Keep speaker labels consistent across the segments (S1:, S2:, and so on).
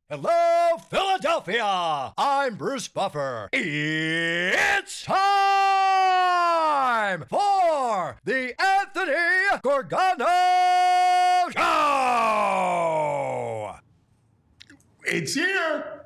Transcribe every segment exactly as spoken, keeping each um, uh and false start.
S1: Hello, Philadelphia! I'm Bruce Buffer. It's time for the Anthony Gorgano Show!
S2: It's here.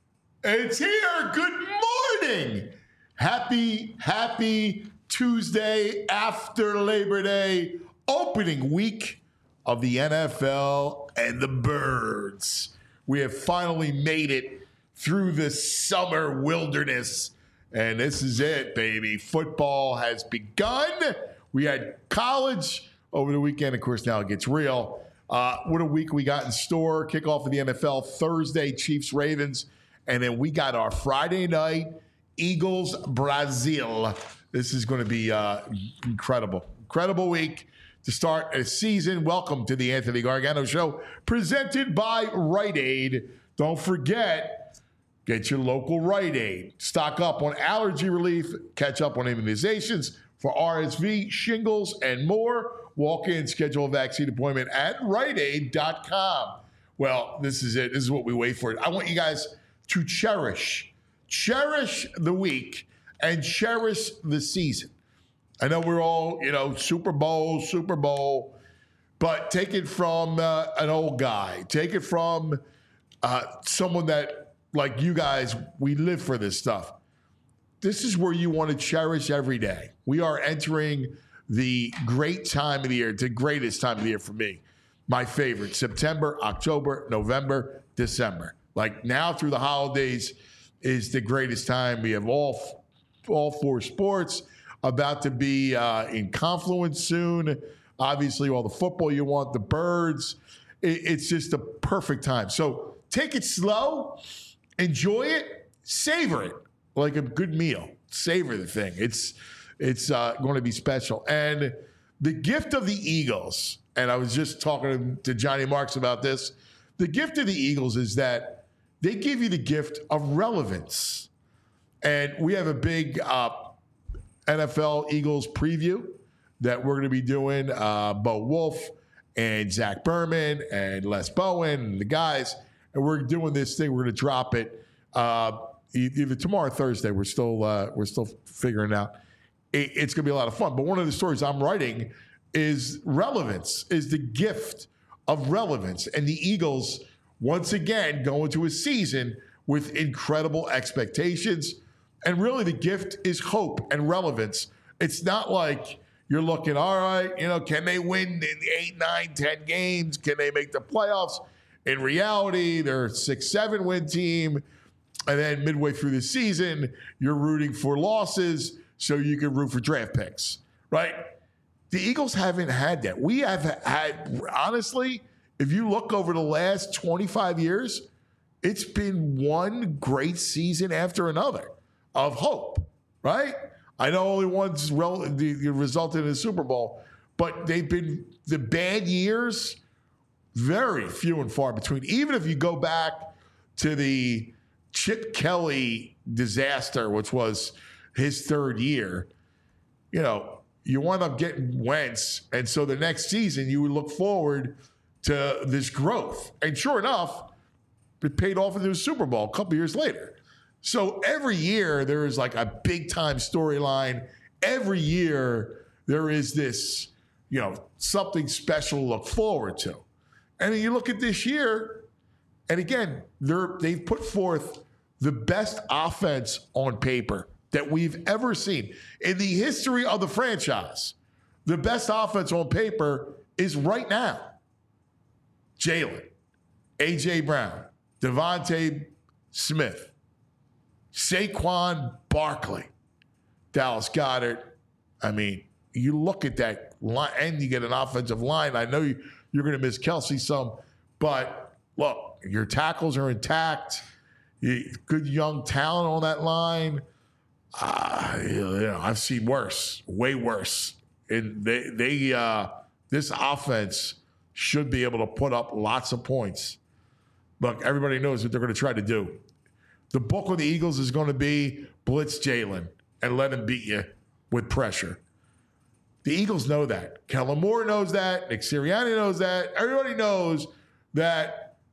S2: It's here. Good morning. Happy, happy Tuesday after Labor Day, opening week of the N F L and the Birds. We have finally made it through the summer wilderness, and this is it, baby. Football has begun. We had college over the weekend. Of course, now it gets real. Uh, what a week we got in store. Kickoff of the N F L Thursday, Chiefs, Ravens. And then we got our Friday night, Eagles, Brazil. This is going to be uh, incredible. Incredible week to start a season. Welcome to the Anthony Gargano Show, presented by Rite Aid. Don't forget, get your local Rite Aid. Stock up on allergy relief, catch up on immunizations for R S V, shingles, and more. Walk in, schedule a vaccine appointment at rite aid dot com. Well, this is it. This is what we wait for. I want you guys to cherish, cherish the week and cherish the season. I know we're all, you know, Super Bowl, Super Bowl, but take it from uh, an old guy. Take it from uh, someone that, like you guys, we live for this stuff. This is where you want to cherish every day. We are entering the great time of the year, the greatest time of the year for me. My favorite, September, October, November, December. Like now through the holidays is the greatest time. We have all, all four sports about to be uh, in confluence soon. Obviously, all the football you want, the Birds. It, it's just the perfect time. So take it slow, enjoy it, savor it like a good meal. Savor the thing. It's it's uh, going to be special. And the gift of the Eagles, and I was just talking to Johnny Marks about this, the gift of the Eagles is that they give you the gift of relevance. And we have a big uh, N F L Eagles preview that we're going to be doing. Uh, Bo Wolf and Zach Berman and Les Bowen and the guys. And we're doing this thing. We're going to drop it uh, either tomorrow or Thursday. We're still uh, we're still figuring it out. It, it's going to be a lot of fun. But one of the stories I'm writing is relevance, is the gift of relevance. And the Eagles, once again, go into a season with incredible expectations. And really, the gift is hope and relevance. It's not like you're looking, all right, you know, can they win in eight, nine, ten games? Can they make the playoffs? In reality, they're a six, seven win team. And then midway through the season, you're rooting for losses so you can root for draft picks, right? The Eagles haven't had that. We have had, honestly, if you look over the last twenty-five years, it's been one great season after another of hope, right? I know only one's rel- the, the resulted in a Super Bowl, but they've been the bad years very few and far between. Even if you go back to the Chip Kelly disaster, which was his third year, you know, you wind up getting Wentz, and so the next season you would look forward to this growth. And sure enough, it paid off into a Super Bowl a couple years later. So every year there is like a big time storyline. Every year there is this, you know, something special to look forward to. And then you look at this year, and again, they're, they've put forth the best offense on paper that we've ever seen. In the history of the franchise, the best offense on paper is right now. Jalen, A J Brown, Devontae Smith, Saquon Barkley, Dallas Goedert. I mean, you look at that line, and you get an offensive line. I know you, you're going to miss Kelsey some, but look, your tackles are intact. You, good young talent on that line. Uh, you know, I've seen worse, way worse. And they, they, uh, this offense should be able to put up lots of points. Look, everybody knows what they're going to try to do. The book of the Eagles is going to be blitz Jalen and let him beat you with pressure. The Eagles know that. Kellen Moore knows that. Nick Sirianni knows that. Everybody knows that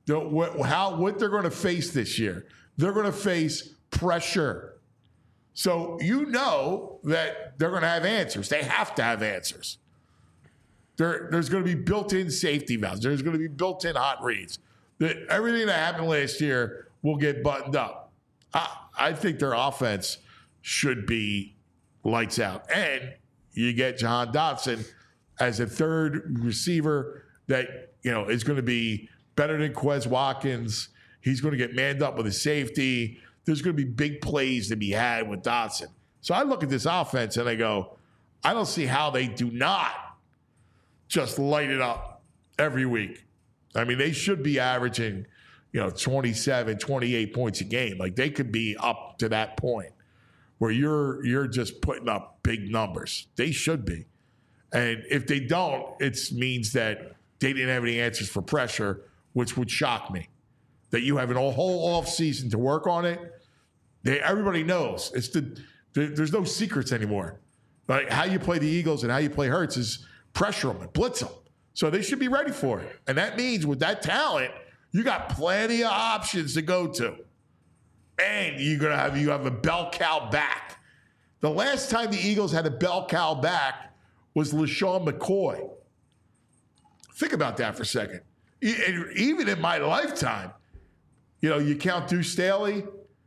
S2: the, what, how, what they're going to face this year. They're going to face pressure. So you know that they're going to have answers. They have to have answers. There, there's going to be built-in safety valves. There's going to be built-in hot reads. The, everything that happened last year will get buttoned up. I, I think their offense should be lights out. And you get Jahan Dotson as a third receiver that, you know, is going to be better than Quez Watkins. He's going to get manned up with a safety. There's going to be big plays to be had with Dotson. So I look at this offense and I go, I don't see how they do not just light it up every week. I mean, they should be averaging, you know, twenty-seven, twenty-eight points a game. Like they could be up to that point where you're you're just putting up big numbers. They should be. And if they don't, it means that they didn't have any answers for pressure, which would shock me. That you have a whole off season to work on it. They, everybody knows. It's the, the there's no secrets anymore. Like how you play the Eagles and how you play Hurts is pressure them and blitz them. So they should be ready for it. And that means with that talent, you got plenty of options to go to. And you're gonna have you have a bell cow back. The last time the Eagles had a bell cow back was LaShawn McCoy. Think about that for a second. Even in my lifetime, you know, you count Deuce Staley,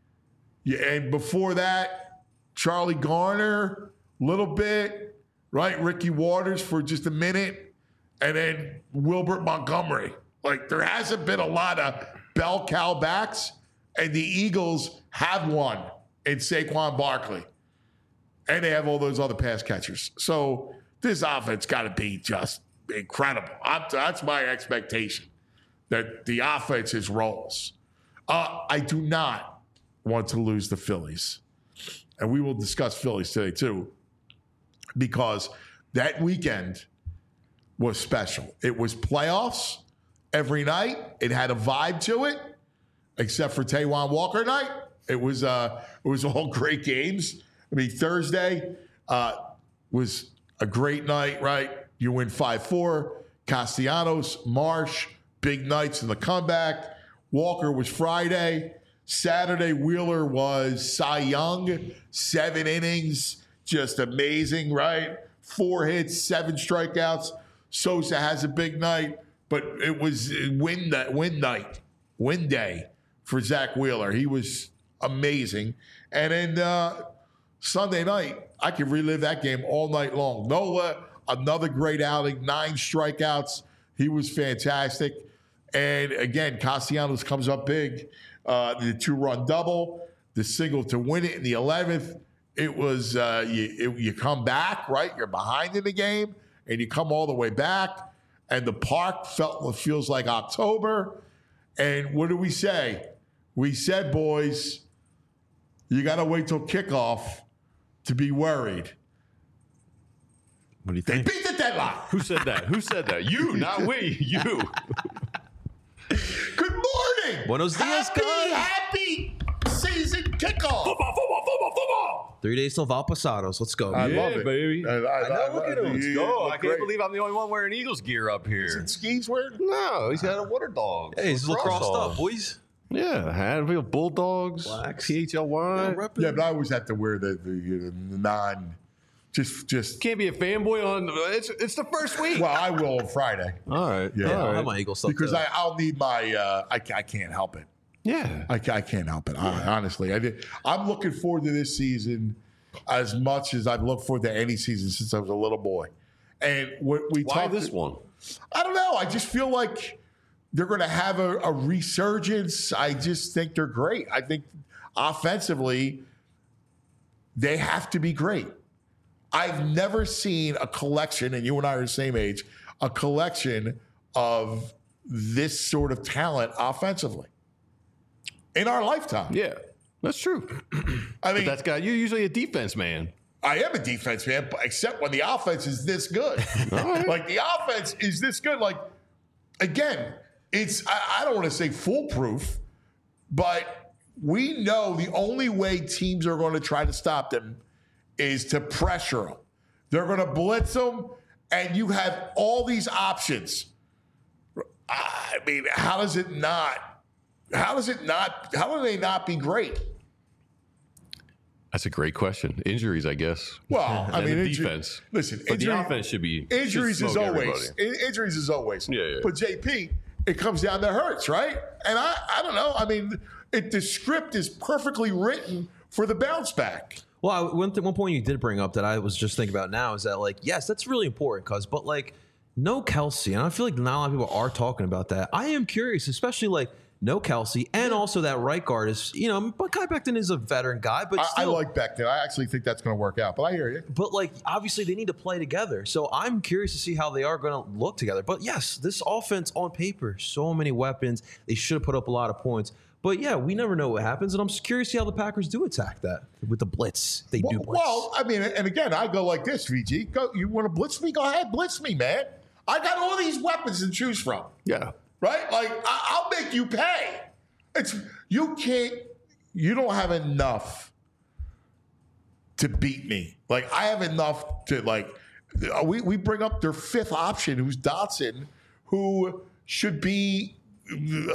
S2: and before that, Charlie Garner, a little bit, right? Ricky Waters for just a minute, and then Wilbert Montgomery. Like, there hasn't been a lot of bell cow backs, and the Eagles have one in Saquon Barkley. And they have all those other pass catchers. So this offense got to be just incredible. I'm, that's my expectation, that the offense is rolls. Uh, I do not want to lose the Phillies. And we will discuss Phillies today too, because that weekend was special. It was playoffs every night. It had a vibe to it, except for Taijuan Walker night. It was uh, it was all great games. I mean, Thursday uh, was a great night, right? You win five four. Castellanos, Marsh, big nights in the comeback. Walker was Friday. Saturday, Wheeler was Cy Young. Seven innings. Just amazing, right? Four hits, seven strikeouts. Sosa has a big night, but it was win, win night, win day for Zach Wheeler. He was amazing. And then uh, Sunday night, I could relive that game all night long. Nola, another great outing, nine strikeouts. He was fantastic. And again, Castellanos comes up big. Uh, the two-run double, the single to win it in the eleventh. It was, uh, you, it, you come back, right? You're behind in the game, and you come all the way back. And the park felt feels like October. And what do we say? We said, boys, you got to wait till kickoff to be worried.
S3: What do you
S2: They
S3: think?
S2: beat the deadline.
S3: Who said that? Who said that? You, not we. You.
S2: Good morning.
S3: Buenos dias,
S2: happy,
S3: guys.
S2: happy season kickoff.
S1: Football, football, football, football.
S3: Three days till Valpasados. Let's go.
S2: I
S3: Yeah.
S2: love it.
S4: baby.
S2: I, I,
S4: I know.
S2: I-
S4: Look
S2: I-
S4: at him. Let's
S2: you
S4: go.
S2: look
S4: I can't
S2: great.
S4: believe I'm the only one wearing Eagles gear up
S2: Is
S4: here.
S2: it skis wearing?
S4: No, he's got a water dog.
S3: Hey, he's lacrosse
S4: on.
S3: up, boys.
S4: Yeah, Hadville Bulldogs,
S3: Blacks.
S4: P H L Y.
S2: Yeah, but I always have to wear the, the, the non, just, just.
S4: Can't be a fanboy on. It's it's the first week.
S2: Well, I will on Friday.
S4: All right.
S2: Yeah.
S3: Yeah,
S4: All
S3: I'll
S4: right.
S3: have my Eagle stuff
S2: Because
S3: too.
S2: I, I'll need my, uh, I, I can't help it.
S4: Yeah.
S2: I, I can't help it. I, honestly, I did. I'm looking forward to this season as much as I've looked forward to any season since I was a little boy. And what we
S4: Why
S2: talked.
S4: this one?
S2: I don't know. I just feel like they're going to have a, a resurgence. I just think they're great. I think offensively, they have to be great. I've never seen a collection, and you and I are the same age, a collection of this sort of talent offensively in our lifetime.
S4: Yeah, that's true.
S2: I mean,
S4: But that's got you usually a defense man.
S2: I am a defense fan, but except when the offense is this good. Like the offense is this good. Like, again, it's, I, I don't want to say foolproof, but we know the only way teams are going to try to stop them is to pressure them. They're going to blitz them, and you have all these options. I mean, how does it not? How does it not? How do they not be great?
S4: That's a great question. Injuries, I guess.
S2: Well, I
S4: And
S2: mean,
S4: the
S2: inju-
S4: defense.
S2: Listen,
S4: But
S2: injury-
S4: the offense should be
S2: injuries
S4: should
S2: is
S4: smoke
S2: always
S4: everybody.
S2: in- injuries is always.
S4: Yeah, yeah.
S2: But J P, it comes down to Hurts, right? And I, I don't know. I mean, it, the script is perfectly written for the bounce back.
S3: Well, I, one, th- one point you did bring up that I was just thinking about now is that, like, yes, that's really important, cuz, but like, no Kelsey, and I feel like not a lot of people are talking about that. I am curious, especially like no Kelsey, and also that right guard is, you know, but Kai Becton is a veteran guy, but
S2: I, I
S3: still,
S2: like Becton. I actually think that's going to work out. But I hear you.
S3: but like obviously they need to play together. So I'm curious to see how they are going to look together. But yes, this offense on paper, so many weapons. They should have put up a lot of points. But yeah, we never know what happens, and I'm just curious to see how the Packers do attack that with the blitz. They
S2: Well,
S3: do blitz.
S2: well, I mean, and again, I go like this, V G. Go, you want to blitz me? Go ahead, blitz me, man. I got all these weapons to choose from.
S4: Yeah.
S2: Right? Like, I, I'll make you pay. It's you can't. You don't have enough to beat me. Like, I have enough to like. We we bring up their fifth option, who's Dotson, who should be uh,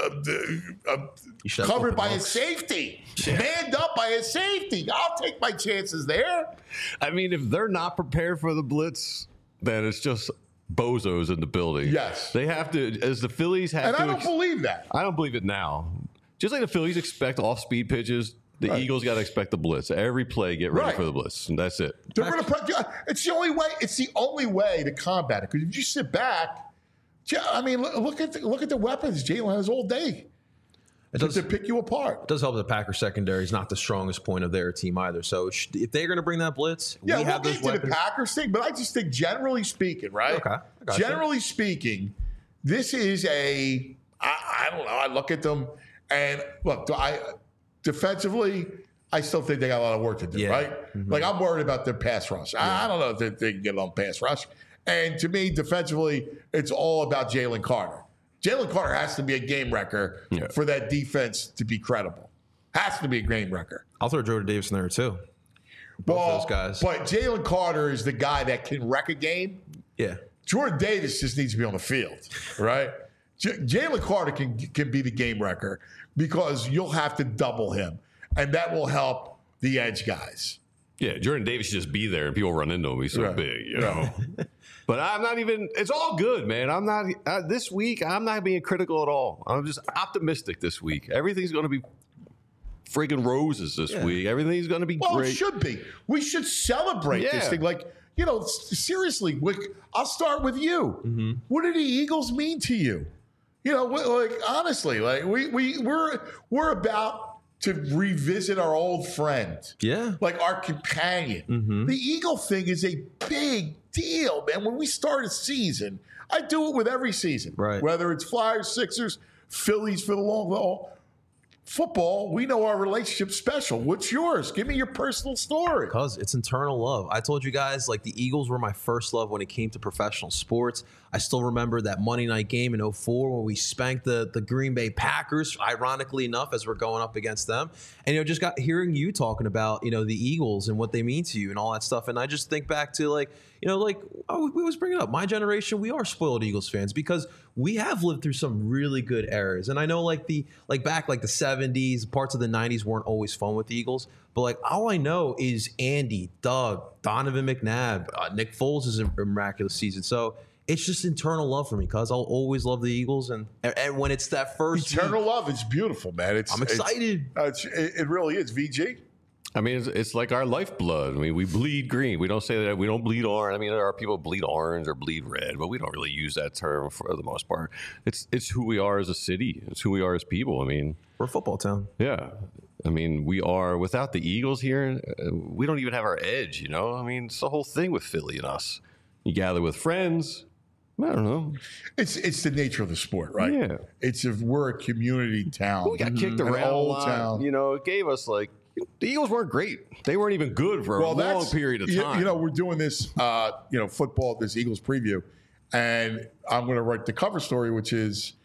S2: uh,
S3: You should have
S2: covered
S3: open
S2: by
S3: looks.
S2: his safety, manned up by his safety. I'll take my chances there.
S4: I mean, if they're not prepared for the blitz, then it's just bozos in the building.
S2: Yes.
S4: They have to, as the Phillies have
S2: And
S4: to.
S2: I don't
S4: ex-
S2: believe that.
S4: I don't believe it now. Just like the Phillies expect off-speed pitches, the
S2: Right.
S4: Eagles got to expect the blitz. Every play, get ready
S2: Right.
S4: for the blitz, and that's it.
S2: They're going to. It's the only way. It's the only way to combat it. Because if you sit back, ja- I mean, look, look at the, look at the weapons Jalen has all day
S3: it
S2: to,
S3: does,
S2: to pick you apart.
S3: it does help that the Packers secondary is not the strongest point of their team either. So it should- if they're going to bring that blitz,
S2: Yeah,
S3: we
S2: we'll
S3: have
S2: get
S3: those
S2: into the
S3: weapons.
S2: Packers thing, but I just think generally speaking, right?
S3: Okay, I got you.
S2: Generally speaking, this is a. I, I don't know. I look at them and look. I defensively, I still think they got a lot of work to do.
S3: Yeah.
S2: Right?
S3: Mhm.
S2: Like I'm worried about their pass rush. I, I don't know if they, they can get on pass rush. And to me, defensively, it's all about Jalen Carter. Jalen Carter has to be a game wrecker
S4: Yeah.
S2: for that defense to be credible. Has to be a game wrecker.
S3: I'll throw Jordan Davis in there too. Both
S2: Well,
S3: those guys.
S2: But Jalen Carter is the guy that can wreck a game.
S3: Yeah.
S2: Jordan Davis just needs to be on the field, right? J- Jalen Carter can can be the game wrecker because you'll have to double him, and that will help the edge guys.
S4: Yeah, Jordan Davis should just be there, and people run into him. He's so
S2: Right.
S4: big, you know. But I'm not even. It's all good, man. I'm not uh, this week. I'm not being critical at all. I'm just optimistic this week. Everything's going to be friggin' roses this
S3: Yeah.
S4: week. Everything's going to be
S2: Well,
S4: great.
S2: it should be. We should celebrate this
S4: Yeah.
S2: thing. Like, you know, s- seriously, Wick, I'll start with you.
S3: Mm-hmm.
S2: What do the Eagles mean to you? You know, wh- like honestly, like we we we're we're about to revisit our old friend.
S3: Yeah.
S2: Like our companion.
S3: Mm-hmm.
S2: The Eagle thing is a big deal, man. When we start a season, I do it with every season.
S3: Right.
S2: Whether it's Flyers, Sixers, Phillies for the long haul. Football, we know our relationship's special. What's yours? Give me your personal story.
S3: Because it's internal love. I told you guys, like, the Eagles were my first love when it came to professional sports. I still remember that Monday night game in oh four when we spanked the, the Green Bay Packers, ironically enough, as we're going up against them. And, you know, just got hearing you talking about, you know, the Eagles and what they mean to you and all that stuff. And I just think back to, like, you know, like, oh, we always bring it up. My generation, we are spoiled Eagles fans because we have lived through some really good eras. And I know, like, the, like, back, like, the seventies, parts of the nineties weren't always fun with the Eagles. But, like, all I know is Andy, Doug, Donovan McNabb, uh, Nick Foles is a miraculous season. So it's just internal love for me because I'll always love the Eagles. And and when it's that first
S2: Eternal
S3: week,
S2: love is beautiful, man. It's
S3: I'm excited.
S2: It's, uh, it's, it it really is. V G.
S4: I mean, it's, it's like our lifeblood. I mean, we bleed green. We don't say that we don't bleed orange. I mean, there are people who bleed orange or bleed red, but we don't really use that term for the most part. It's it's who we are as a city. It's who we are as people. I mean,
S3: We're a football town.
S4: yeah. I mean, we are without the Eagles here. uh, We don't even have our edge. You know, I mean, it's the whole thing with Philly and us. You gather with friends. I don't know.
S2: It's it's the nature of the sport, right?
S4: Yeah.
S2: It's if we're a community town.
S4: We got kicked
S2: An
S4: around a
S2: old
S4: lot.
S2: town.
S4: You know, it gave us like the Eagles weren't great. They weren't even good for a long
S2: that's-
S4: period of
S2: you-
S4: time.
S2: You know, we're doing this, uh, you know, football, this Eagles preview, and I'm going to write the cover story, which is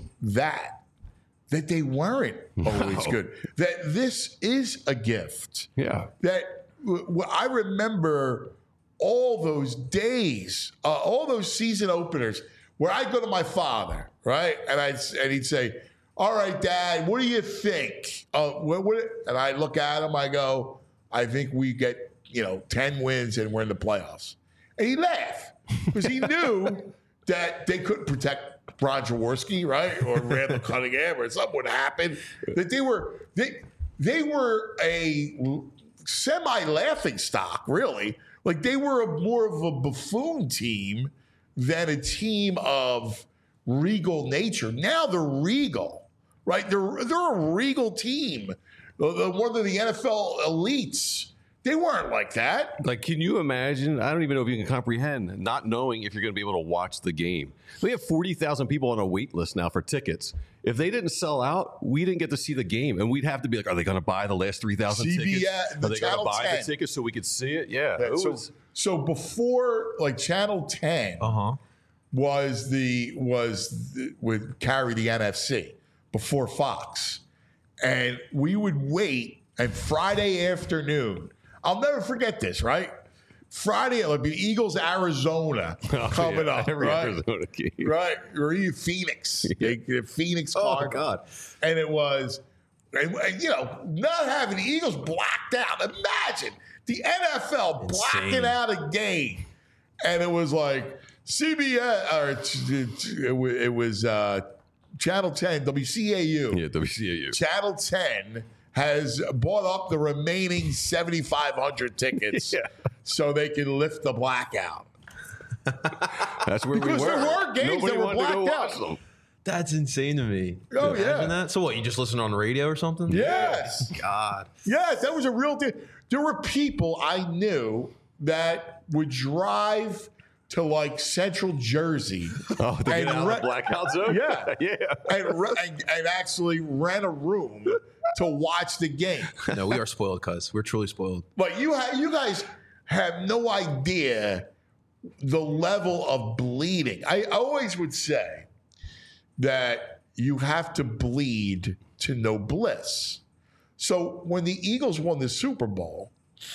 S2: that that they weren't always
S4: No.
S2: good. That this is a gift.
S4: yeah.
S2: That w- w- I remember all those days, uh, all those season openers where I go to my father, right? And I and he'd say, "All right, Dad, what do you think?" Uh, what, what, and I look at him, I go, "I think we get you know ten wins and we're in the playoffs." And he laughed because he knew that they couldn't protect Ron Jaworski, right, or Randall Cunningham, or something would happen. That they were they they were a semi-laughing stock, really. Like they were a, more of a buffoon team than a team of regal nature. Now they're regal, right? They're they're a regal team. They're one of the N F L elites. They weren't like that.
S4: Like, can you imagine? I don't even know if you can comprehend not knowing if you're going to be able to watch the game. We have forty thousand people on a wait list now for tickets. If they didn't sell out, we didn't get to see the game. And we'd have to be like, are they going to buy the last three thousand tickets? Are they going to buy
S2: ten.
S4: the tickets so we could see it? Yeah.
S2: Yeah,
S4: it
S2: so,
S4: was,
S2: so before, like, Channel ten
S3: Uh-huh.
S2: was the, was the, would carry the N F C before Fox. And we would wait, and Friday afternoon, I'll never forget this, right? Friday, it would be Eagles, Arizona
S4: oh,
S2: coming
S4: yeah,
S2: up,
S4: every
S2: right?
S4: Arizona game.
S2: Right, or even Phoenix, they, the Phoenix
S4: Oh,
S2: Cardinals.
S4: God.
S2: And it was, and, and, you know, not having the Eagles blacked out. Imagine the N F L blacking
S3: Insane.
S2: out a game, and it was like C B S or it, it, it was uh, Channel ten, W C A U.
S4: Yeah, W C A U.
S2: Channel ten has bought up the remaining seventy-five hundred tickets
S4: Yeah.
S2: so they can lift the blackout.
S4: That's where
S2: Because
S4: we were.
S2: there were games
S4: Nobody
S2: that were
S4: wanted to go
S2: blacked
S4: watch
S2: out.
S4: them.
S3: That's insane to me.
S2: Oh,
S3: Imagine
S2: yeah.
S3: that. So what? You just listen on the radio or something?
S2: Yes.
S3: God.
S2: Yes, that was a real thing. There were people I knew that would drive to like Central Jersey.
S4: Oh, to get
S2: and
S4: out of
S2: re-
S4: the blackout zone?
S2: Yeah.
S4: yeah.
S2: and, re- and, and actually rent a room to watch the game.
S3: No, we are spoiled, cuz we're truly spoiled.
S2: But you ha- you guys have no idea the level of bleeding. I always would say that you have to bleed to know bliss. So when the Eagles won the Super Bowl,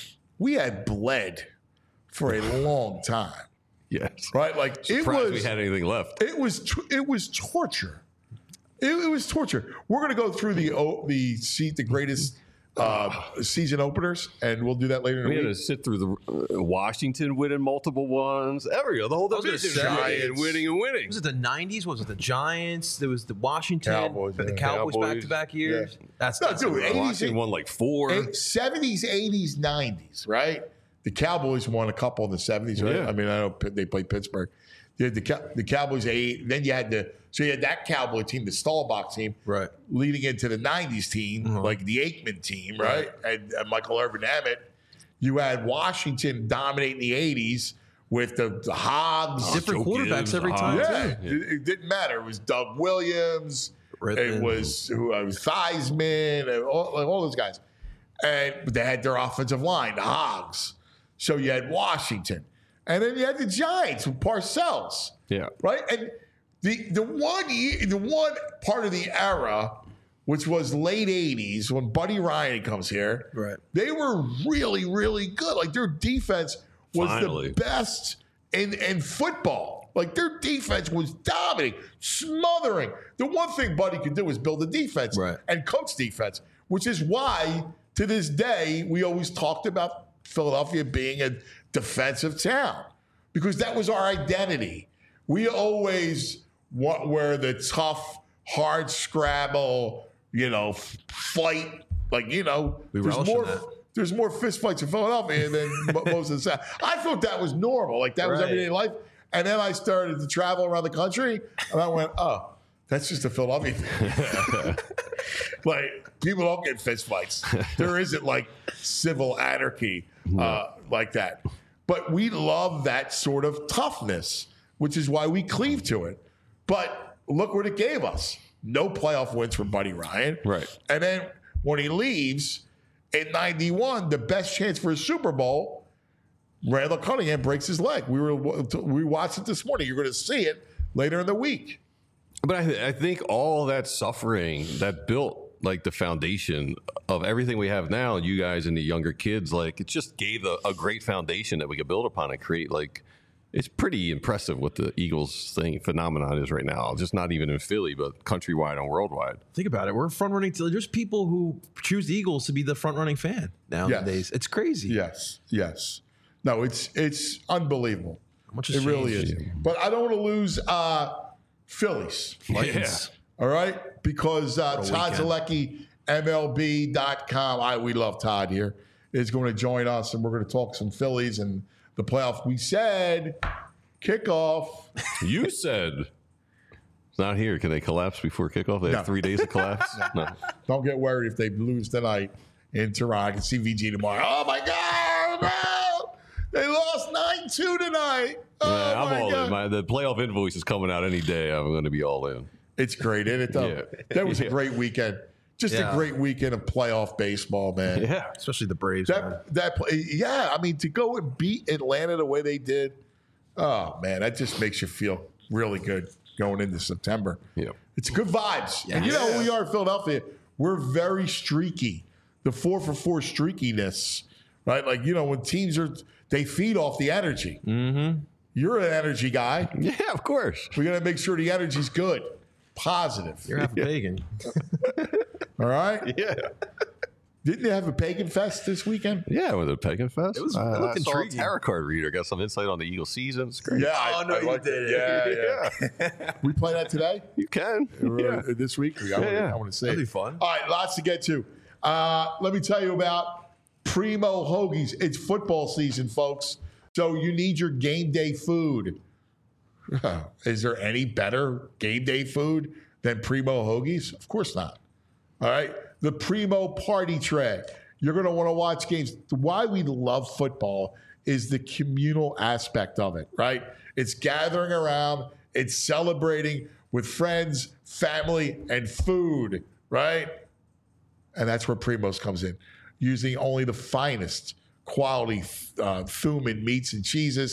S2: we had bled for a long time,
S4: Yes.
S2: right? Like it
S4: Surprised
S2: was
S4: we had anything left.
S2: it was t- it was torture. It, it was torture. We're going to go through the o- the seat the greatest uh, season openers, and we'll do that later in
S4: We
S2: the
S4: had
S2: week.
S4: to sit through the uh, Washington winning multiple ones. Every the whole
S3: was gonna
S4: division
S3: say-
S4: winning and winning and winning.
S3: Was it the nineties? Was it the Giants? There was the Washington,
S2: Cowboys,
S3: the
S2: yeah.
S3: Cowboys,
S4: Cowboys.
S3: back-to-back years.
S2: Yeah.
S3: That's,
S2: No,
S3: that's
S2: dude,
S3: unreal.
S2: eighties
S4: Washington won like four.
S2: Eight- seventies, eighties, nineties, right? The Cowboys won a couple in the seventies, right?
S4: Yeah.
S2: I mean, I know Pitt- they played Pittsburgh. You had the, Cow- the Cowboys eight. Then you had the so you had that Cowboy team, the Staubach team,
S3: Right.
S2: leading into the nineties team,
S3: Uh-huh.
S2: like the Aikman team, right? And, and Michael Irvin Emmett. You had Washington dominating the eighties with the, the Hogs.
S3: Different
S4: Joe
S3: quarterbacks
S4: Gibbs,
S3: every
S4: the
S3: time,
S4: Hogs.
S2: Yeah,
S3: too.
S2: it, it didn't matter. It was Doug Williams. It
S3: Rippin.
S2: was who uh, was Theismann, and all, like, all those guys. And but they had their offensive line, the Hogs. So you had Washington, and then you had the Giants with Parcells,
S4: Yeah.
S2: right? And the the one year, the one part of the era, which was late eighties when Buddy Ryan comes here,
S3: Right.
S2: they were really, really good. Like their defense was
S4: Finally.
S2: the best in, in football. Like their defense was dominating, smothering. The one thing Buddy could do was build a defense
S3: Right.
S2: and coach defense, which is why to this day we always talked about Philadelphia being a defensive town because that was our identity. We always wa- were the tough, hard scrabble, you know, f- fight. Like, you know,
S3: We
S2: there's
S3: relish in
S2: more
S3: that.
S2: there's more fist fights in Philadelphia than mo- most of the South. I thought that was normal. Like that was
S3: Right.
S2: everyday life. And then I started to travel around the country and I went, oh, that's just a Philadelphia thing. Like, people don't get fist fights. There isn't like civil anarchy uh, like that. But we love that sort of toughness, which is why we cleave to it. But look what it gave us. No playoff wins for Buddy Ryan.
S4: Right.
S2: And then when he leaves in ninety-one, the best chance for a Super Bowl, Randall Cunningham breaks his leg. We were we watched it this morning. You're going to see it later in the week.
S4: But I, th- I think all that suffering that built like the foundation of everything we have now, you guys and the younger kids, like it just gave a, a great foundation that we could build upon and create like It's pretty impressive what the Eagles thing phenomenon is right now. Just not even in Philly, but countrywide and worldwide.
S3: Think about it. We're front running. There's people who choose the Eagles to be the front running fan nowadays.
S2: Yes.
S3: It's crazy.
S2: Yes, yes. No, it's it's unbelievable.
S3: How much has
S2: It really
S3: changed?
S2: is. But I don't want to lose uh, Phillies.
S3: Titans.
S2: All right, because uh,
S3: What a
S2: Todd
S3: weekend.
S2: Zalecki, M L B dot com. I we love Todd here. Is going to join us, and we're going to talk some Phillies and the playoff. We said kickoff.
S4: You said it's not here. Can they collapse before kickoff? They
S2: No.
S4: have three days to collapse? No.
S2: Don't get worried if they lose tonight in Toronto. I can see V G tomorrow. Oh my God! No! They lost nine two tonight. Oh
S4: Yeah, I'm
S2: my
S4: all
S2: God.
S4: in. My, the playoff invoice is coming out any day. I'm going to be all in.
S2: It's great, isn't it? Though
S4: Yeah.
S2: that was a
S4: Yeah.
S2: great weekend. Just
S3: Yeah.
S2: a great weekend of playoff baseball, man.
S4: Yeah.
S3: Especially the Braves. man.
S2: That that play, yeah. I mean, to go and beat Atlanta the way they did, oh man, that just makes you feel really good going into September.
S4: Yeah.
S2: It's good vibes, and you know we are in Philadelphia. We're very streaky. The four for four streakiness, right? Like you know when teams are they feed off the energy. Mm-hmm. You're an energy guy.
S4: Yeah, of course.
S2: We got to make sure the energy's good, positive.
S3: You're half a pagan.
S2: All right.
S4: Yeah.
S2: Didn't they have a pagan fest this weekend?
S4: Yeah, with the Pagan Fest.
S3: It was- it
S4: Uh,
S3: looked
S4: I saw a
S3: intriguing.
S4: tarot card reader. Got some insight on the Eagle season. It's great.
S2: Yeah. I-
S3: Oh, no,
S2: I
S3: you
S2: liked
S3: did
S2: it.
S3: it.
S2: Yeah, yeah. We play that today.
S4: You can.
S2: Or,
S4: Yeah.
S2: uh, this week. I, wanna,
S4: yeah.
S2: I want to say
S3: That'd
S2: it.
S3: be fun.
S2: All right, lots to get to. Uh, let me tell you about Primo Hoagies. It's football season, folks. So you need your game day food. Is there any better game day food than Primo Hoagies? Of course not. All right. The Primo Party Tray. You're going to want to watch games. Why we love football is the communal aspect of it, right? It's gathering around, it's celebrating with friends, family, and food, right? And that's where Primo's comes in, using only the finest quality uh, Thuman meats and cheeses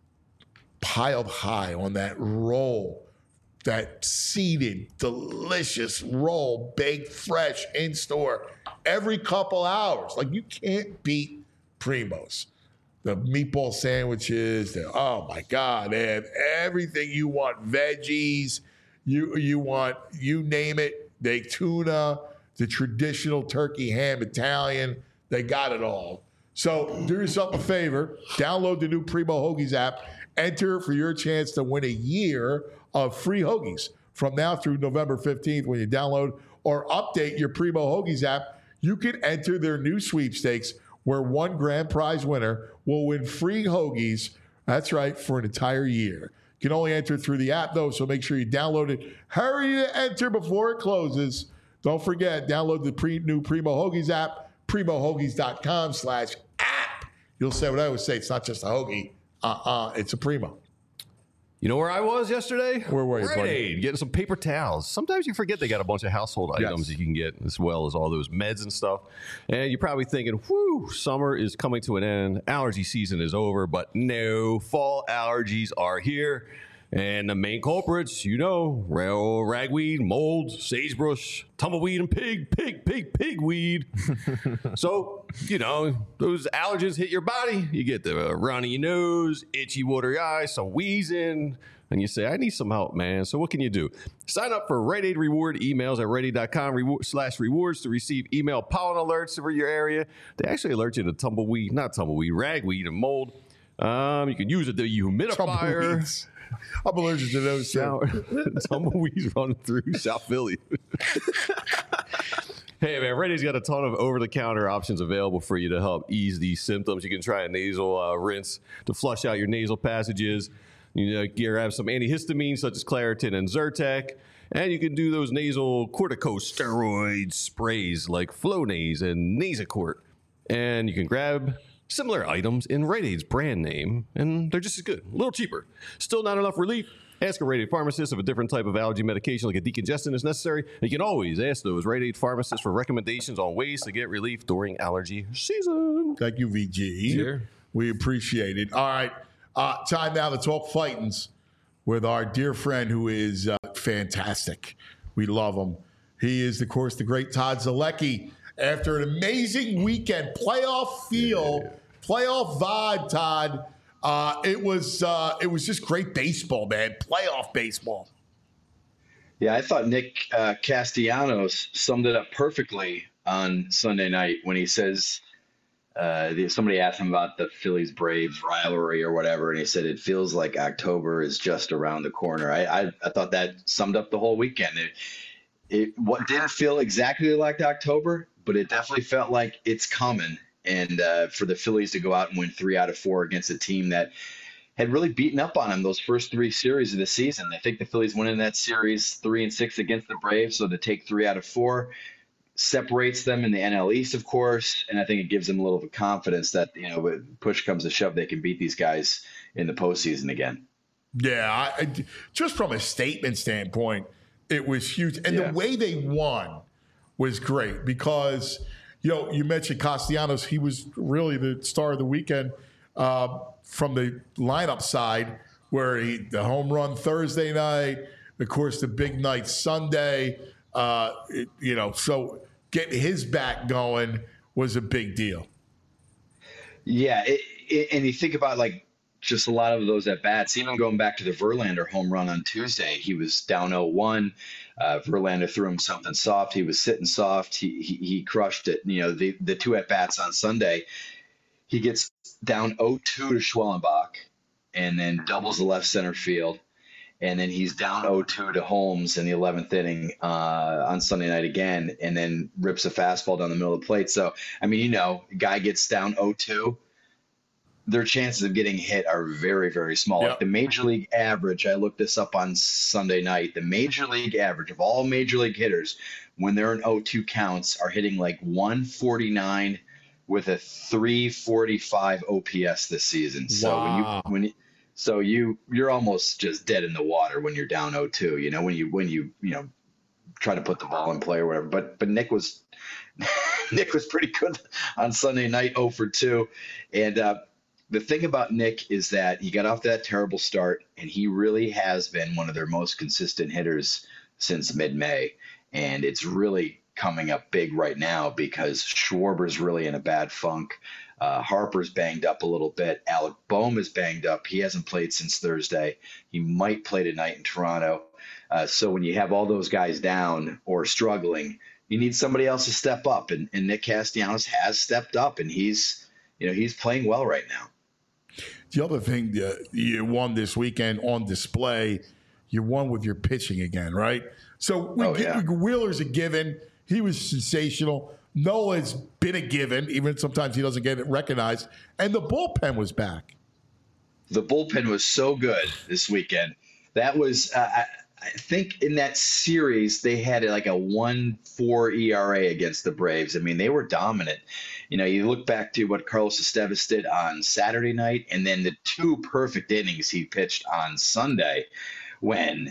S2: piled high on that roll, that seeded, delicious roll, baked fresh in store every couple hours. Like you can't beat Primo's. The meatball sandwiches, the, oh my God, they have everything you want. Veggies, you you want, you name it. They tuna, the traditional turkey ham Italian, they got it all. So do yourself a favor, download the new Primo Hoagies app, enter for your chance to win a year of free hoagies from now through November fifteenth when you download or update your Primo Hoagies app. You can enter their new sweepstakes where one grand prize winner will win free hoagies. That's right, for an entire year. You can only enter through the app, though, so make sure you download it. Hurry to enter before it closes. Don't forget, download the pre- new Primo Hoagies app, primo hoagies dot com slash app. You'll say what I always say. It's not just a hoagie. Uh-uh, it's a Primo.
S4: You know where I was yesterday?
S2: Where were you,
S4: Rite
S2: buddy?
S4: Aid, getting some paper towels. Sometimes you forget they got a bunch of household
S2: Yes.
S4: items that you can get, as well as all those meds and stuff. And you're probably thinking, whew, summer is coming to an end. Allergy season is over. But no, fall allergies are here. And the main culprits, you know, rail, ragweed, mold, sagebrush, tumbleweed, and pig, pig, pig, pigweed. So, you know, those allergens hit your body. You get the uh, runny nose, itchy, watery eyes, some wheezing, and you say, I need some help, man. So what can you do? Sign up for Rite Aid Reward emails at rite aid dot com reward, slash rewards to receive email pollen alerts for your area. They actually alert you to tumbleweed, not tumbleweed, ragweed, and mold. Um, you can use it, the humidifier.
S2: Tumbleweeds. I'm allergic to those. too.
S4: Shower. Tumbleweeds running through South Philly. Hey, man, Rite Aid's got a ton of over-the-counter options available for you to help ease these symptoms. You can try a nasal uh, rinse to flush out your nasal passages. You know, you grab some antihistamines such as Claritin and Zyrtec. And you can do those nasal corticosteroid sprays like Flonase and Nasacort. And you can grab similar items in Rite Aid's brand name, and they're just as good, a little cheaper. Still not enough relief? Ask a Rite Aid pharmacist if a different type of allergy medication like a decongestant is necessary. You can always ask those Rite Aid pharmacists for recommendations on ways to get relief during allergy season.
S2: Thank you, V G.
S3: Sure.
S2: We appreciate it. All right. Uh, time now to talk fightings with our dear friend who is uh, fantastic. We love him. He is, of course, the great Todd Zalecki. After an amazing weekend, playoff feel, yeah. playoff vibe, Todd. Uh, it was uh, it was just great baseball, man. Playoff baseball.
S5: Yeah, I thought Nick uh, Castellanos summed it up perfectly on Sunday night when he says uh, somebody asked him about the Phillies Braves rivalry or whatever, and he said it feels like October is just around the corner. I I, I thought that summed up the whole weekend. It, it what didn't feel exactly like October, but it definitely felt like it's coming. And uh, for the Phillies to go out and win three out of four against a team that had really beaten up on them those first three series of the season. I think the Phillies went in that series three and six against the Braves, so to take three out of four separates them in the N L East, of course, and I think it gives them a little bit of confidence that, you know, when push comes to shove, they can beat these guys in the postseason again.
S2: Yeah, I, I, just from a statement standpoint, it was huge, and
S5: Yeah.
S2: the way they won was great because. You know, you mentioned Castellanos. He was really the star of the weekend uh, from the lineup side, where he the home run Thursday night, of course, the big night Sunday. Uh, it, you know, so getting his back going was a big deal.
S5: Yeah, it, it, and you think about like just a lot of those at bats, even going back to the Verlander home run on Tuesday, he was down oh one. Uh, Verlander threw him something soft. He was sitting soft. He he, he crushed it. You know, the, the two at bats on Sunday, he gets down oh two to Schwellenbach and then doubles the left center field. And then he's down oh two to Holmes in the eleventh inning uh, on Sunday night again, and then rips a fastball down the middle of the plate. So, I mean, you know, guy gets down oh two. Their chances of getting hit are very, very small.
S2: Yep.
S5: Like the major league average, I looked this up on Sunday night, the major league average of all major league hitters when they're in oh two counts are hitting like one forty-nine with a three forty-five O P S this season. So
S2: Wow.
S5: when you when you, so you you're almost just dead in the water when you're down oh two, you know, when you when you, you know, try to put the ball in play or whatever. But but Nick was Nick was pretty good on Sunday night, oh for two. And uh the thing about Nick is that he got off that terrible start, and he really has been one of their most consistent hitters since mid-May. And it's really coming up big right now because Schwarber's really in a bad funk. Uh, Harper's banged up a little bit. Alec Bohm is banged up. He hasn't played since Thursday. He might play tonight in Toronto. Uh, so when you have all those guys down or struggling, you need somebody else to step up. And, and Nick Castellanos has stepped up, and he's, you know, he's playing well right now.
S2: The other thing that you won this weekend on display, you won with your pitching again, right? So we
S5: Oh,
S2: get,
S5: yeah.
S2: Wheeler's a given. He was sensational. Noah's been a given, even sometimes he doesn't get it recognized. And the bullpen was back.
S5: The bullpen was so good this weekend. That was, uh, I, I think in that series, they had like a one four E R A against the Braves. I mean, they were dominant. You know, you look back to what Carlos Estevez did on Saturday night, and then the two perfect innings he pitched on Sunday when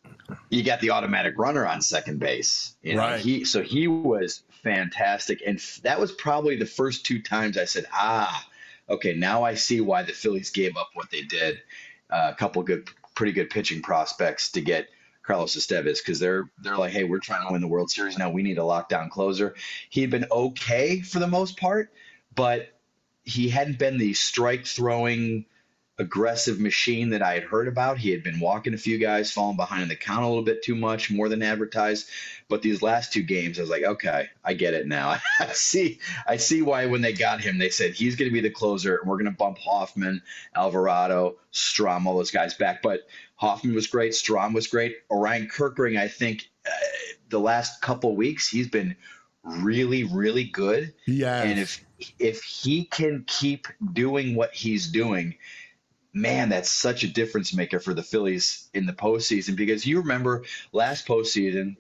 S5: you got the automatic runner on second base. You know,
S2: Right.
S5: He, so he was fantastic. And f- that was probably the first two times I said, ah, okay, now I see why the Phillies gave up what they did. Uh, a couple good, pretty good pitching prospects to get Carlos Estevez, because they're they're like, hey, we're trying to win the World Series now. We need a lockdown closer. He had been okay for the most part, but he hadn't been the strike throwing aggressive machine that I had heard about. He had been walking a few guys, falling behind in the count a little bit too much, more than advertised. But these last two games, I was like, okay, I get it now. I see, I see why when they got him, they said he's going to be the closer, and we're going to bump Hoffman, Alvarado, Strom, all those guys back. But Hoffman was great, Strom was great. Orion Kirkring, I think, uh, the last couple weeks, he's been really, really good.
S2: Yes.
S5: And if if he can keep doing what he's doing, man, that's such a difference maker for the Phillies in the postseason. Because you remember last postseason,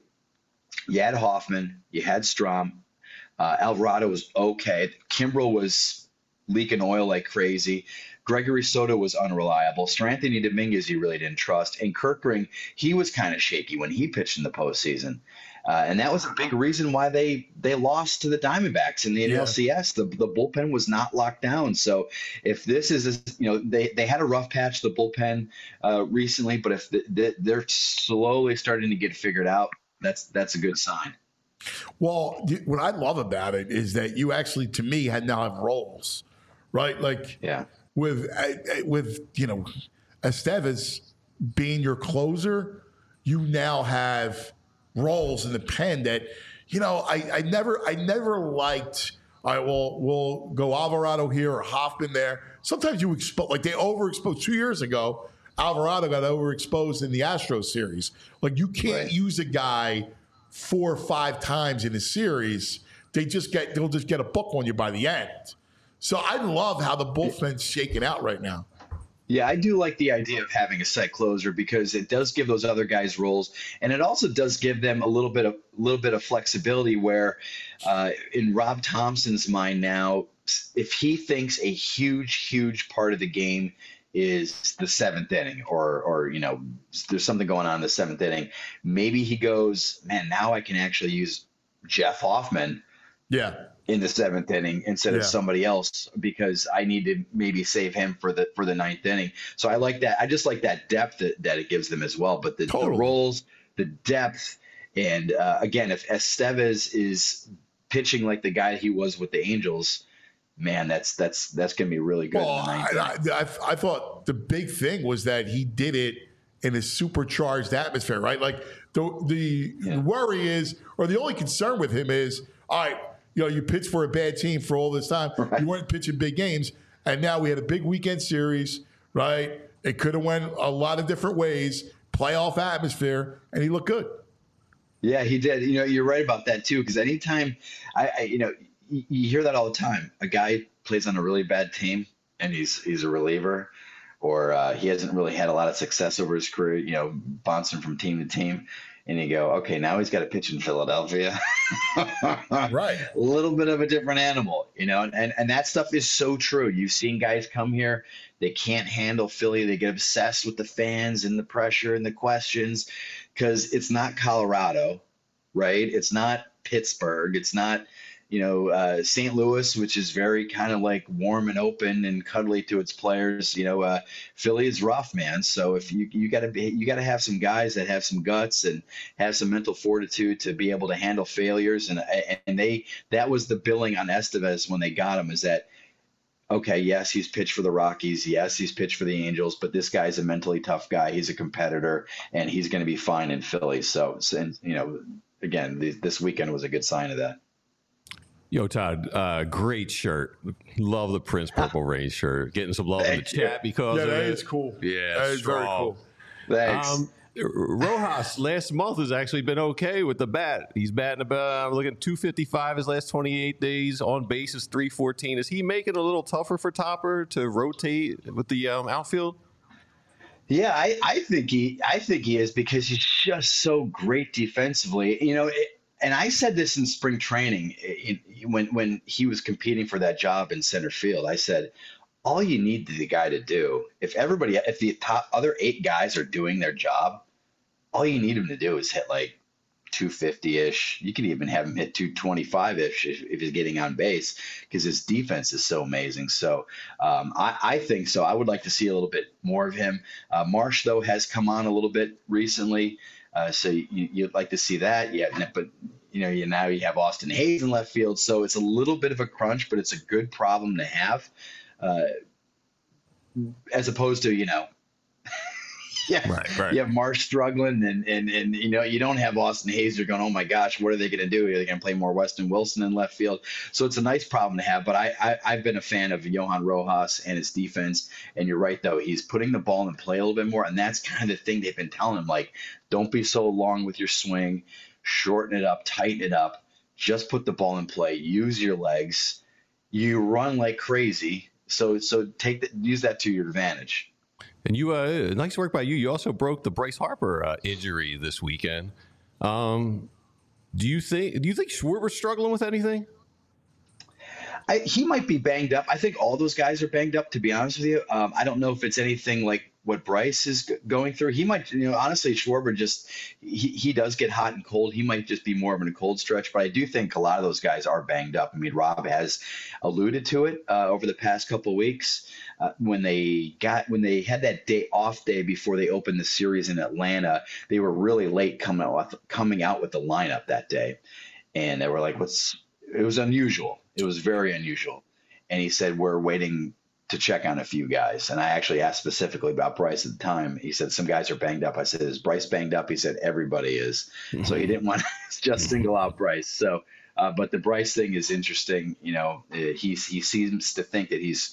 S5: you had Hoffman, you had Strom, uh, Alvarado was okay, Kimbrel was leaking oil like crazy, Gregory Soto was unreliable, Stranthony Dominguez you really didn't trust, and Kirkring, he was kind of shaky when he pitched in the postseason. Uh, and that was a big reason why they they lost to the Diamondbacks in the N L C S. The the bullpen was not locked down. So if this is, a, you know, they, they had a rough patch, the bullpen uh, recently, but if the, the, they're slowly starting to get figured out, that's that's a good sign.
S2: Well, y- what I love about it is that you actually, to me, had now have roles, right? Like,
S5: Yeah.
S2: with uh, with you know Estevez being your closer, you now have roles in the pen that you know I, I never I never liked. All right, well, we'll go Alvarado here or Hoffman there. Sometimes you expose, like they overexposed two years ago. Alvarado got overexposed in the Astros series. Like you can't
S5: Right.
S2: use a guy four or five times in a series. They just get they'll just get a book on you by the end. So I love how the bullpen's shaking out right now.
S5: Yeah, I do like the idea of having a set closer because it does give those other guys roles, and it also does give them a little bit of little bit of flexibility. Where, uh, in Rob Thompson's mind now, if he thinks a huge, huge part of the game is the seventh inning, or or you know, there's something going on in the seventh inning, maybe he goes, man, now I can actually use Jeff Hoffman.
S2: Yeah.
S5: In the seventh inning instead
S2: Yeah.
S5: of somebody else because I need to maybe save him for the for the ninth inning. So I like that. I just like that depth that, that it gives them as well. But the,
S2: Totally.
S5: the roles, the depth, and uh, again, if Estevez is pitching like the guy he was with the Angels, man, that's that's that's gonna be really good.
S2: Well,
S5: in the ninth
S2: I,
S5: inning.
S2: I, I, I thought the big thing was that he did it in a supercharged atmosphere, right? Like the the
S5: Yeah.
S2: worry is, or the only concern with him is, all right, you know, you pitched for a bad team for all this time.
S5: Right.
S2: You weren't pitching big games, and now we had a big weekend series, right? It could have went a lot of different ways, playoff atmosphere, and he looked good.
S5: Yeah, he did. You know, you're right about that too. Because anytime, I, I, you know, you, you hear that all the time. A guy plays on a really bad team, and he's he's a reliever, or uh, he hasn't really had a lot of success over his career. You know, bouncing from team to team, and you go, okay, now he's got to pitch in Philadelphia.
S2: Right.
S5: A little bit of a different animal, you know, and, and that stuff is so true. You've seen guys come here, they can't handle Philly. They get obsessed with the fans and the pressure and the questions because it's not Colorado, right? It's not Pittsburgh. It's not, you know, uh, Saint Louis, which is very kind of like warm and open and cuddly to its players. You know, uh, Philly is rough, man. So if you you got to be, you got to have some guys that have some guts and have some mental fortitude to be able to handle failures. And and they that was the billing on Estevez when they got him, is that, okay, yes, he's pitched for the Rockies. Yes, he's pitched for the Angels, but this guy's a mentally tough guy. He's a competitor, and he's going to be fine in Philly. So, and you know, again, th- this weekend was a good sign of that.
S4: Yo, Todd, uh, great shirt. Love the Prince Purple Rain shirt. Getting some love in the
S5: Thank you.
S4: chat because
S2: Yeah,
S4: of
S2: that
S4: it.
S2: is cool.
S4: Yeah,
S2: That is very
S4: strong.
S2: cool.
S5: Thanks.
S4: Um, Rojas last month has actually been okay with the bat. He's batting about, I'm looking at two fifty-five his last twenty-eight days. On base is three fourteen. Is he making it a little tougher for Topper to rotate with the um, outfield?
S5: Yeah, I, I think he I think he is because he's just so great defensively. You know, it, and I said this in spring training it, it, when when he was competing for that job in center field. I said, all you need the guy to do, if everybody, if the top other eight guys are doing their job, all you need him to do is hit like two fifty-ish. You can even have him hit two twenty-five-ish if, if he's getting on base because his defense is so amazing. So um, I, I think so. I would like to see a little bit more of him. Uh, Marsh, though, has come on a little bit recently. Uh, so you, you'd like to see that. Yeah, but you know, you now you have Austin Hayes in left field. So it's a little bit of a crunch, but it's a good problem to have. Uh, as opposed to, you know, yeah,
S4: Right, right.
S5: you have Marsh struggling and, and, and, you know, you don't have Austin Hayes. You're going, oh my gosh, what are they going to do? Are they going to play more Weston Wilson in left field? So it's a nice problem to have, but I, I, I've been a fan of Johan Rojas and his defense. And you're right, though. He's putting the ball in play a little bit more. And that's kind of the thing they've been telling him, like, don't be so long with your swing, shorten it up, tighten it up, just put the ball in play, use your legs. You run like crazy. So, so take the, use that to your advantage.
S4: And you, uh, nice work by you. You also broke the Bryce Harper uh, injury this weekend. Um, do you think? Do you think Schwarber's struggling with anything?
S5: I, he might be banged up. I think all those guys are banged up, to be honest with you. Um, I don't know if it's anything like what Bryce is g- going through. He might, you know, honestly, Schwarber just, he, he does get hot and cold. He might just be more of in a cold stretch, but I do think a lot of those guys are banged up. I mean, Rob has alluded to it uh, over the past couple of weeks uh, when they got, when they had that day off day before they opened the series in Atlanta, they were really late coming out, coming out with the lineup that day. And they were like, what's, it was unusual. It was very unusual. And he said, we're waiting to check on a few guys. And I actually asked specifically about Bryce at the time. He said, some guys are banged up. I said, is Bryce banged up? He said, everybody is. So he didn't want to just single out Bryce. So, uh, but the Bryce thing is interesting. You know, he's, he seems to think that he's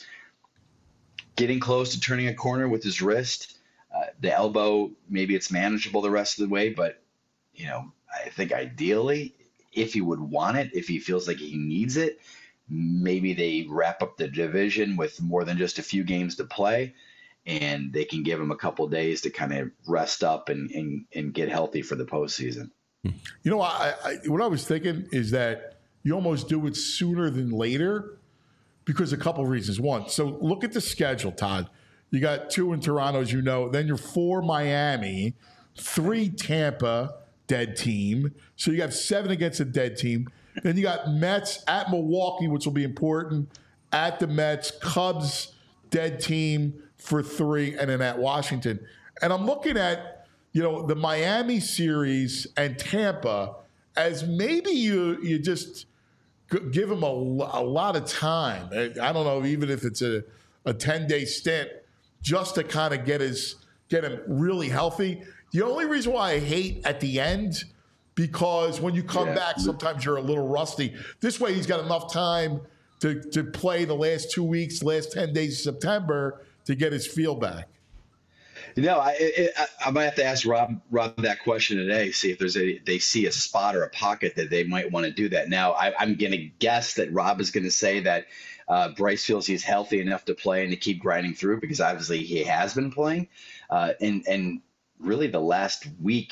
S5: getting close to turning a corner with his wrist. Uh, the elbow, maybe it's manageable the rest of the way, but, you know, I think ideally, if he would want it, if he feels like he needs it, maybe they wrap up the division with more than just a few games to play, and they can give him a couple days to kind of rest up and, and, and get healthy for the postseason.
S2: You know, I, I, what I was thinking is that you almost do it sooner than later because a couple of reasons. One, so look at the schedule, Todd. You got two in Toronto, as you know. Then you're four Miami, three Tampa, dead team. So you have seven against a dead team. Then you got Mets at Milwaukee, which will be important, at the Mets, Cubs, dead team for three, and then at Washington. And I'm looking at, you know, the Miami series and Tampa as maybe you you just give him a, a lot of time. I don't know, even if it's a, a ten-day stint, just to kind of get his get him really healthy. The only reason why I hate at the end, because when you come yeah. back, sometimes you're a little rusty. This way, he's got enough time to, to play the last two weeks, last ten days of September to get his feel back.
S5: You know, I, it, I I might have to ask Rob Rob that question today. See if there's a they see a spot or a pocket that they might want to do that. Now, I, I'm going to guess that Rob is going to say that uh, Bryce feels he's healthy enough to play and to keep grinding through because obviously he has been playing, uh, and and really the last week.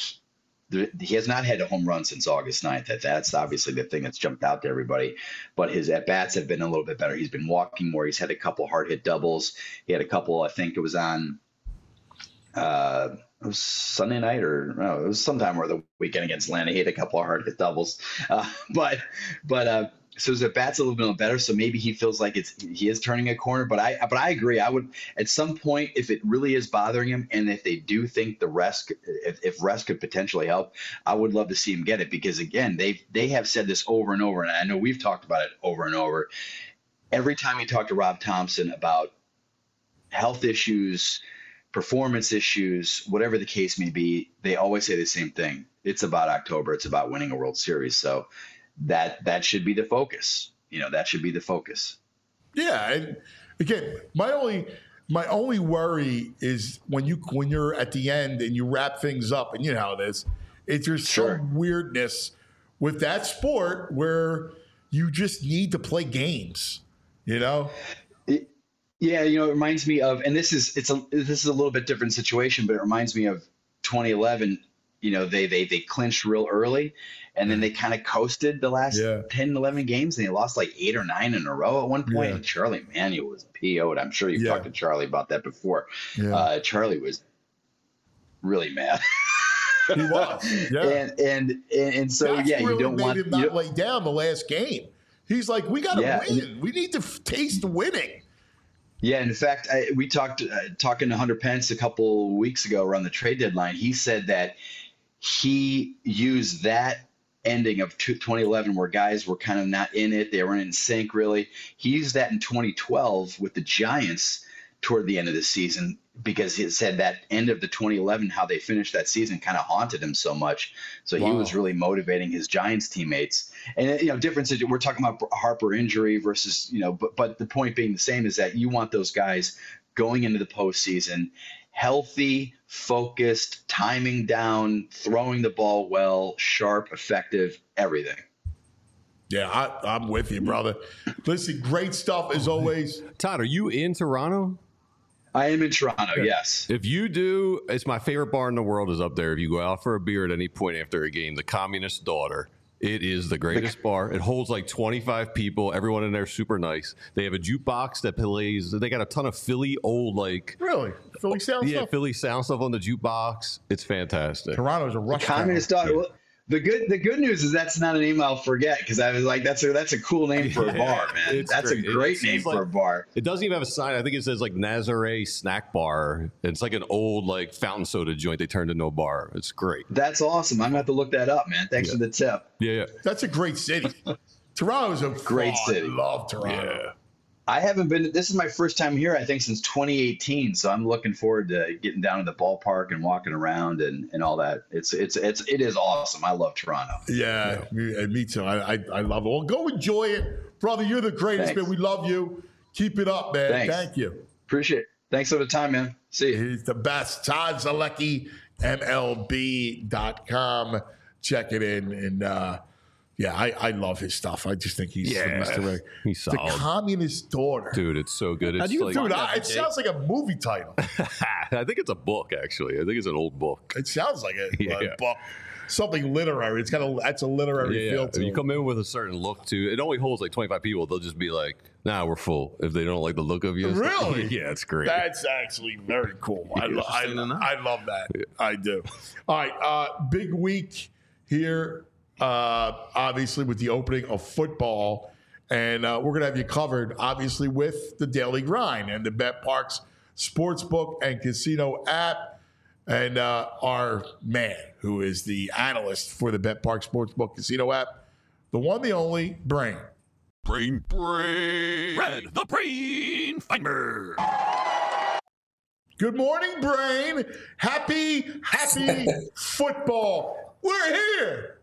S5: He has not had a home run since August ninth. That's obviously the thing that's jumped out to everybody. But his at-bats have been a little bit better. He's been walking more. He's had a couple hard-hit doubles. He had a couple, I think it was on uh, it was Sunday night or no, it was sometime over the weekend against Atlanta. He had a couple of hard-hit doubles. Uh, but but uh, so his at-bats a little bit better. So maybe he feels like it's he is turning a corner. But I but I agree. I would at some point, if it really is bothering him, and if they do think the rest, if, if rest could potentially help, I would love to see him get it because again, they they have said this over and over, and I know we've talked about it over and over. Every time you talk to Rob Thompson about health issues, performance issues, whatever the case may be, they always say the same thing. It's about October. It's about winning a World Series. So. That that should be the focus. You know, that should be the focus.
S2: Yeah, and again, my only my only worry is when you when you're at the end and you wrap things up, and you know how it is. It's there's
S5: sure.
S2: some weirdness with that sport where you just need to play games. You know.
S5: It, yeah, you know, it reminds me of, and this is it's a this is a little bit different situation, but it reminds me of twenty eleven. You know, they they they clinched real early. And then they kind of coasted the last yeah. ten, eleven games, and they lost like eight or nine in a row at one point. Yeah. And Charlie Manuel was P O'd. I'm sure you've yeah. talked to Charlie about that before. Yeah. Uh, Charlie was really mad.
S2: He was, yeah.
S5: And and and, and so
S2: That's
S5: yeah,
S2: really
S5: you don't
S2: made
S5: want
S2: him not lay down the last game. He's like, we got to yeah. win. We need to f- taste winning.
S5: Yeah, in fact, I, we talked uh, talking to Hunter Pence a couple weeks ago around the trade deadline. He said that he used that ending of twenty eleven where guys were kind of not in it. They weren't in sync, really. He used that in twenty twelve with the Giants toward the end of the season because he said that end of the twenty eleven, how they finished that season kind of haunted him so much. So wow. he was really motivating his Giants teammates. And, you know, differences, we're talking about Harper injury versus, you know, but, but the point being the same is that you want those guys going into the postseason healthy, focused, timing down, throwing the ball well, sharp, effective, everything.
S2: Yeah, I, I'm with you, brother. Listen, great stuff as always.
S4: Todd, are you in Toronto?
S5: I am in Toronto, yes.
S4: If you do, it's my favorite bar in the world is up there. If you go out for a beer at any point after a game, the Communist Daughter. It is the greatest bar. It holds like twenty-five people. Everyone in there is super nice. They have a jukebox that plays. They got a ton of Philly old like.
S2: Really? Philly sound
S4: yeah,
S2: stuff? Yeah,
S4: Philly sound stuff on the jukebox. It's fantastic.
S2: Toronto's a rush.
S5: Communist Daughter. Well, the good the good news is that's not a name I'll forget because I was like, that's a that's a cool name for a bar, man. It's that's great. a great it name for
S4: like,
S5: a bar.
S4: It doesn't even have a sign. I think it says like Nazare Snack Bar. It's like an old like fountain soda joint they turned into a bar. It's great.
S5: That's awesome. I'm gonna have to look that up, man. Thanks
S4: yeah.
S5: for the tip.
S4: Yeah, yeah.
S2: That's a great city. Toronto's a
S5: great
S2: fun.
S5: city.
S2: I love Toronto.
S4: Yeah.
S5: I haven't been. This is my first time here, I think, since twenty eighteen. So I'm looking forward to getting down to the ballpark and walking around and, and all that. It's it's it's it is awesome. I love Toronto.
S2: Yeah, me, and me too. I, I I love it. Well, go enjoy it, brother. You're the greatest,
S5: Thanks.
S2: man. We love you. Keep it up, man.
S5: Thanks.
S2: Thank you.
S5: Appreciate it. Thanks for the time, man. See you.
S2: He's the best. Todd Zalecki, M L B dot com. Check it in. And uh, yeah, I, I love his stuff. I just think he's
S4: Yeah,
S2: Mister Ray.
S4: he's
S2: The
S4: solid.
S2: Communist Daughter.
S4: Dude, it's so good. It's
S3: do you
S4: like,
S2: Dude,
S3: find
S2: I,
S3: that,
S2: it
S3: Jake?
S2: sounds like a movie title.
S4: I think it's a book, actually. I think it's an old book.
S2: It sounds like a,
S4: Yeah.
S2: a book. Something literary. It's got a that's a literary
S4: Yeah,
S2: feel
S4: if
S2: to
S4: you
S2: it.
S4: come in with a certain look to it, only holds like twenty-five people. They'll just be like, nah, we're full. If they don't like the look of you. and stuff.
S2: Really?
S4: Yeah, it's great.
S2: That's actually very cool. I, lo- I,
S3: Interesting to know.
S2: I love that. I do. All right. Uh, big week here, uh, obviously, with the opening of football. And uh, we're going to have you covered, obviously, with the Daily Grind and the BetParx Sportsbook and Casino app. And uh, our man, who is the analyst for the BetParx Sportsbook Casino app, the one, the only, Brain.
S1: Brain, brain. Red, the brain finder.
S2: Good morning, Brain. Happy, happy football. We're here.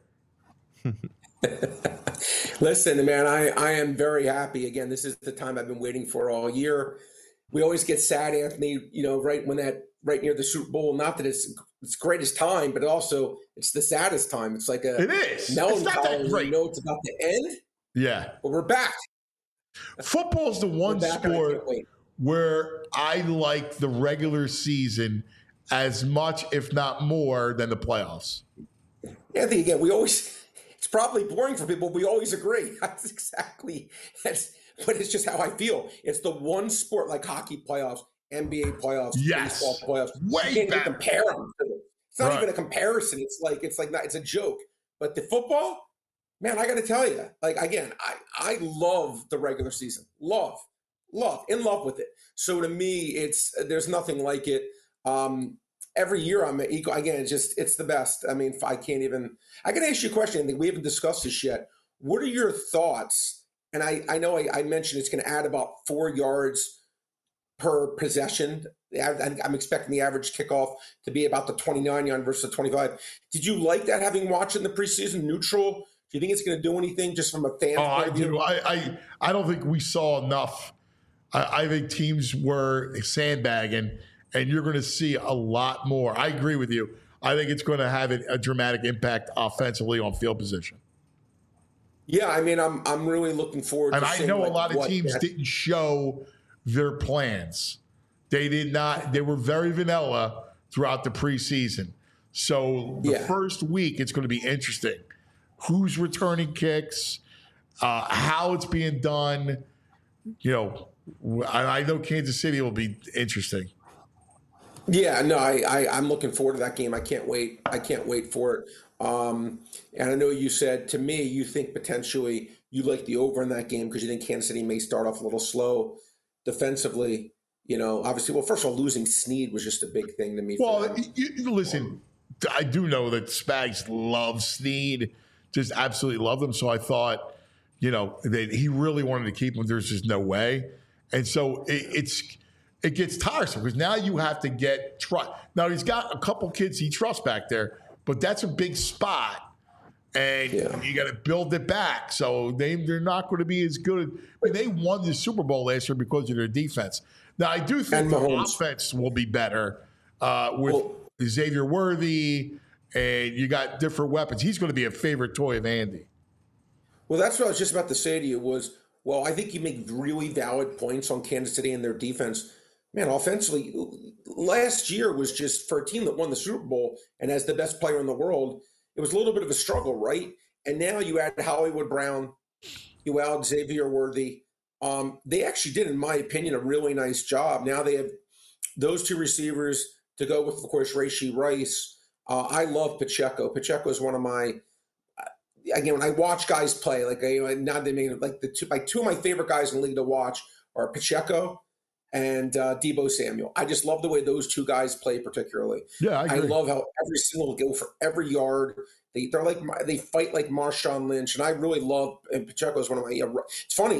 S6: Listen, man, I, I am very happy. Again, this is the time I've been waiting for all year. We always get sad, Anthony, you know, right when that, right near the Super Bowl. Not that it's it's greatest time, but also it's the saddest time. It's like a
S2: It is. It's not
S6: melancholy.
S2: that great.
S6: You know, it's about to end,
S2: Yeah.
S6: but we're back.
S2: Football's the one
S6: We're back, and I
S2: sport
S6: can't wait.
S2: where I like the regular season as much, if not more, than the playoffs.
S6: Anthony, again, we always, it's probably boring for people. We always agree. That's exactly, that's, but it's just how I feel. It's the one sport like hockey playoffs, N B A playoffs,
S2: Yes.
S6: baseball playoffs.
S2: Way
S6: you can't
S2: better.
S6: even compare them. It's not
S2: Right.
S6: even a comparison. It's like, it's like, not, it's a joke. But the football, man, I got to tell you, like, again, I, I love the regular season. Love, love, in love with it. So to me, it's, there's nothing like it. Um, every year I'm equal. Again, it's just, it's the best. I mean, I can't even, I can ask you a question. I think we haven't discussed this yet. What are your thoughts? And I, I know I, I mentioned it's going to add about four yards per possession. I- I'm expecting the average kickoff to be about the twenty-nine yard versus the twenty-five. Did you like that, having watched in the preseason neutral? Do you think it's going to do anything just from a fan
S2: Oh,
S6: point
S2: I
S6: of view?
S2: do. I, I, I don't think we saw enough. I, I think teams were sandbagging, and you're going to see a lot more. I agree with you. I think it's going to have a, a dramatic impact offensively on field position.
S6: Yeah, I mean, I'm I'm really looking forward.
S2: And
S6: to
S2: I
S6: seeing,
S2: know a
S6: like,
S2: lot of
S6: what
S2: teams
S6: that-
S2: didn't show their plans. They did not. They were very vanilla throughout the preseason. So the
S6: Yeah.
S2: first week, it's going to be interesting. Who's returning kicks? Uh, how it's being done? You know, I, I know Kansas City will be interesting.
S6: Yeah, no, I, I I'm looking forward to that game. I can't wait. I can't wait for it. Um, and I know you said to me you think potentially you like the over in that game because you think Kansas City may start off a little slow defensively. You know, obviously, well, first of all, losing Snead was just a big thing to me. for
S2: Well,
S6: them.
S2: you, you- listen, I do know that Spags loves Snead, just absolutely love them. So I thought, you know, that he really wanted to keep him. There's just no way, and so it, it's it gets tiresome because now you have to get trust. Now he's got a couple kids he trusts back there, but that's a big spot, and
S6: Yeah.
S2: you got to build it back. So they they're not going to be as good. I mean, they won the Super Bowl last year because of their defense. Now I do think
S6: And
S2: the
S6: Mahomes.
S2: offense will be better uh, with
S6: Well-
S2: Xavier Worthy, and you got different weapons. He's going to be a favorite toy of Andy.
S6: Well, that's what I was just about to say to you was, well, I think you make really valid points on Kansas City and their defense. Man, offensively, last year was just for a team that won the Super Bowl and has the best player in the world, it was a little bit of a struggle, right? And now you add Hollywood Brown, you add Xavier Worthy. Um, they actually did, in my opinion, a really nice job. Now they have those two receivers to go with, of course, Rashee Rice. Uh, I love Pacheco. Pacheco is one of my again, when I watch guys play, like you know, now they made like the two, my two of my favorite guys in the league to watch are Pacheco and uh, Deebo Samuel. I just love the way those two guys play, particularly.
S2: Yeah, I
S6: I,
S2: agree.
S6: love how every single go for every yard. They they're like they fight like Marshawn Lynch, and I really love. And Pacheco is one of my. Yeah, it's funny.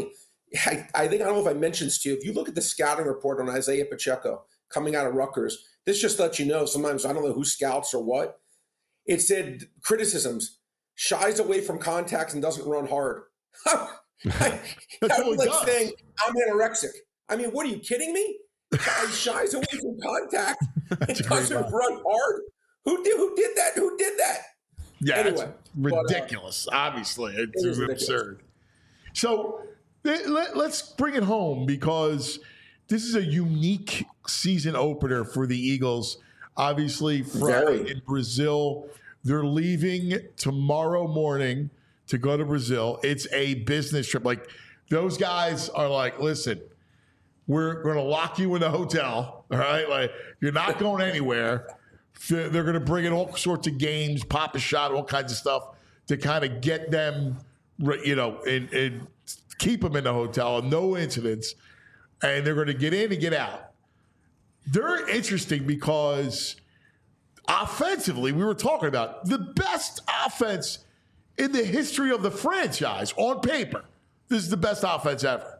S6: I, I think, I don't know if I mentioned this to you, if you look at the scouting report on Isaiah Pacheco coming out of Rutgers, this just lets you know, sometimes I don't know who scouts or what. It said criticisms, shies away from contacts and doesn't run hard. I,
S2: That's
S6: I
S2: all
S6: was
S2: he
S6: like
S2: does.
S6: saying, I'm anorexic. I mean, what are you kidding me? He shies away from contact and
S2: That's a great
S6: doesn't
S2: line.
S6: run hard. Who did, who did that? Who did that?
S2: Yeah,
S6: Anyway,
S2: it's
S6: but, uh,
S2: ridiculous. Obviously, it's
S6: it is ridiculous.
S2: absurd. So let, let, let's bring it home because this is a unique season opener for the Eagles. Obviously, Friday
S6: Very.
S2: in Brazil. They're leaving tomorrow morning to go to Brazil. It's a business trip. Like, those guys are like, listen, we're going to lock you in the hotel. All right. Like, you're not going anywhere. They're going to bring in all sorts of games, pop a shot, all kinds of stuff to kind of get them, you know, and, and keep them in the hotel, no incidents. And they're going to get in and get out. They're interesting because offensively, we were talking about the best offense in the history of the franchise on paper. This is the best offense ever.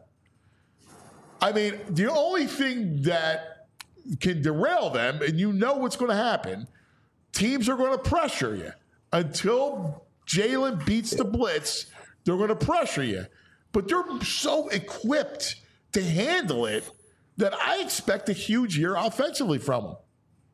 S2: I mean, the only thing that can derail them, and you know what's going to happen, teams are going to pressure you. Until Jalen beats the blitz, they're going to pressure you. But they're so equipped to handle it that I expect a huge year offensively from them.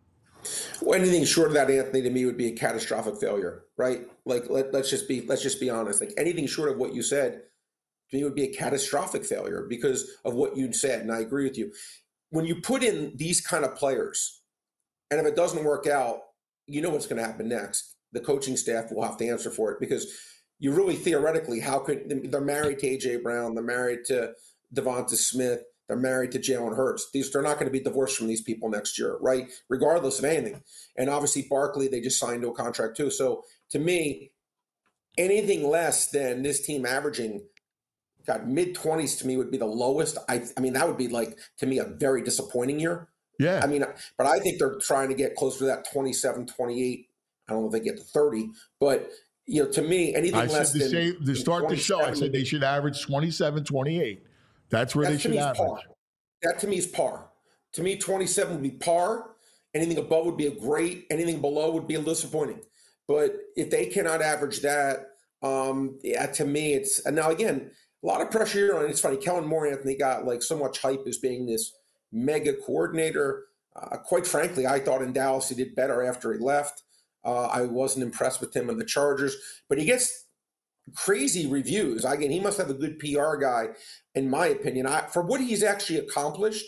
S6: Well, anything short of that, Anthony, to me would be a catastrophic failure, right? Like, let, let's just be let's just be honest. Like, anything short of what you said, to me, would be a catastrophic failure because of what you said, and I agree with you. When you put in these kind of players, and if it doesn't work out, you know what's going to happen next. The coaching staff will have to answer for it because you really theoretically, how could they're married to A J Brown, they're married to Devonta Smith, they're married to Jalen Hurts. These they're not going to be divorced from these people next year, right? Regardless of anything. And obviously, Barkley, they just signed to a contract too. So to me, anything less than this team averaging, God, mid twenties to me would be the lowest. I, I mean, that would be like to me a very disappointing year.
S2: Yeah.
S6: I mean, but I think they're trying to get closer to that twenty-seven, twenty-eight. I don't know if they get to thirty, but you know, to me, anything
S2: I
S6: less
S2: said to,
S6: than
S2: say, to start the show, I said they
S6: would-
S2: should average twenty-seven, twenty-eight. That's where
S6: That
S2: they
S6: to
S2: should
S6: me is
S2: average.
S6: par. That to me is par. To me, twenty-seven would be par. Anything above would be a great. Anything below would be a disappointing. But if they cannot average that, um, yeah, to me, it's and now again a lot of pressure here on. It's funny, Kellen Moore, Anthony got like so much hype as being this mega coordinator. Uh, quite frankly, I thought in Dallas he did better after he left. Uh, I wasn't impressed with him in the Chargers, but he gets crazy reviews. Again, he must have a good P R guy, in my opinion. I, for what he's actually accomplished,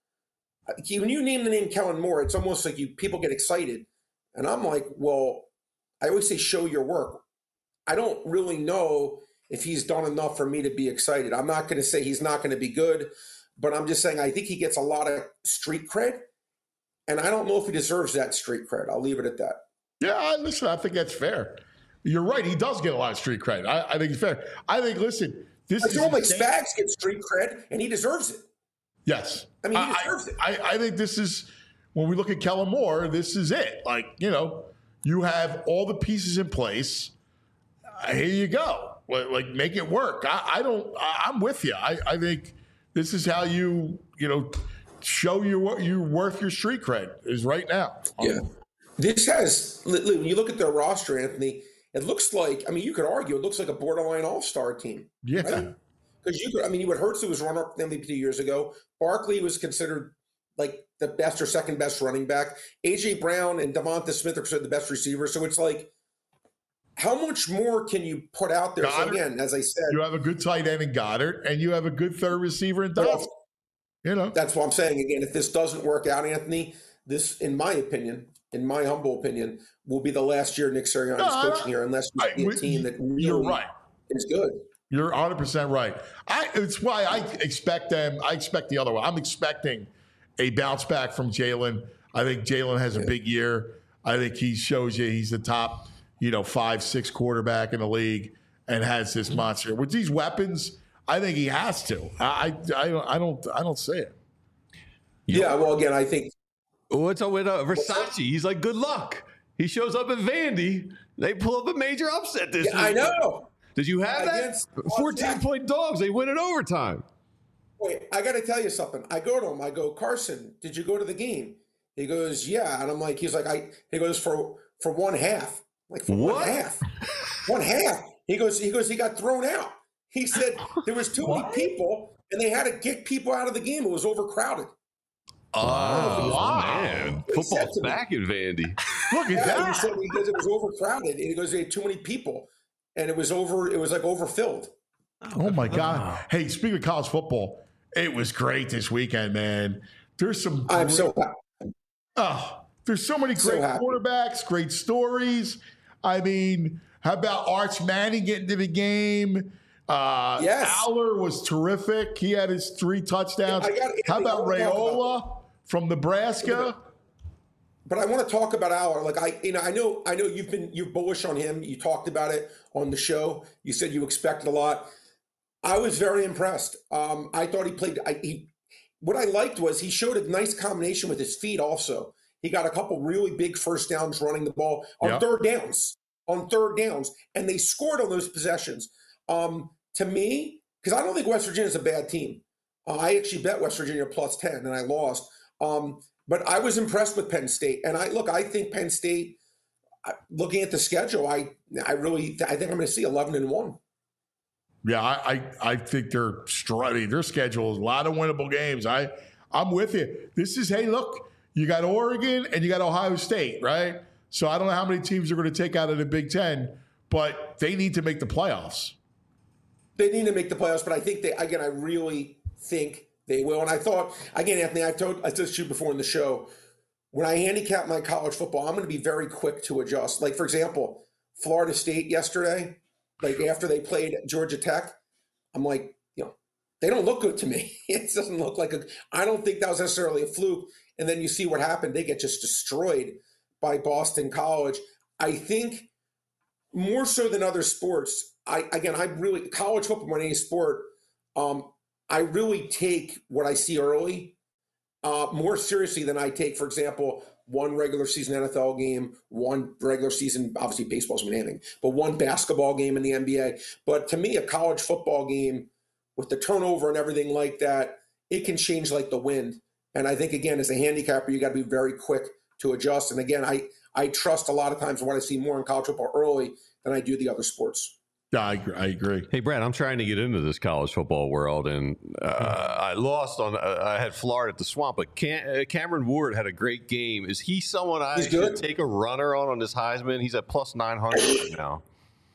S6: he, when you name the name Kellen Moore, it's almost like you people get excited. And I'm like, well, I always say show your work. I don't really know if he's done enough for me to be excited. I'm not going to say he's not going to be good, but I'm just saying I think he gets a lot of street cred, and I don't know if he deserves that street cred. I'll leave it at that.
S2: Yeah, I- listen, I think that's fair. You're right. He does get a lot of street credit. I, I think it's fair. I think, listen, this
S6: I
S2: is.
S6: feel like
S2: insane.
S6: Spags gets street cred, and he deserves it.
S2: Yes.
S6: I mean, he
S2: I,
S6: deserves it.
S2: I, I think this is, when we look at Kellen Moore, this is it. Like, you know, you have all the pieces in place. Uh, here you go. Like, like, make it work. I, I don't, I, I'm with you. I, I think this is how you, you know, show you you're worth your street cred is right now.
S6: Yeah. This has, when you look at their roster, Anthony, it looks like, I mean, you could argue it looks like a borderline all-star team.
S2: Yeah.
S6: Right? Because you could, I mean, you would Hurts, who was runner-up M V P two years ago. Barkley was considered like the best or second best running back. A J Brown and Devonta Smith are considered the best receivers. So it's like, how much more can you put out there?
S2: Goddard.
S6: So again, as I said,
S2: You have a good tight end in Goddard, and you have a good third receiver in
S6: Well,
S2: Dobbs. You know.
S6: that's what I'm saying. Again, if this doesn't work out, Anthony, this, in my opinion, in my humble opinion, will be the last year Nick Sirianni
S2: No,
S6: is coaching here, unless we
S2: I-
S6: see a
S2: we-
S6: team that really
S2: You're right.
S6: is good.
S2: You're one hundred percent right. I, it's why I expect them. I expect the other one. I'm expecting a bounce back from Jalen. I think Jalen has a big year. I think he shows you he's the top, you know, five, six quarterback in the league and has this monster. With these weapons, I think he has to. I, I, I don't, I don't, I don't see it.
S6: Yeah, well, again, I think
S4: What's up with uh, Versace? He's like, good luck. He shows up at Vandy. They pull up a major upset this
S6: yeah, I
S4: week.
S6: know.
S4: Did you have that?
S6: Against-
S4: fourteen point dogs. They win in overtime.
S6: Wait, I got to tell you something. I go to him. I go, Carson, did you go to the game? He goes, yeah. And I'm like, he's like, I. He goes for for one half. I'm like for
S4: What?
S6: one half, one half. He goes, he goes, he got thrown out. He said there was too many people, and they had to get people out of the game. It was overcrowded.
S4: Oh,
S2: wow.
S4: man.
S6: He said
S4: Football's
S6: to me-
S4: back in Vandy.
S2: Look at
S6: Yeah, he
S2: that.
S6: said because it was overcrowded, and he goes, they had too many people, and it was over. It was like overfilled.
S2: Oh my God. Hey, speaking of college football, it was great this weekend, man. There's some
S6: I'm
S2: great-
S6: so
S2: oh, there's so many
S6: So
S2: great
S6: happy.
S2: quarterbacks, great stories. I mean, how about Arch Manning getting to the game? Uh
S6: Yes.
S2: Aller was terrific. He had his three touchdowns.
S6: I got-
S2: how about
S6: I wanna talk about-
S2: Raiola from Nebraska?
S6: But I want to talk about Aller. Like I, you know, I know, I know you've been you're bullish on him. You talked about it on the show. You said you expected a lot. I was very impressed. Um, I thought he played. I, he, what I liked was he showed a nice combination with his feet. Also, he got a couple really big first downs running the ball on
S2: Yeah.
S6: third downs, on third downs, and they scored on those possessions. Um, to me, because I don't think West Virginia is a bad team. Uh, I actually bet West Virginia plus ten, and I lost. Um, But I was impressed with Penn State, and I look. I think Penn State. I- Looking at the schedule, I I really I think I'm going to see eleven and one.
S2: Yeah, I, I, I think they're struggling. Their schedule is a lot of winnable games. I, I'm with you. This is, hey, look, you got Oregon and you got Ohio State, right? So I don't know how many teams are going to take out of the Big Ten, but they need to make the playoffs.
S6: They need to make the playoffs, but I think they again. I really think they will. And I thought again, Anthony. I told I told you before in the show when I handicap my college football, I'm going to be very quick to adjust. Like for example, Florida State yesterday. Like after they played Georgia Tech, I'm like, you know, they don't look good to me. It doesn't look like a. I don't think that was necessarily a fluke. And then you see what happened. They get just destroyed by Boston College. I think more so than other sports. I again, I really college football more than any sport. Um, I really take what I see early uh, more seriously than I take, for example, one regular season N F L game, one regular season, obviously baseball's been anything, but one basketball game in the N B A. But to me, a college football game with the turnover and everything like that, it can change like the wind. And I think, again, as a handicapper, you got to be very quick to adjust. And again, I, I trust a lot of times what I see more in college football early than I do the other sports.
S2: Yeah, I agree. I agree.
S4: Hey, Brad, I'm trying to get into this college football world, and uh, I lost on. Uh, I had Florida at the Swamp, but Cam- uh, Cameron Ward had a great game. Is he someone I
S6: He's
S4: should
S6: good.
S4: take a runner on on this Heisman? He's at plus nine hundred right now.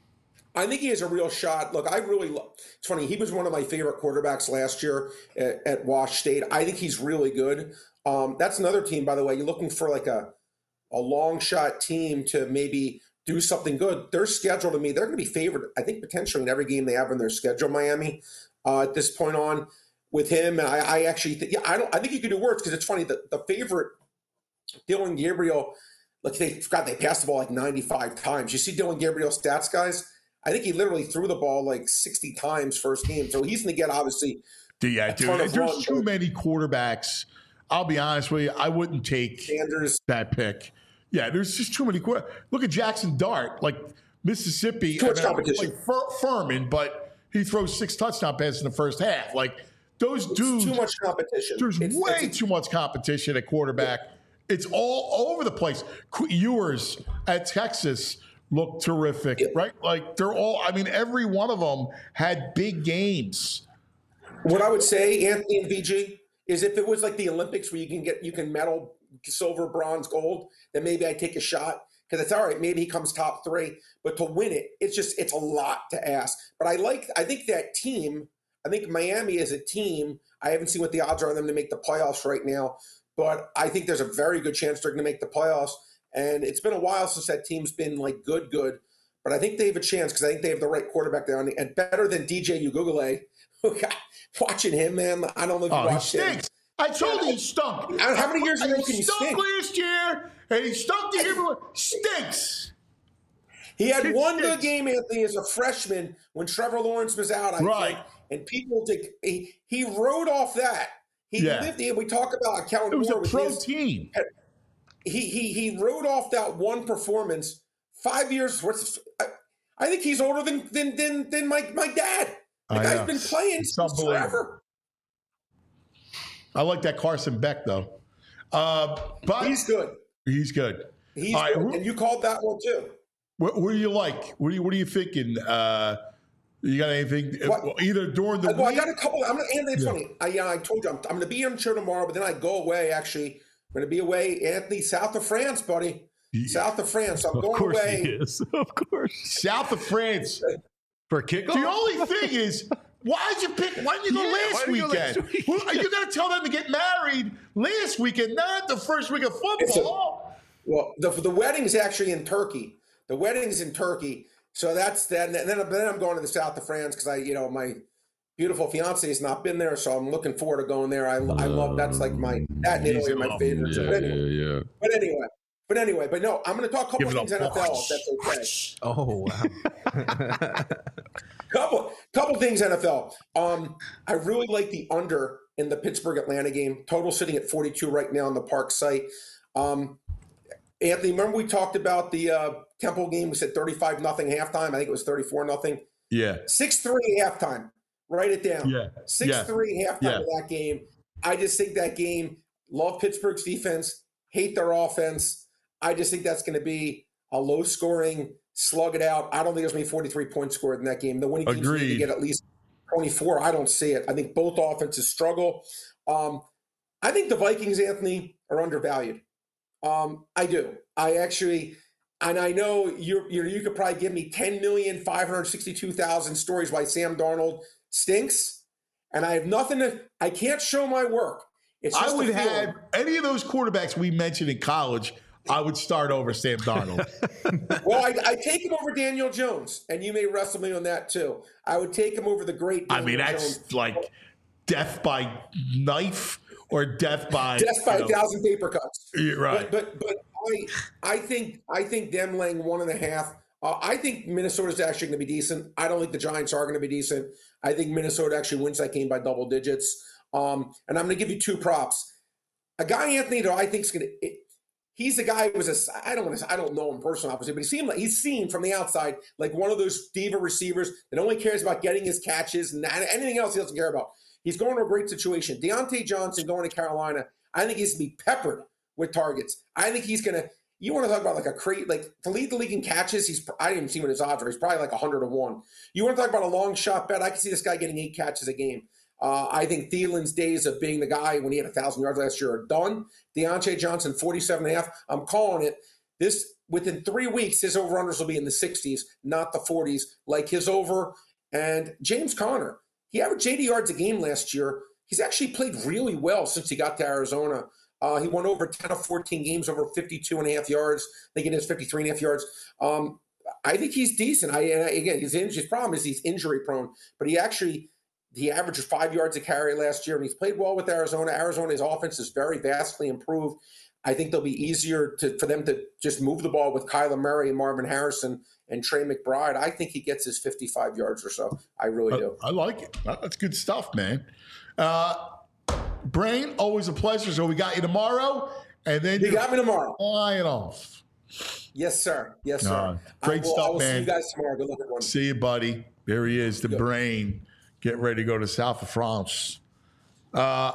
S6: I think he has a real shot. Look, I really love. It's funny. He was one of my favorite quarterbacks last year at, at Wash State. I think he's really good. Um, that's another team, by the way. You're looking for like a a long shot team to maybe do something good. Their schedule to me, they're going to be favored. I think potentially in every game they have in their schedule. Miami uh, at this point on with him, and I, I actually think yeah, I don't. I think you could do worse because it's funny. The the favorite Dylan Gabriel. Look, they forgot they passed the ball like ninety-five times. You see Dylan Gabriel's stats, guys. I think he literally threw the ball like sixty times first game. So he's going to get, obviously,
S2: Yeah,
S6: a ton
S2: dude.
S6: of
S2: There's
S6: runs.
S2: too many quarterbacks. I'll be honest with you. I wouldn't take
S6: Sanders.
S2: that pick. Yeah, there's just too many. Qu- Look at Jackson Dart, like Mississippi.
S6: Too much
S2: I mean,
S6: competition.
S2: Like Fur- Furman, but he throws six touchdown passes in the first half. Like those
S6: It's
S2: dudes.
S6: too much competition.
S2: There's
S6: It's-
S2: way
S6: it's-
S2: too much competition at quarterback. It's all over the place. Qu- Ewers at Texas looked terrific,
S6: Yeah.
S2: right? Like they're all. I mean, every one of them had big games.
S6: What I would say, Anthony and V G, is if it was like the Olympics where you can get you can medal silver, bronze, gold, then maybe I take a shot because it's all right. Maybe he comes top three, but to win it, it's just it's a lot to ask. But I like I think that team. I think Miami is a team. I haven't seen what the odds are on them to make the playoffs right now, but I think there's a very good chance they're going to make the playoffs. And it's been a while since that team's been like good, good. But I think they have a chance because I think they have the right quarterback there, and better than D J Ugugale. Watching him, man, I don't know if you
S2: Oh, he
S6: watched him.
S2: stinks. I told you he stunk.
S6: How many years in a row
S2: He
S6: can you
S2: stunk
S6: stink?
S2: last year, and he stunk the year before. Stinks.
S6: He had
S2: It
S6: one
S2: stinks.
S6: good game, Anthony, as a freshman when Trevor Lawrence was out. I
S2: Right.
S6: think, and people did. He, he rode off that. He
S2: Yeah.
S6: lived. And we talk about Kellen
S2: It was
S6: Moore
S2: a
S6: with
S2: pro
S6: his-
S2: team.
S6: He he he rode off that one performance. Five years. What's I, I think he's older than than than than my my dad. The
S2: I
S6: guy's
S2: know.
S6: been playing
S2: It's
S6: since
S2: unbelievable.
S6: forever.
S2: I like that Carson Beck though. Uh, but
S6: He's good.
S2: He's good.
S6: He's
S2: All right,
S6: good.
S2: who-
S6: And you called that one too.
S2: What, what do you like? What are you What are you thinking? Uh, you got anything?
S6: What?
S2: Either during the
S6: Well, I
S2: week.
S6: got a couple. I'm gonna. Anthony, it's
S2: Yeah.
S6: funny. I, yeah, I told you I'm, I'm going to be on the show tomorrow, but then I go away. Actually, I'm going to be away, Anthony, south of France, buddy.
S2: Yeah.
S6: South of France. I'm
S4: Of
S6: going
S4: course
S6: away.
S4: he is. Of course.
S2: South of France.
S4: For kickoff?
S2: The only thing is, why did you pick? Why didn't you go
S4: Yeah, why
S2: last
S4: didn't you go
S2: weekend?
S4: last week?
S2: Well, you got to tell them to get married last weekend, not the first week of
S6: It's a-
S2: football.
S6: Well, the the wedding's actually in Turkey. The wedding's in Turkey, so that's that. And then, then I'm going to the south of France because I, you know, my beautiful fiance has not been there, so I'm looking forward to going there. I, I love that's like my that and
S2: He's
S6: Italy are
S2: in
S6: my
S2: love.
S6: favorites.
S4: Yeah,
S6: But anyway,
S4: yeah, yeah.
S6: but anyway, but anyway, but no, I'm going to talk a couple
S2: Give it
S6: things
S2: up.
S6: N F L. If that's okay.
S3: Oh wow.
S6: Couple couple things N F L. Um, I really like the under in the Pittsburgh Atlanta game. Total sitting at forty-two right now on the Park site. Um, Anthony, remember we talked about the uh, Temple game? We said thirty-five nothing halftime. I think it was thirty-four nothing.
S2: Yeah.
S6: six three halftime. Write it down.
S2: Yeah.
S6: six three halftime
S2: Yeah.
S6: of that game. I just think that game, love Pittsburgh's defense, hate their offense. I just think that's going to be a low scoring, slug it out. I don't think there's going to be forty-three points scored in that game. The winning teams need to
S2: Agreed.
S6: get at least twenty-four. I don't see it. I think both offenses struggle. Um, I think the Vikings, Anthony, are undervalued. Um, I do. I actually, and I know you're, you're, you could probably give me ten million five hundred sixty-two thousand stories why Sam Darnold stinks, and I have nothing to. I can't show my work. It's just
S2: I would
S6: a feeling.
S2: have any of those quarterbacks we mentioned in college. I would start over Sam Darnold.
S6: Well, I, I take him over Daniel Jones, and you may wrestle me on that too. I would take him over the great.
S2: I
S6: Daniel
S2: mean, that's
S6: Jones.
S2: like death by knife or death by
S6: death by
S2: you
S6: a
S2: know,
S6: thousand paper cuts.
S2: yeah, right.
S6: But but, but I I think I think them laying one and a half. Uh, I think Minnesota's actually going to be decent. I don't think the Giants are going to be decent. I think Minnesota actually wins that game by double digits. Um, and I'm going to give you two props. A guy, Anthony, that I think is going to. He's the guy who was a. I don't want to. I don't know him personally, obviously, but he seemed like he's seen from the outside like one of those diva receivers that only cares about getting his catches and anything else he doesn't care about. He's going to a great situation. Deontay Johnson going to Carolina. I think he's going to be peppered with targets. I think he's going to. You want to talk about like a crate, like to lead the league in catches? He's. I didn't even see what his odds are. He's probably like a hundred to one. You want to talk about a long shot bet? I can see this guy getting eight catches a game. Uh, I think Thielen's days of being the guy when he had one thousand yards last year are done. Deontay Johnson, forty-seven and a half. I'm calling it. This within three weeks, his over-unders will be in the sixties, not the forties, like his over. And James Conner, he averaged eighty yards a game last year. He's actually played really well since he got to Arizona. Uh, he won over ten of fourteen games, over fifty-two and a half yards. I think it is fifty-three and a half yards. Um, I think he's decent. I, and again, his, his problem is he's injury prone, but he actually – he averaged five yards a carry last year, and he's played well with Arizona. Arizona's offense is very vastly improved. I think they'll be easier to, for them to just move the ball with Kyler Murray and Marvin Harrison and Trey McBride. I think he gets his fifty-five yards or so. I really do.
S2: I, I like it. That's good stuff, man. Uh, Brain, always a pleasure. So we got you tomorrow, and then
S6: You got me tomorrow.
S2: flying off.
S6: Yes, sir. Yes, sir.
S2: Uh, great
S6: I will,
S2: stuff,
S6: I will
S2: man.
S6: see you guys tomorrow. Good luck, everyone.
S2: See you, buddy. There he is, the
S6: Yep.
S2: Brain. Get ready to go to south of France. Uh,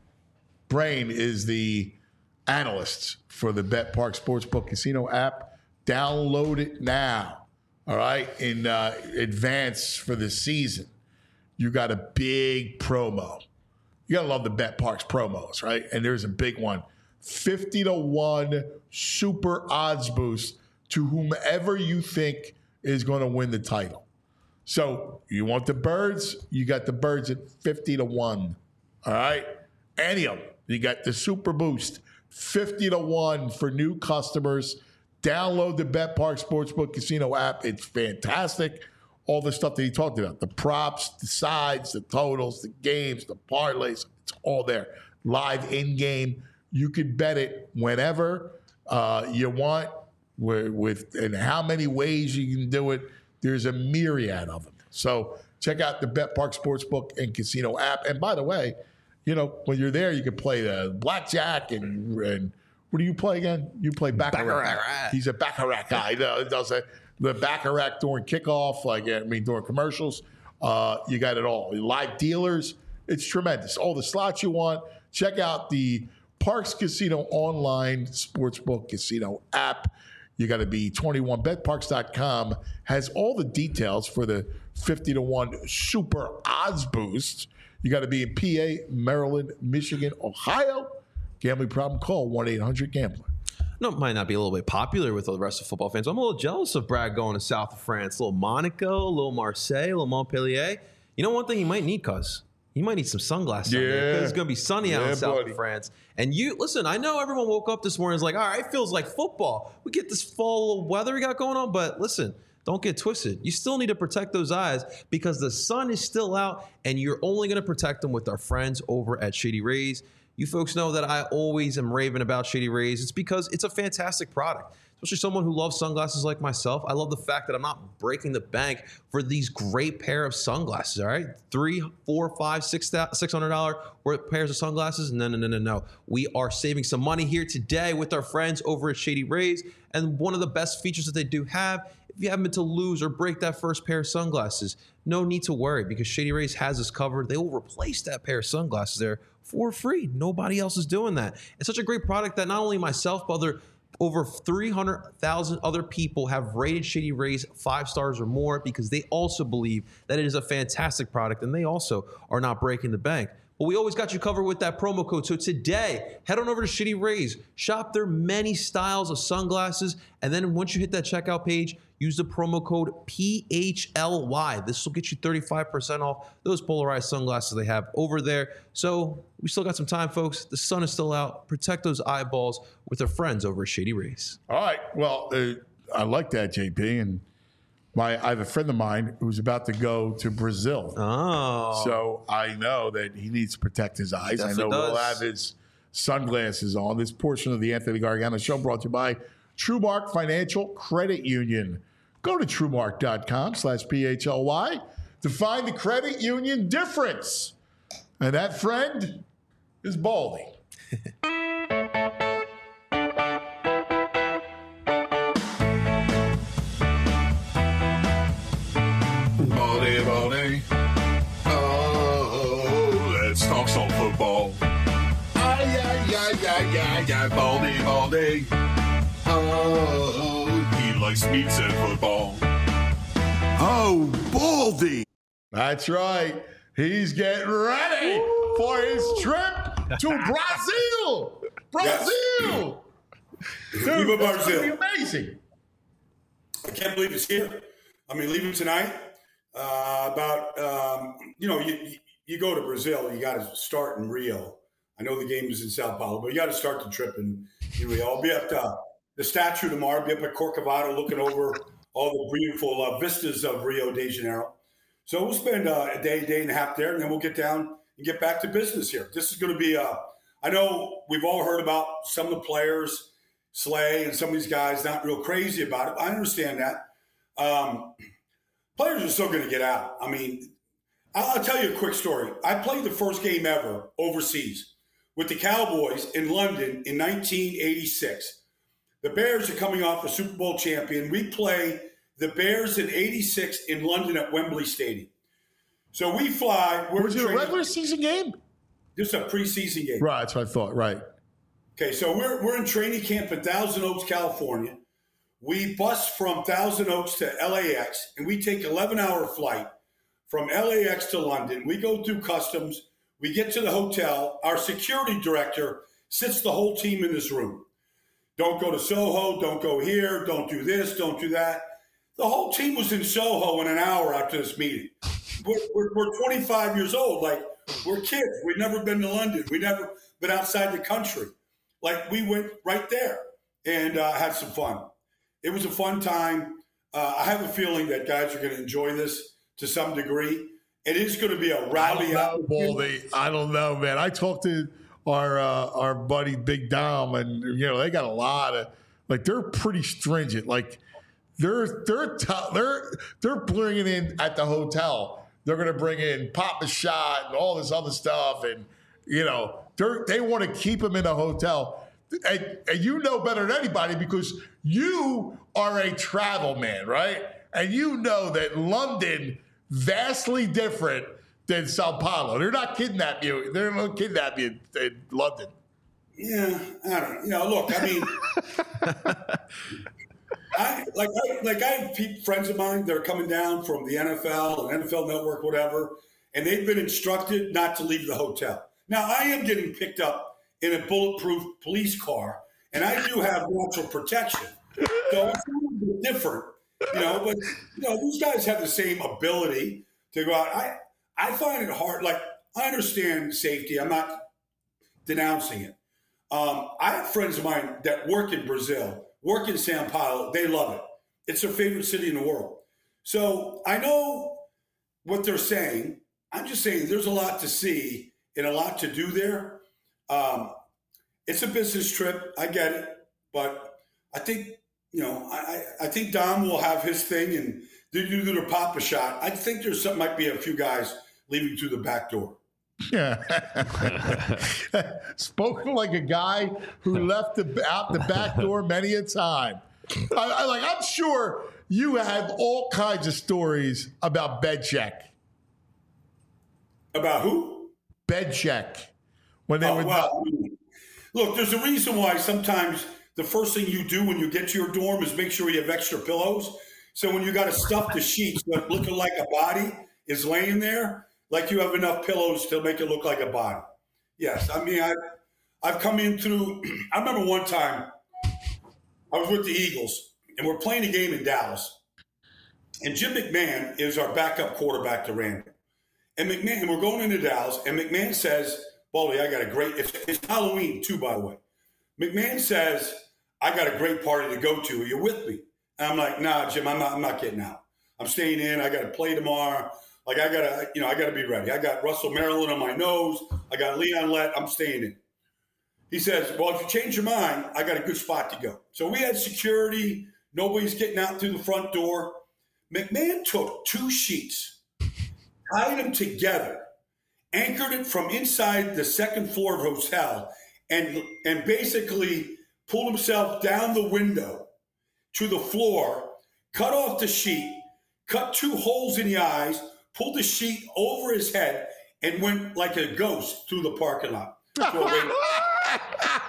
S2: Brain is the analyst for the Bet Park Sportsbook Casino app. Download it now. All right, in uh, advance for the season. You got a big promo. You gotta love the Bet Parks promos, right? And there's a big one: fifty to one super odds boost to whomever you think is going to win the title. So you want the Birds? You got the Birds at fifty to one. All right. Any of them. You got the Super Boost, fifty to one for new customers. Download the Bet Park Sportsbook Casino app. It's fantastic. All the stuff that he talked about, the props, the sides, the totals, the games, the parlays, it's all there. Live in-game. You can bet it whenever uh, you want with, with and how many ways you can do it. There's a myriad of them. So check out the Bet Park Sportsbook and Casino app. And by the way, you know, when you're there, you can play the blackjack and, and what do you play again? You play Baccarat.
S3: Baccarat.
S2: He's a Baccarat guy. He does a, the Baccarat during kickoff, like, I mean, during commercials. Uh, you got it all. Live dealers. It's tremendous. All the slots you want. Check out the Parx Casino online sportsbook casino app. You got to be twenty-one. bet parx dot com has all the details for the fifty to one super odds boost. You got to be in P A, Maryland, Michigan, Ohio. Gambling problem? Call one eight hundred gambler.
S3: No, it might not be a little bit popular with the rest of football fans. I'm a little jealous of Brad going to south of France. A little Monaco, a little Marseille, a little Montpellier. You know one thing you might need, cuz? You might need some sunglasses
S2: yeah.
S3: out there because it's going to be sunny out
S2: yeah,
S3: in south
S2: buddy.
S3: of France. And you, listen, I know everyone woke up this morning and was like, all right, it feels like football. We get this fall weather we got going on, but listen, don't get twisted. You still need to protect those eyes because the sun is still out and you're only going to protect them with our friends over at Shady Rays. You folks know that I always am raving about Shady Rays. It's because it's a fantastic product. Especially someone who loves sunglasses like myself. I love the fact that I'm not breaking the bank for these great pair of sunglasses, all right? Three, four, five, six, six hundred dollars worth pairs of sunglasses? No, no, no, no, no. We are saving some money here today with our friends over at Shady Rays. And one of the best features that they do have, if you happen to lose or break that first pair of sunglasses, no need to worry because Shady Rays has us covered. They will replace that pair of sunglasses there for free. Nobody else is doing that. It's such a great product that not only myself, but other over three hundred thousand other people have rated Shady Rays five stars or more because they also believe that it is a fantastic product and they also are not breaking the bank. But we always got you covered with that promo code. So today, head on over to Shady Rays, shop their many styles of sunglasses, and then once you hit that checkout page, use the promo code P H L Y. This will get you thirty-five percent off those polarized sunglasses they have over there. So we still got some time, folks. The sun is still out. Protect those eyeballs with our friends over at Shady Rays.
S2: All right. Well, uh, I like that, J P. And my I have a friend of mine who's about to go to Brazil.
S3: Oh.
S2: So I know that he needs to protect his eyes. I know
S3: does.
S2: he'll have his sunglasses on. This portion of the Anthony Gargano Show brought to you by TrueMark Financial Credit Union. Go to TrueMark.com slash P H L Y to find the credit union difference. And that friend is Baldy.
S1: Baldy, Baldy. Oh, let's talk some football. Ay, ay, ay, ay, ay, ay, Baldy, Baldy. Oh, he likes meats and football. Oh, Baldy.
S2: That's right. He's getting ready for his trip to Brazil. Brazil. Dude,
S7: Viva
S2: that's
S7: Brazil.
S2: gonna be amazing.
S7: I can't believe it's here. I mean, leaving tonight. Uh, about um, you know, you, you you go to Brazil, you got to start in Rio. I know the game is in Sao Paulo, but you got to start the trip in, in Rio. I'll be at uh, the statue tomorrow. I'll be up at Corcovado looking over all the beautiful uh, vistas of Rio de Janeiro. So we'll spend uh, a day, day and a half there, and then we'll get down and get back to business here. This is going to be, uh, I know we've all heard about some of the players, Slay and some of these guys not real crazy about it. I understand that. Um, players are still going to get out. I mean, I'll, I'll tell you a quick story. I played the first game ever overseas with the Cowboys in London in nineteen eighty-six. The Bears are coming off a Super Bowl champion. We play the Bears in eighty-six in London at Wembley Stadium. So we fly. We're
S2: Was it a
S7: training-
S2: regular season game?
S7: This is a preseason game.
S2: Right, that's what I thought. Right.
S7: Okay, so we're we're in training camp in Thousand Oaks, California. We bus from Thousand Oaks to L A X, and we take eleven hour flight from L A X to London. We go through customs. We get to the hotel. Our security director sits the whole team in this room. Don't go to Soho. Don't go here. Don't do this. Don't do that. The whole team was in Soho in an hour after this meeting. We're, we're, we're twenty-five years old. Like, we're kids. We've never been to London. We've never been outside the country. Like, we went right there and uh, had some fun. It was a fun time. Uh, I have a feeling that guys are going to enjoy this to some degree. It is going to be a rowdy.
S2: I don't know, Baldy. I don't know, man. I talked to our uh, our buddy Big Dom, and you know they got a lot of like they're pretty stringent. Like they're they're t- they're they're bringing in at the hotel. They're going to bring in Papa Shot and all this other stuff, and you know they they want to keep him in the hotel. And, and you know better than anybody because you are a travel man, right? And you know that London vastly different than Sao Paulo. They're not kidnapping you. They're not kidnapping you in, in London.
S7: Yeah, I don't know. You know, look, I mean, I like I, like I have pe- friends of mine that are coming down from the N F L and N F L Network, whatever, and they've been instructed not to leave the hotel. Now, I am getting picked up in a bulletproof police car, and I do have natural protection, so it's a little bit different, you know. But you know, these guys have the same ability to go out. I I find it hard. Like, I understand safety. I'm not denouncing it. Um, I have friends of mine that work in Brazil, work in Sao Paulo. They love it. It's their favorite city in the world. So I know what they're saying. I'm just saying there's a lot to see and a lot to do there. Um, it's a business trip. I get it. But I think, you know, I, I think Dom will have his thing and they do their pop a shot. I think there's some, might be a few guys leaving through the back door.
S2: Yeah. Spoken like a guy who left the, out the back door many a time. I, I like. I'm sure you have all kinds of stories about Belichick.
S7: About who?
S2: Belichick. When they
S7: oh,
S2: were
S7: well, look, there's a reason why sometimes the first thing you do when you get to your dorm is make sure you have extra pillows. So when you got to stuff the sheets that looking like a body is laying there, like you have enough pillows to make it look like a body. Yes, I mean, I, I've come in through, I remember one time I was with the Eagles, and we're playing a game in Dallas. And Jim McMahon is our backup quarterback to Randall. And McMahon, and we're going into Dallas, and McMahon says, Baldy, I got a great, it's, it's Halloween too, by the way. McMahon says, I got a great party to go to. Are you with me? And I'm like, nah, Jim, I'm not, I'm not getting out. I'm staying in. I got to play tomorrow. Like, I got to, you know, I got to be ready. I got Russell Maryland on my nose. I got Leon Lett. I'm staying in. He says, well, if you change your mind, I got a good spot to go. So we had security. Nobody's getting out through the front door. McMahon took two sheets, tied them together, anchored it from inside the second floor of the hotel, and, and basically pulled himself down the window to the floor, cut off the sheet, cut two holes in the eyes, pulled the sheet over his head, and went like a ghost through the parking lot. I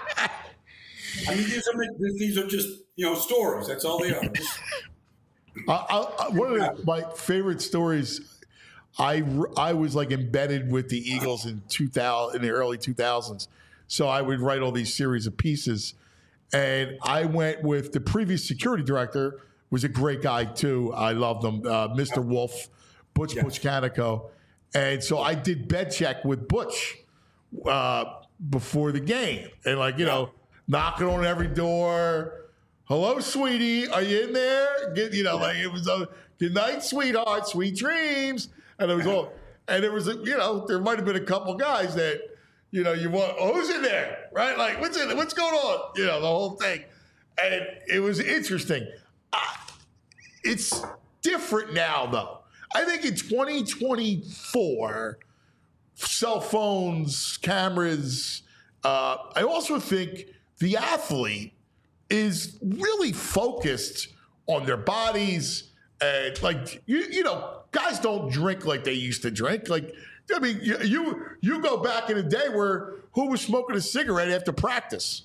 S7: mean, these are, these are just, you know, stories. That's all they are.
S2: I, I, one of my favorite stories, I, I was like embedded with the Eagles in two thousand, in the early two thousands. So I would write all these series of pieces. And I went with the previous security director, was a great guy too. I loved him, uh, Mister Wolf. Butch yes. Butch Canico. And so I did Belichick with Butch uh, before the game. And, like, you yeah. know, knocking on every door. Hello, sweetie. Are you in there? Get, you know, like it was a good night, sweetheart. Sweet dreams. And it was all, and there was, a, you know, there might have been a couple guys that, you know, you want, oh, who's in there? Right? Like, what's in there? What's going on? You know, the whole thing. And it was interesting. Uh, it's different now, though. I think in twenty twenty-four, cell phones, cameras, uh, I also think the athlete is really focused on their bodies. And, like, you, you know, guys don't drink like they used to drink. Like, I mean, you, you, you go back in a day where who was smoking a cigarette after practice?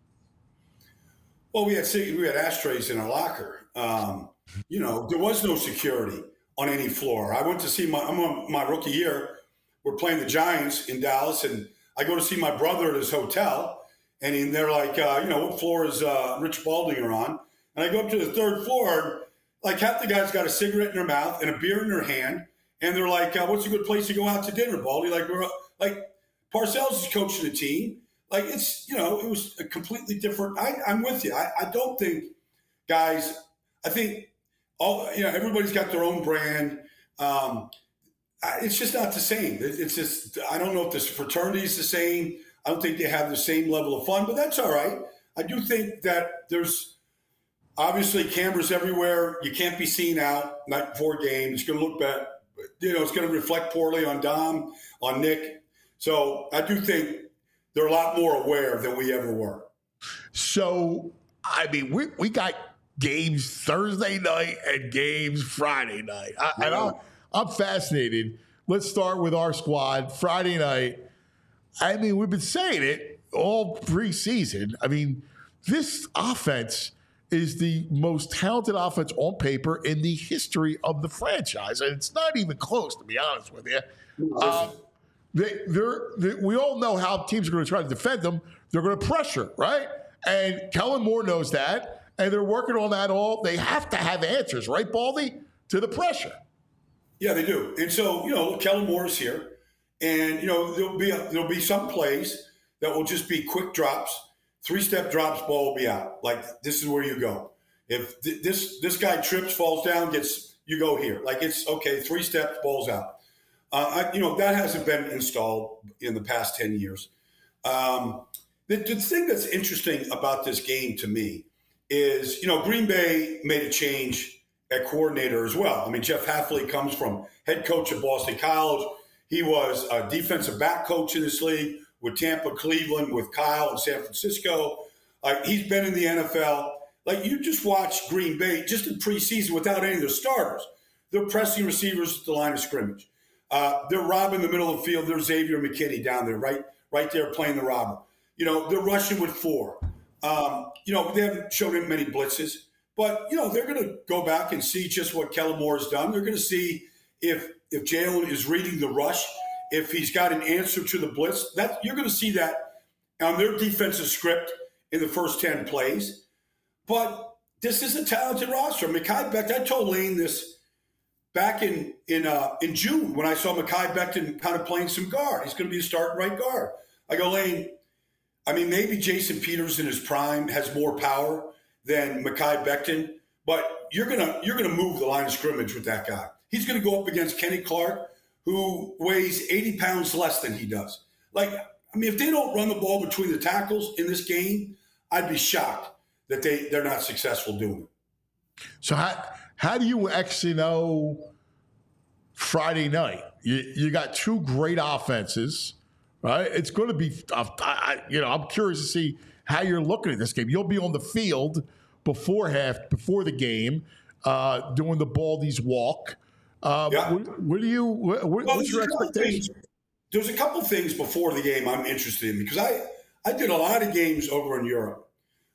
S7: Well, we had we had ashtrays in our locker. Um, you know, there was no security on any floor. I went to see my, I'm on my rookie year. We're playing the Giants in Dallas, and I go to see my brother at his hotel, and he, they're like, uh, you know, what floor is uh, Rich Baldinger on? And I go up to the third floor, and like half the guys got a cigarette in their mouth and a beer in their hand, and they're like, uh, what's a good place to go out to dinner, Baldy? Like, we're like, Parcells is coaching the team. Like, it's, you know, it was a completely different. I, I'm with you. I, I don't think, guys, I think, all, you know, everybody's got their own brand. Um, it's just not the same. It's just, I don't know if this fraternity is the same. I don't think they have the same level of fun, but that's all right. I do think that there's obviously cameras everywhere. You can't be seen out night before game. It's going to look bad. You know, it's going to reflect poorly on Dom, on Nick. So I do think they're a lot more aware than we ever were.
S2: So, I mean, we, we got games Thursday night and games Friday night. I, and I'm, I'm fascinated let's start with our squad. Friday night, I mean, we've been saying it all preseason. I mean, this offense is the most talented offense on paper in the history of the franchise. And it's not even close, to be honest with you. Um, they, they're, they, we all know how teams are going to try to defend them. They're going to pressure, right? And Kellen Moore knows that. And they're working on that all. They have to have answers, right, Baldy, to the pressure.
S7: Yeah, they do. And so, you know, Kellen Moore is here. And, you know, there'll be, a, there'll be some plays that will just be quick drops. Three-step drops, ball will be out. Like, this is where you go. If th- this this guy trips, falls down, gets you go here. Like, it's, okay, three steps, ball's out. Uh, I, you know, that hasn't been installed in the past ten years. Um, the, the thing that's interesting about this game to me is, you know, Green Bay made a change at coordinator as well. I mean, Jeff Hafley comes from head coach at Boston College. He was a defensive back coach in this league with Tampa, Cleveland, with Kyle in San Francisco. Uh, he's been in the N F L. Like, you just watch Green Bay just in preseason without any of their starters. They're pressing receivers at the line of scrimmage. Uh, they're robbing the middle of the field. There's Xavier McKinney down there, right, right there playing the robber. You know, they're rushing with four. Um, you know, they haven't shown him many blitzes. But, you know, they're going to go back and see just what Kellen Moore has done. They're going to see if if Jalen is reading the rush, if he's got an answer to the blitz. That you're going to see that on their defensive script in the first ten plays. But this is a talented roster. Mekhi Becton, I told Lane this back in in uh, in June when I saw Mekhi Becton kind of playing some guard. He's going to be a starting right guard. I go, Lane, I mean, maybe Jason Peters in his prime has more power than Mekhi Becton, but you're gonna you're gonna move the line of scrimmage with that guy. He's gonna go up against Kenny Clark, who weighs eighty pounds less than he does. Like, I mean, if they don't run the ball between the tackles in this game, I'd be shocked that they they're not successful doing it.
S2: So how how do you actually know Friday night? You you got two great offenses, right? It's going to be, I, I, you know, I'm curious to see how you're looking at this game. You'll be on the field before half, before the game, uh, doing the Baldy's walk. Uh,
S7: Yeah.
S2: what, what do you? What,
S7: Well,
S2: what's
S7: there's
S2: your
S7: a couple
S2: expectation?
S7: things- There's a couple things before the game I'm interested in because I, I did a lot of games over in Europe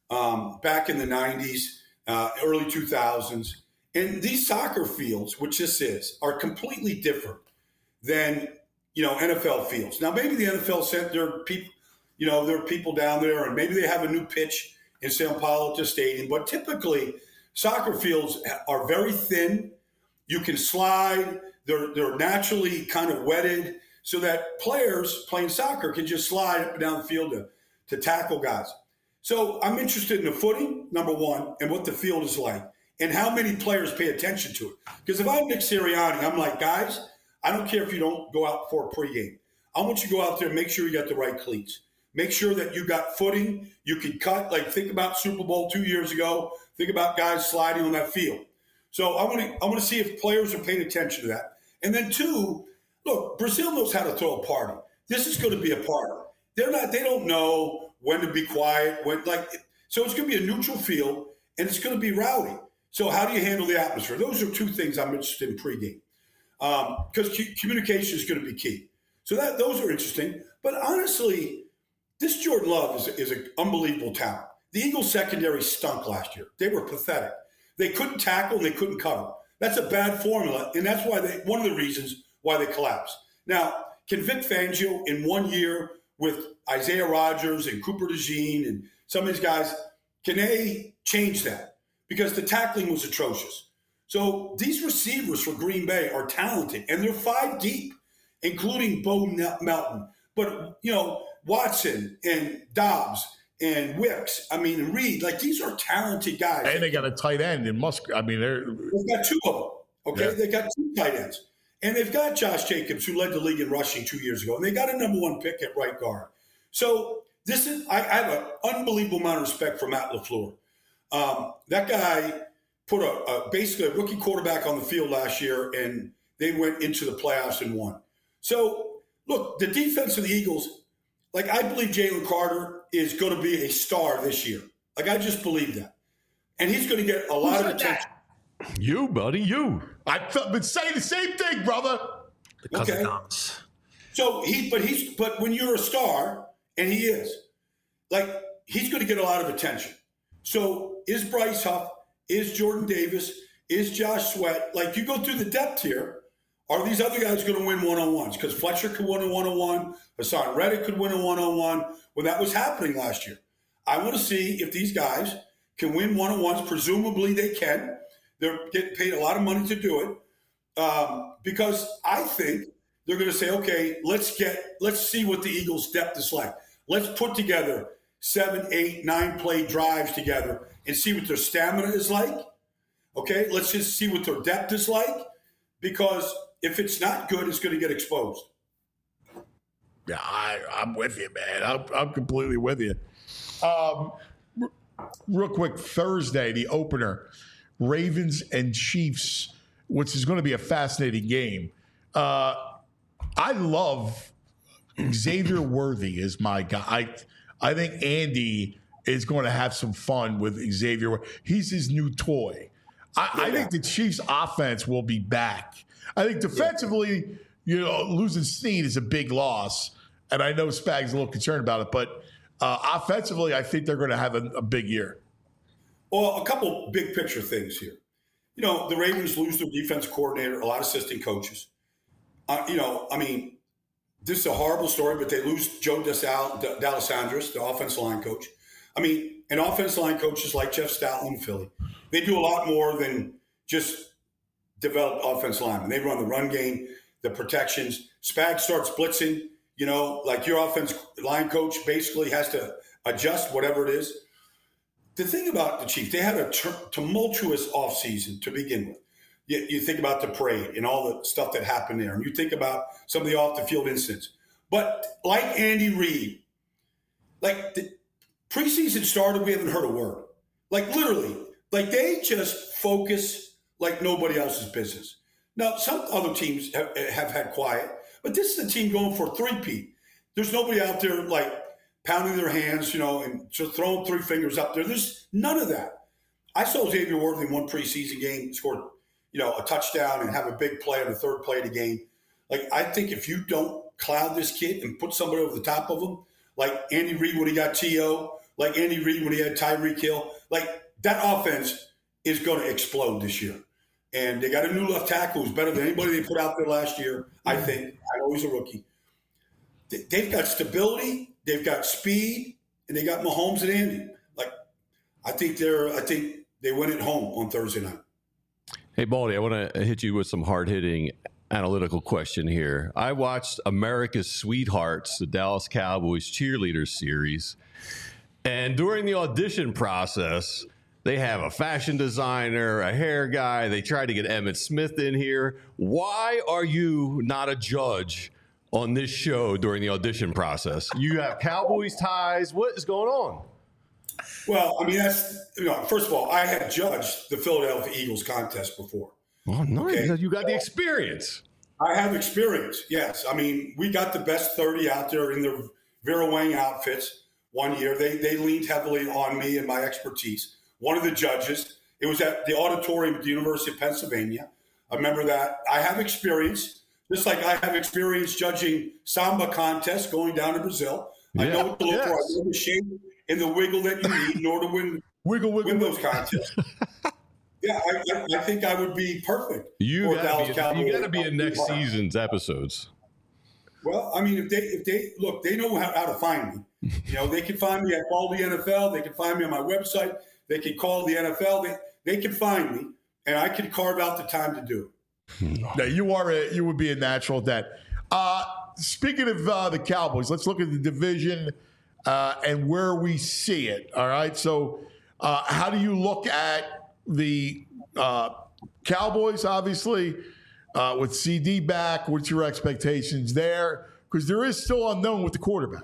S7: um, back in the nineties, uh, early two thousands. And these soccer fields, which this is, are completely different than, you know, N F L fields. Now, maybe the N F L sent their people, you know, there are people down there, and maybe they have a new pitch in Sao Paulo to Stadium. But typically, soccer fields are very thin. You can slide. They're they're naturally kind of wetted so that players playing soccer can just slide up and down the field to, to tackle guys. So I'm interested in the footing, number one, and what the field is like, and how many players pay attention to it. Because if I'm Nick Sirianni, I'm like, guys, I don't care if you don't go out for a pregame. I want you to go out there and make sure you got the right cleats. Make sure that you got footing. You can cut. Like, think about Super Bowl two years ago. Think about guys sliding on that field. So I want to I want to see if players are paying attention to that. And then two, look, Brazil knows how to throw a party. This is going to be a party. They're not. They don't know when to be quiet. When like so, it's going to be a neutral field and it's going to be rowdy. So how do you handle the atmosphere? Those are two things I'm interested in pregame because um, c- communication is going to be key. So that those are interesting. But honestly, this Jordan Love is, is an unbelievable talent. The Eagles secondary stunk last year. They were pathetic. They couldn't tackle and they couldn't cover. That's a bad formula, and that's why they one of the reasons why they collapsed. Now, can Vic Fangio in one year with Isaiah Rodgers and Cooper DeJean and some of these guys, can they change that? Because the tackling was atrocious. So these receivers for Green Bay are talented, and they're five deep, including Bo Melton. But, you know, Watson and Dobbs and Wicks, I mean, and Reed, like these are talented guys.
S2: And they got a tight end in Musk. I mean, they're
S7: they've got two of them. Okay, yeah. They got two tight ends, and they've got Josh Jacobs, who led the league in rushing two years ago, and they got a number one pick at right guard. So this is I, I have an unbelievable amount of respect for Matt LaFleur. Um, that guy put a, a basically a rookie quarterback on the field last year, and they went into the playoffs and won. So look, the defense of the Eagles. Like, I believe Jalen Carter is going to be a star this year. Like, I just believe that. And he's going to get a lot of attention.
S4: You, buddy, you.
S2: I've been saying the same thing, brother.
S3: The cousin
S7: Okay.
S3: Thomas.
S7: So he, but he's, but when you're a star, and he is, like, he's going to get a lot of attention. So is Bryce Huff, is Jordan Davis, is Josh Sweat, like, you go through the depth here, are these other guys going to win one-on-ones? Because Fletcher could win a one-on-one, Hassan Reddick could win a one-on-one. Well, that was happening last year. I want to see if these guys can win one-on-ones. Presumably they can. They're getting paid a lot of money to do it. Um, because I think they're going to say, okay, let's get, let's see what the Eagles' depth is like. Let's put together seven, eight, nine play drives together and see what their stamina is like. Okay, let's just see what their depth is like, because if it's not good, it's going to get exposed.
S2: Yeah, I, I'm with you, man. I'm, I'm completely with you. Um, r- real quick, Thursday, the opener, Ravens and Chiefs, which is going to be a fascinating game. Uh, I love Xavier Worthy is my guy. I, I think Andy is going to have some fun with Xavier. He's his new toy. I, yeah. I think the Chiefs' offense will be back. I think defensively, you know, losing Snead is a big loss, and I know Spag's a little concerned about it, but uh, offensively, I think they're going to have a, a big year.
S7: Well, a couple big picture things here. You know, the Ravens lose their defense coordinator, a lot of assistant coaches. Uh, you know, I mean, this is a horrible story, but they lose Joe Desal, D- D'Alessandris, the offensive line coach. I mean, and offensive line coaches like Jeff Stoutland in Philly, they do a lot more than just develop offensive linemen. They run the run game, the protections. Spag starts blitzing, you know, like your offensive line coach basically has to adjust whatever it is. The thing about the Chiefs, they had a t- tumultuous offseason to begin with. You, you think about the parade and all the stuff that happened there, and you think about some of the off-the-field incidents. But like Andy Reid, like the preseason started, we haven't heard a word. Like literally, like they just focus like nobody else's business. Now, some other teams have, have had quiet, but this is a team going for a three-peat. There's nobody out there like pounding their hands, you know, and just throwing three fingers up there. There's none of that. I saw Xavier Worthy in one preseason game, scored, you know, a touchdown and have a big play on the third play of the game. Like, I think if you don't cloud this kid and put somebody over the top of him, like Andy Reid when he got T O, like Andy Reid when he had Tyreek Hill, like that offense is going to explode this year. And they got a new left tackle who's better than anybody they put out there last year, I think. I know he's a rookie. They've got stability, they've got speed, and they got Mahomes and Andy. Like, I think they're, I think they win at home on Thursday night.
S4: Hey, Baldy, I want to hit you with some hard-hitting analytical question here. I watched America's Sweethearts, the Dallas Cowboys cheerleaders series, and during the audition process, they have a fashion designer, a hair guy. They tried to get Emmitt Smith in here. Why are you not a judge on this show during the audition process? You have Cowboys ties. What is going on?
S7: Well, I mean, that's, you know, first of all, I had judged the Philadelphia Eagles contest before.
S4: Oh, nice.
S7: Okay?
S4: You got the experience.
S7: I have experience, yes. I mean, we got the best thirty out there in their Vera Wang outfits one year. They they leaned heavily on me and my expertise. One of the judges, it was at the auditorium at the University of Pennsylvania. I remember that. I have experience, just like I have experience judging samba contests going down to Brazil. I
S4: Yeah,
S7: know what to look
S4: yes.
S7: for. I know the shape and the wiggle that you need in order to win,
S2: Wiggle, wiggle,
S7: win
S2: wiggle.
S7: those contests. Yeah, I, I, I think I would be perfect.
S4: You
S7: for
S4: got
S7: Dallas
S4: to
S7: Cowboys.
S4: be, you got to be in next season's episodes.
S7: Well, I mean, if they if they look, they know how, how to find me. You know, they can find me at Call the N F L. They can find me on my website. They can call the N F L. They they can find me, and I can carve out the time to do it.
S2: Now, you are a, you would be a natural at that. Uh, speaking of uh, the Cowboys, let's look at the division uh, and where we see it. All right. So, uh, how do you look at the uh, Cowboys? Obviously, uh, with C D back, what's your expectations there? Because there is still unknown with the quarterback.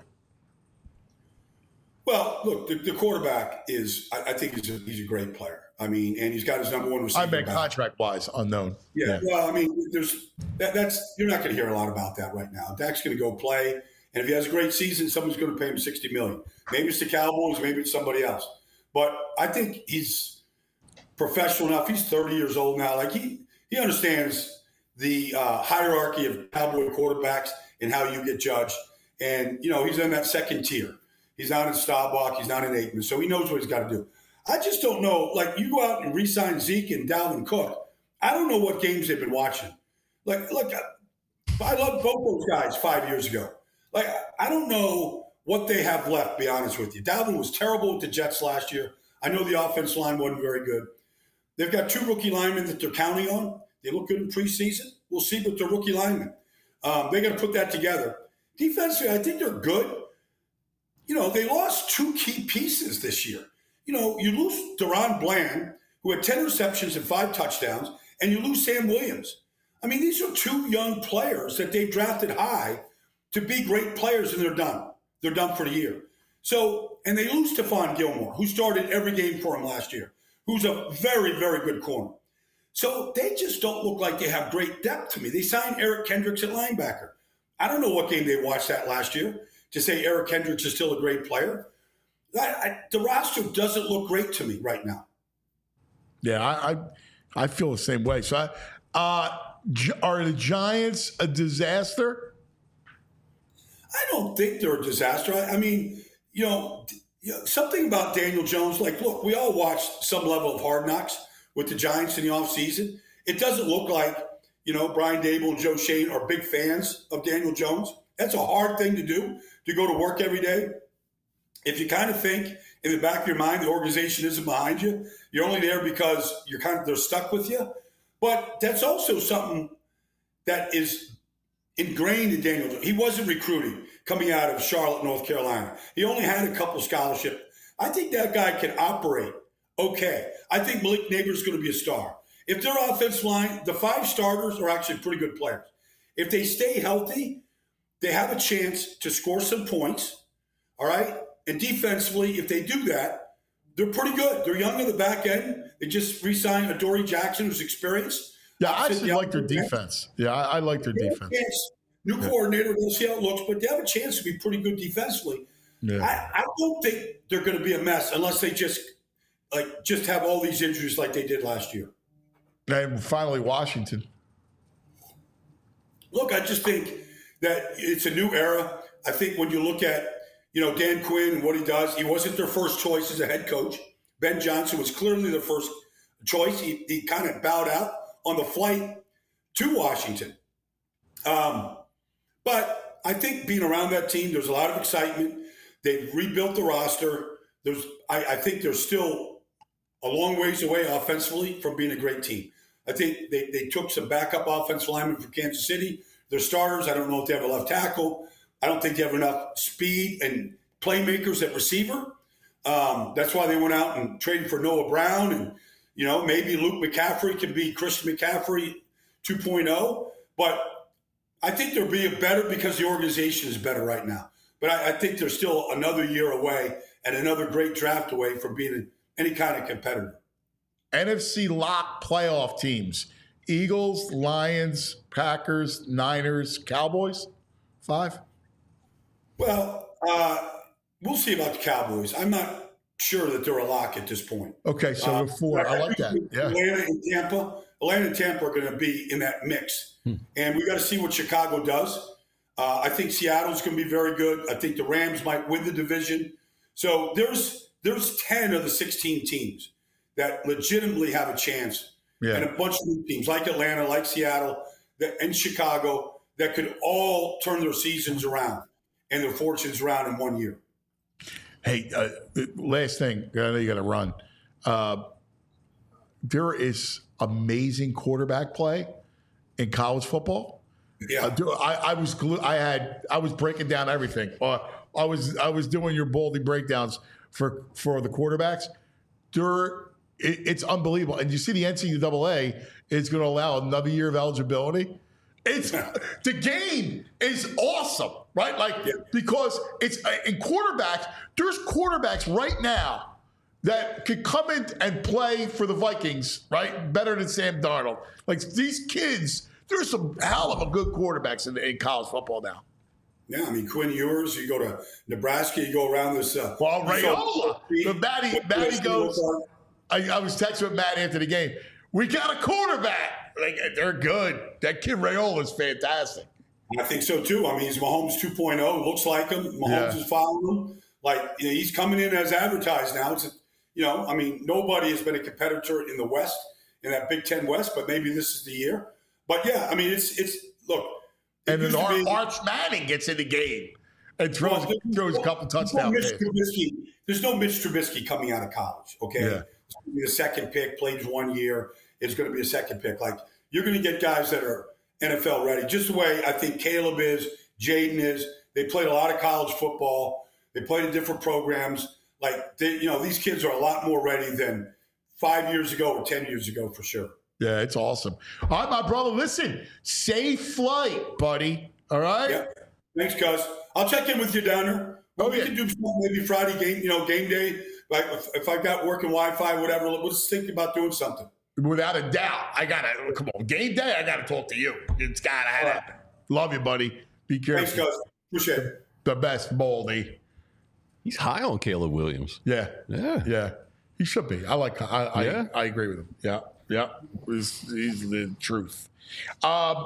S7: Well, look, the, the quarterback is, I, I think he's a, he's a great player. I mean, and he's got his number one receiver.
S2: I meant
S7: back.
S2: contract-wise, unknown.
S7: Yeah,
S2: Yeah.
S7: well, I mean, there's that, that's you're not going to hear a lot about that right now. Dak's going to go play, and if he has a great season, someone's going to pay him sixty million dollars. Maybe it's the Cowboys, maybe it's somebody else. But I think he's professional enough. He's thirty years old now. Like he he understands the uh, hierarchy of Cowboy quarterbacks and how you get judged. And, you know, he's in that second tier. He's not in Staubach. He's not in Aikman. So he knows what he's got to do. I just don't know. Like, you go out and re-sign Zeke and Dalvin Cook. I don't know what games they've been watching. Like, look, I loved both those guys five years ago. Like, I don't know what they have left, to be honest with you. Dalvin was terrible with the Jets last year. I know the offensive line wasn't very good. They've got two rookie linemen that they're counting on. They look good in preseason. We'll see with the rookie linemen. Um, they got to put that together. Defensively, I think they're good. You know, they lost two key pieces this year. You know, you lose Deron Bland, who had ten receptions and five touchdowns, and you lose Sam Williams. I mean, these are two young players that they've drafted high to be great players, and they're done. They're done for the year. So, and they lose Stephon Gilmore, who started every game for him last year, who's a very, very good corner. So they just don't look like they have great depth to me. They signed Eric Kendricks at linebacker. I don't know what game they watched that last year to say Eric Kendricks is still a great player. I, I, the roster doesn't look great to me right now.
S2: Yeah, I I, I feel the same way. So, I, uh, are the Giants a disaster?
S7: I don't think they're a disaster. I, I mean, you know, you know, something about Daniel Jones. Like, look, we all watched some level of Hard Knocks with the Giants in the offseason. It doesn't look like, you know, Brian Dable and Joe Shane are big fans of Daniel Jones. That's a hard thing to do, to go to work every day. If you kind of think in the back of your mind the organization isn't behind you, you're only there because you're kind of they're stuck with you. But that's also something that is ingrained in Daniel Jones. He wasn't recruiting coming out of Charlotte, North Carolina. He only had a couple scholarships. I think that guy can operate okay. I think Malik Neighbors is going to be a star. If their offensive line, the five starters are actually pretty good players. If they stay healthy, they have a chance to score some points, all right? And defensively, if they do that, they're pretty good. They're young on the back end. They just re-signed Adoree Jackson, who's experienced.
S2: Yeah, I actually like their defense. Yeah, I, I like their defense.
S7: Chance, new yeah. coordinator, we'll see how it looks, but they have a chance to be pretty good defensively.
S2: Yeah.
S7: I, I don't think they're going to be a mess unless they just like just have all these injuries like they did last year.
S2: And finally, Washington.
S7: Look, I just think that it's a new era. I think when you look at, you know, Dan Quinn and what he does, he wasn't their first choice as a head coach. Ben Johnson was clearly their first choice. He, he kind of bowed out on the flight to Washington. Um, but I think being around that team, there's a lot of excitement. They've rebuilt the roster. There's, I, I think they're still a long ways away offensively from being a great team. I think they, they took some backup offensive linemen from Kansas City. They're starters. I don't know if they have a left tackle. I don't think they have enough speed and playmakers at receiver. Um, that's why they went out and traded for Noah Brown. And, you know, maybe Luke McCaffrey can be Christian McCaffrey two point oh. But I think they'll be better because the organization is better right now. But I, I think they're still another year away and another great draft away from being any kind of competitor.
S2: N F C lock playoff teams: Eagles, Lions, Packers, Niners, Cowboys. Five.
S7: Well, uh, we'll see about the Cowboys. I'm not sure that they're a lock at this point.
S2: Okay, so
S7: uh,
S2: four. I like that. Yeah.
S7: Atlanta and Tampa. Atlanta and Tampa are going to be in that mix. Hmm. And we got to see what Chicago does. Uh, I think Seattle's going to be very good. I think the Rams might win the division. So there's there's ten of the sixteen teams that legitimately have a chance. Yeah. And a bunch of new teams like Atlanta, like Seattle, that, and Chicago that could all turn their seasons around and their fortunes around in one year.
S2: Hey, uh, last thing, I know you got to run. Uh, there is amazing quarterback play in college football.
S7: Yeah,
S2: uh, I, I was glu- I had I was breaking down everything. Uh, I was I was doing your Baldy breakdowns for for the quarterbacks. There, it, it's unbelievable, and you see the N C double A is going to allow another year of eligibility. It's the game is awesome, right? Like yeah. because it's in quarterbacks. There's quarterbacks right now that could come in and play for the Vikings, right? Better than Sam Darnold. Like these kids, there's some hell of a good quarterbacks in, in college football now.
S7: Yeah, I mean Quinn Ewers. You go to Nebraska, you go around this. Uh,
S2: well, Rayola, but Matty, Matty goes. I, I was texting with Matt after the game. We got a quarterback. Like, they're good. That kid Raiola is fantastic.
S7: I think so too. I mean, he's Mahomes two point oh. Looks like him. Mahomes
S2: Yeah.
S7: is following him. Like, you know, he's coming in as advertised now. It's, you know, I mean, nobody has been a competitor in the West, in that Big Ten West, but maybe this is the year. But yeah, I mean, it's it's look.
S2: And then
S7: used to
S2: Ar-
S7: be-
S2: Arch Manning gets in the game and throws,
S7: Well, there's
S2: throws a
S7: no-
S2: couple
S7: there's no
S2: touchdowns.
S7: Mitch Trubisky. There's no Mitch Trubisky coming out of college, okay?
S2: Yeah.
S7: It's going to be a second pick, plays one year. It's going to be a second pick. Like, you're going to get guys that are N F L ready, just the way I think Caleb is, Jaden is. They played a lot of college football. They played in different programs. Like, they, you know, these kids are a lot more ready than five years ago or ten years ago for sure.
S2: Yeah, it's awesome. All right, my brother, listen, safe flight, buddy. All right?
S7: Yeah. Thanks, cuz. I'll check in with you down there. Well,
S2: Oh,
S7: we
S2: yeah.
S7: can do some maybe Friday game, you know, game day. Like if, if I've got working Wi-Fi, whatever, let's think about doing something.
S2: Without a doubt. I got to, come on, game day, I got to talk to you. It's got to happen. Love you, buddy. Be careful.
S7: Thanks, cuz. Appreciate it.
S2: The best, Baldy.
S4: He's high on Caleb Williams.
S2: Yeah.
S4: Yeah.
S2: Yeah. He should be. I like, I, I,
S4: Yeah.
S2: I agree with him. Yeah. Yeah. He's, he's the truth. Um,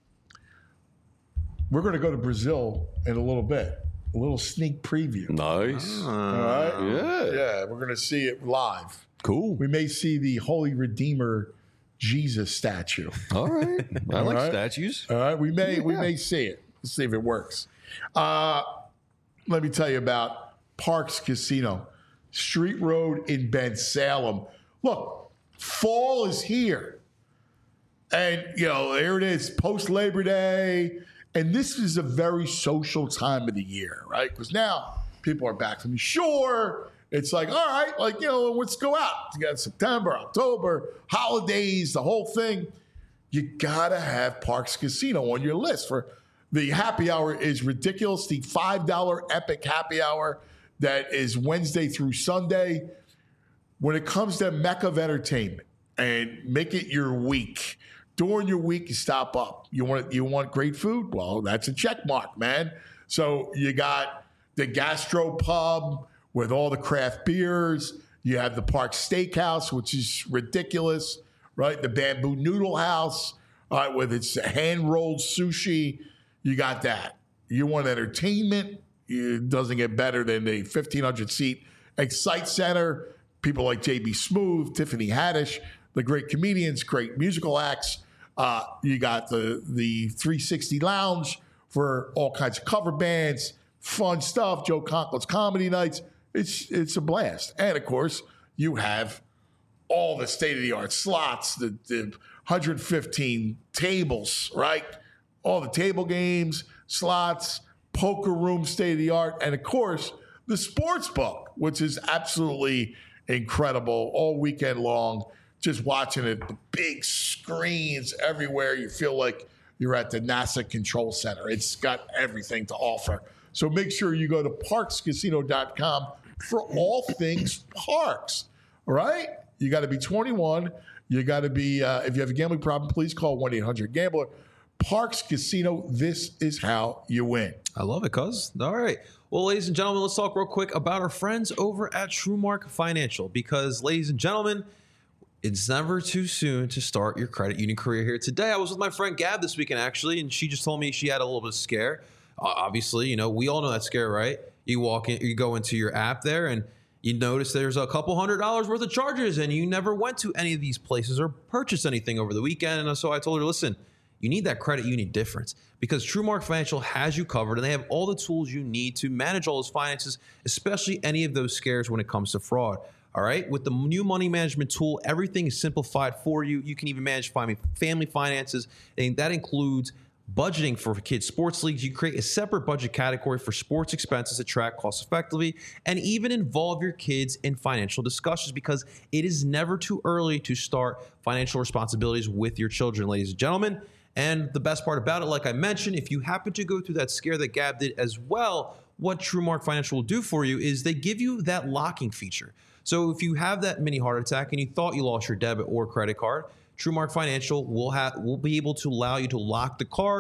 S2: we're going to go to Brazil in a little bit. A little sneak preview.
S4: Nice.
S2: All right?
S4: Yeah.
S2: Yeah. We're going to see it live.
S4: Cool.
S2: We may see the Holy Redeemer Jesus statue.
S4: All right. I like
S2: right.
S4: statues.
S2: All right. We may, we
S4: Yeah.
S2: may see it. Let's see if it works. Uh, let me tell you about Parks Casino, Street Road in Ben Salem. Look, fall is here. And, you know, there it is, post Labor Day. And this is a very social time of the year, right? Because now people are back from the shore. It's like, all right, like, you know, let's go out. You got September, October, holidays, the whole thing. You got to have Parks Casino on your list. For the happy hour is ridiculous. The five dollar Epic Happy Hour that is Wednesday through Sunday. When it comes to Mecca of entertainment and make it your week, during your week, you stop up. You want you want great food? Well, that's a check mark, man. So you got the Gastro Pub with all the craft beers. You have the Park Steakhouse, which is ridiculous, right? The Bamboo Noodle House, all right, with its hand-rolled sushi. You got that. You want entertainment? It doesn't get better than the fifteen hundred seat Excite Center. People like J B Smooth, Tiffany Haddish, the great comedians, great musical acts. Uh, you got the the three sixty Lounge for all kinds of cover bands, fun stuff. Joe Conklin's comedy nights. It's it's a blast. And of course, you have all the state of the art slots, the, the one hundred fifteen tables, right? All the table games, slots, poker room, state of the art, and of course, the sports book, which is absolutely incredible all weekend long. Just watching it, the big screens everywhere. You feel like you're at the NASA Control Center. It's got everything to offer. So make sure you go to parks casino dot com for all things parks. All right? You got to be twenty-one. You got to be, uh, if you have a gambling problem, please call one eight hundred gambler. Parks Casino, this is how you win.
S3: I love it, cuz. All right. Well, ladies and gentlemen, let's talk real quick about our friends over at TrueMark Financial because, ladies and gentlemen, it's never too soon to start your credit union career here today. I was with my friend Gab this weekend, actually, and she just told me she had a little bit of scare. Uh, obviously, you know, we all know that scare, right? You walk in, you go into your app there, and you notice there's a couple hundred dollars worth of charges, and you never went to any of these places or purchased anything over the weekend. And so I told her, listen, you need that credit union difference because TrueMark Financial has you covered, and they have all the tools you need to manage all those finances, especially any of those scares when it comes to fraud. All right. With the new money management tool, everything is simplified for you. You can even manage family finances, and that includes budgeting for kids' sports leagues. You create a separate budget category for sports expenses to track cost effectively, and even involve your kids in financial discussions because it is never too early to start financial responsibilities with your children, ladies and gentlemen. And the best part about it, like I mentioned, if you happen to go through that scare that Gab did as well, what TrueMark Financial will do for you is they give you that locking feature. So if you have that mini heart attack and you thought you lost your debit or credit card, TrueMark Financial will have will be able to allow you to lock the card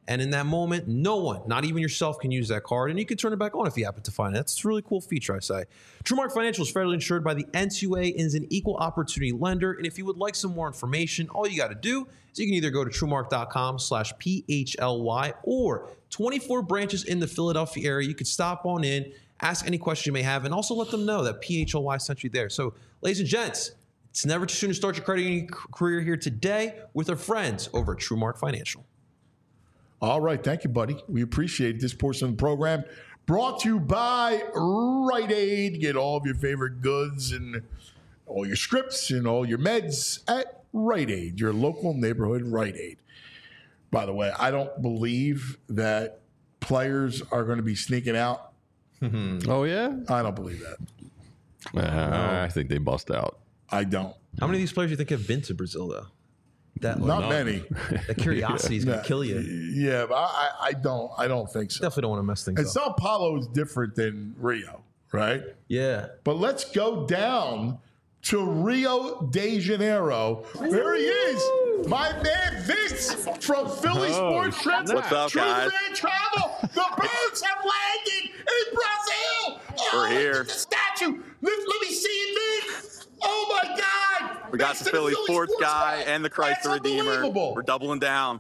S3: And in that moment, no one, not even yourself, can use that card. And you can turn it back on if you happen to find it. That's a really cool feature, I say. TrueMark Financial is federally insured by the N C U A and is an equal opportunity lender. And if you would like some more information, all you got to do is you can either go to TrueMark.com slash PHLY or twenty-four branches in the Philadelphia area. You could stop on in, ask any question you may have, and also let them know that P H L Y sent you there. So, ladies and gents, it's never too soon to start your credit union career here today with our friends over at TrueMark Financial.
S2: All right. Thank you, buddy. We appreciate this portion of the program. Brought to you by Rite Aid. Get all of your favorite goods and all your scripts and all your meds at Rite Aid, your local neighborhood Rite Aid. By the way, I don't believe that players are going to be sneaking out.
S4: Oh, yeah?
S2: I don't believe that.
S4: Uh, no. I think they bust out.
S2: I don't.
S3: How many of these players do you think have been to Brazil, though? That
S2: Not
S3: like,
S2: many.
S3: That curiosity is going to kill you.
S2: Yeah, but I, I don't. I don't think so.
S3: Definitely don't want to mess things
S2: and
S3: up.
S2: Sao Paulo is different than Rio, right?
S3: Yeah.
S2: But let's go down to Rio de Janeiro. There he is, my man Vince from Philly
S4: Oh,
S2: Sports Trips.
S8: What's up,
S2: True
S8: guys?
S2: Fan Travel. The birds have landed in Brazil.
S8: We're
S2: oh,
S8: here.
S2: The statue. Let, let me see it, Vince. Oh my God!
S8: We got
S2: Next
S8: the
S2: to
S8: Philly Sports guy and the Christ
S2: That's
S8: the Redeemer.
S2: unbelievable.
S8: We're doubling down.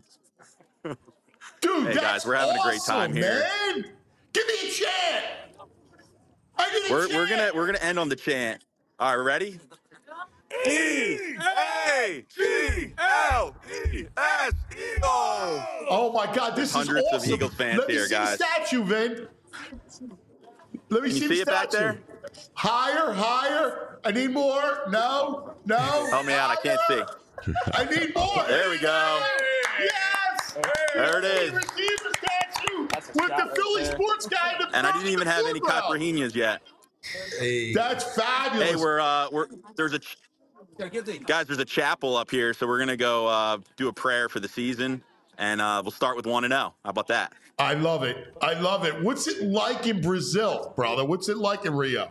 S2: Dude,
S8: Hey,
S2: that's
S8: guys, we're having a great
S2: awesome,
S8: time here.
S2: Man. Give me a chant. I need a
S8: We're
S2: chant.
S8: we're gonna we're gonna end on the chant. All right, ready? E A G L E S Eagles.
S2: Oh my God, this
S8: Hundreds
S2: is
S8: of
S2: awesome.
S8: Eagles fans
S2: Let me
S8: here,
S2: see
S8: guys.
S2: the statue, Vin. Let me
S8: Can
S2: see
S8: you
S2: the
S8: see it back
S2: statue.
S8: there?
S2: Higher, higher. I need more. No, no.
S8: Help me out, I can't see.
S2: I need more.
S8: There we go.
S2: Yes.
S8: There it is.
S2: Receiver statue with the Philly sports guy. in the
S8: And I
S2: front
S8: didn't even
S2: of the
S8: have any
S2: foreground.
S8: caipirinhas yet.
S3: Hey.
S2: That's fabulous.
S8: Hey, we're uh we're there's a ch- guys there's a chapel up here, so we're gonna go uh do a prayer for the season, and uh we'll start with one and zero. How about that?
S2: I love it. I love it. What's it like in Brazil, brother? What's it like in Rio?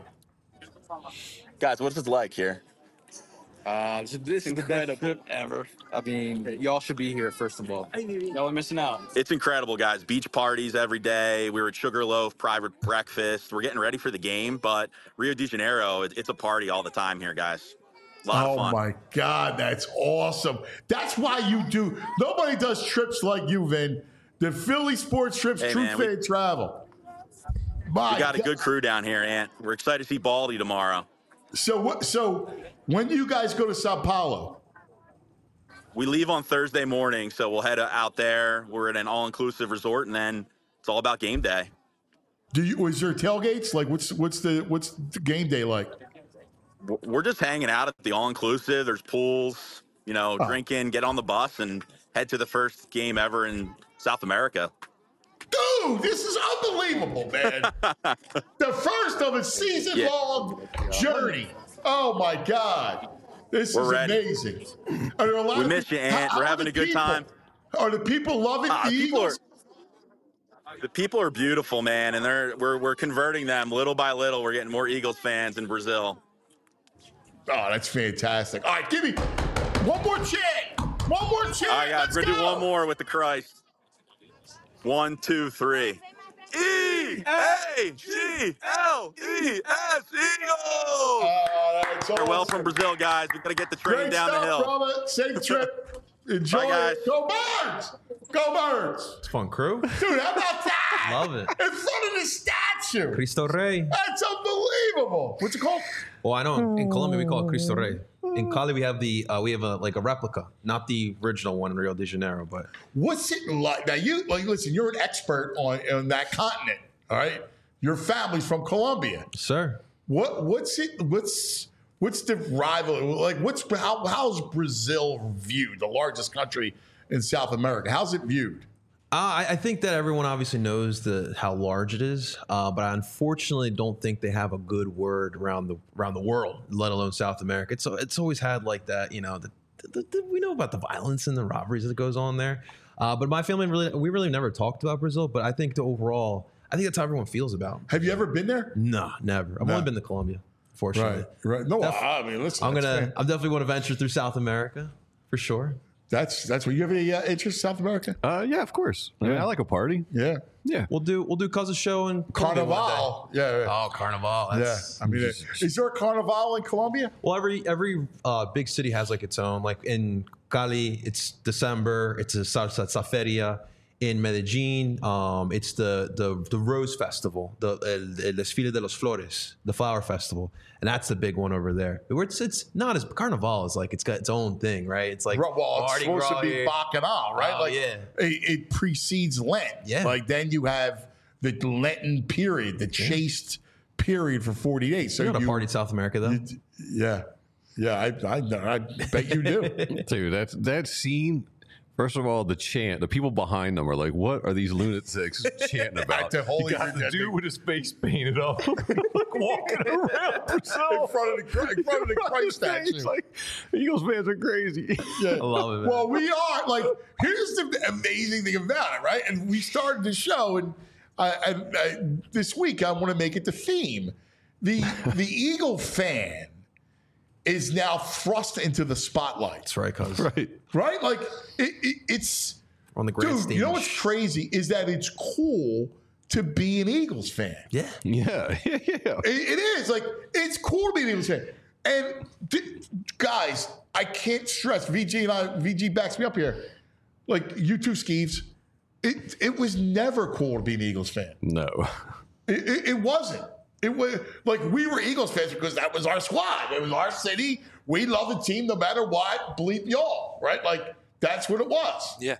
S8: Guys, what's it like here?
S9: Uh, this, this is the best trip ever. I mean, y'all should be here, first of all. Y'all are missing out.
S8: It's incredible, guys. Beach parties every day. We were at Sugarloaf, private breakfast. We're getting ready for the game, but Rio de Janeiro, it, it's a party all the time here, guys. A lot
S2: Oh
S8: of fun.
S2: my God, that's awesome. That's why you do. Nobody does trips like you, Vin. The Philly Sports Trips,
S8: Hey,
S2: True
S8: man, we-
S2: Fan Travel. My
S8: We got a
S2: God.
S8: good crew down here, Ant. We're excited to see Baldy tomorrow.
S2: So what? So when do you guys go to Sao Paulo?
S8: We leave on Thursday morning, so we'll head out there. We're at an all-inclusive resort, and then it's all about game day.
S2: Do you? Is there tailgates? Like what's what's the what's the game day like?
S8: We're just hanging out at the all-inclusive. There's pools, you know,
S2: Oh.
S8: drinking, get on the bus, and head to the first game ever in South America.
S2: Dude, this is unbelievable, man. The first of a season-long journey. Oh my God, this
S8: We're
S2: is
S8: ready.
S2: amazing. Are there a lot
S8: We
S2: of
S8: miss
S2: pe-
S8: you, Ant.
S2: how-
S8: We're
S2: how are
S8: having
S2: the
S8: a good
S2: people?
S8: time.
S2: Are the people loving
S8: Ah,
S2: the
S8: people
S2: Eagles?
S8: are the people are beautiful, man, and they're we're we're converting them little by little. We're getting more Eagles fans in Brazil.
S2: Oh, that's fantastic. All right, give me one more chant. One more chant.
S8: All right, guys,
S2: Let's
S8: we're gonna do
S2: go.
S8: one more with the Christ. One, two, three. E A G L E S Eagles.
S2: Oh, that's
S8: Farewell
S2: awesome.
S8: from Brazil, guys. We gotta get the train
S2: Great
S8: down
S2: stuff,
S8: the hill.
S2: brother. Safe trip. Enjoy
S8: Bye, guys.
S2: it. Go Birds. Go Birds.
S3: It's fun, crew.
S2: Dude, how about that?
S3: Love it.
S2: In front of the statue.
S3: Cristo Rey.
S2: That's unbelievable. What's it called?
S3: Well, I know in Colombia we call it Cristo Rey. In Cali we have the uh, we have a like a replica, not the original one in Rio de Janeiro, but
S2: What's it like? Now, you like listen. You're an expert on, on that continent. All right, your family's from Colombia.
S3: sir.
S2: What what's it? What's what's the rival? Like, what's how how's Brazil viewed? The largest country in South America. How's it viewed?
S3: Uh, I, I think that everyone obviously knows the how large it is, uh, but I unfortunately don't think they have a good word around the around the world, let alone South America. It's it's always had like that, you know. The, the, the, we know about the violence and the robberies that goes on there, uh, but my family really we really never talked about Brazil. But I think the overall, I think that's how everyone feels about it.
S2: Have you ever been there?
S3: No, never. I've
S2: No.
S3: only been to Colombia, fortunately.
S2: right. No,
S3: Def-
S2: I mean, listen.
S3: I'm
S2: that's
S3: gonna.
S2: fan-
S3: I'm definitely going to venture through South America for sure.
S2: That's that's what you have any uh, interest in South America?
S4: Uh, yeah, of course. I, mean,
S2: Yeah.
S4: I like a party.
S2: Yeah.
S4: Yeah.
S3: We'll do we'll do Cuz's show in Colombia one
S2: Carnival. Yeah, yeah.
S3: day. Oh, Carnival.
S2: Yeah.
S3: That's,
S2: I mean, is there a Carnival in Colombia?
S3: Well, every every uh, big city has like its own. Like in Cali, it's December. It's a salsa feria. In Medellin, um, it's the, the the Rose Festival, the el, el Desfile de los Flores, the Flower Festival, and that's the big one over there. Where it's it's not as Carnival is like it's got its own thing, right? It's like
S2: Well, it's
S3: Mardi
S2: supposed
S3: Gras
S2: to be
S3: here.
S2: Bacchanal, right?
S3: Oh,
S2: like
S3: yeah.
S2: it, it precedes Lent.
S3: Yeah.
S2: Like then you have the Lenten period, the chaste period for forty days. So
S3: You know how to
S2: you,
S3: party in South America though.
S2: you- yeah, yeah. I, I I bet you do.
S4: Dude, that's that scene. First of all, the chant, the people behind them are like, what are these lunatics chanting about?
S2: The Holy
S4: you got the
S2: Virgin.
S4: dude with his face painted up, like walking around
S2: in front of the in front of the Christ statue.
S4: It's like, Eagles fans are crazy.
S2: Yeah.
S3: I love it, man.
S2: Well, we are like. Here's the amazing thing about it, right? And we started the show, and I, I, I, this week I want to make it the theme. The the Eagle fan is now thrust into the spotlight,
S3: That's right, Cuz.
S4: Right.
S2: right? Like it, it, it's
S3: On the grand
S2: dude.
S3: stage.
S2: You know what's crazy is that it's cool to be an Eagles fan.
S3: Yeah.
S4: Yeah. Yeah. Yeah.
S2: It, it is like it's cool to be an Eagles fan. And th- guys, I can't stress. V G and I, V G backs me up here. Like you two, Skeeves. It it was never cool to be an Eagles fan.
S4: No.
S2: It, it, it wasn't. It was like we were Eagles fans because that was our squad. It was our city. We love the team no matter what. Bleep y'all, right? Like that's what it was.
S10: Yeah.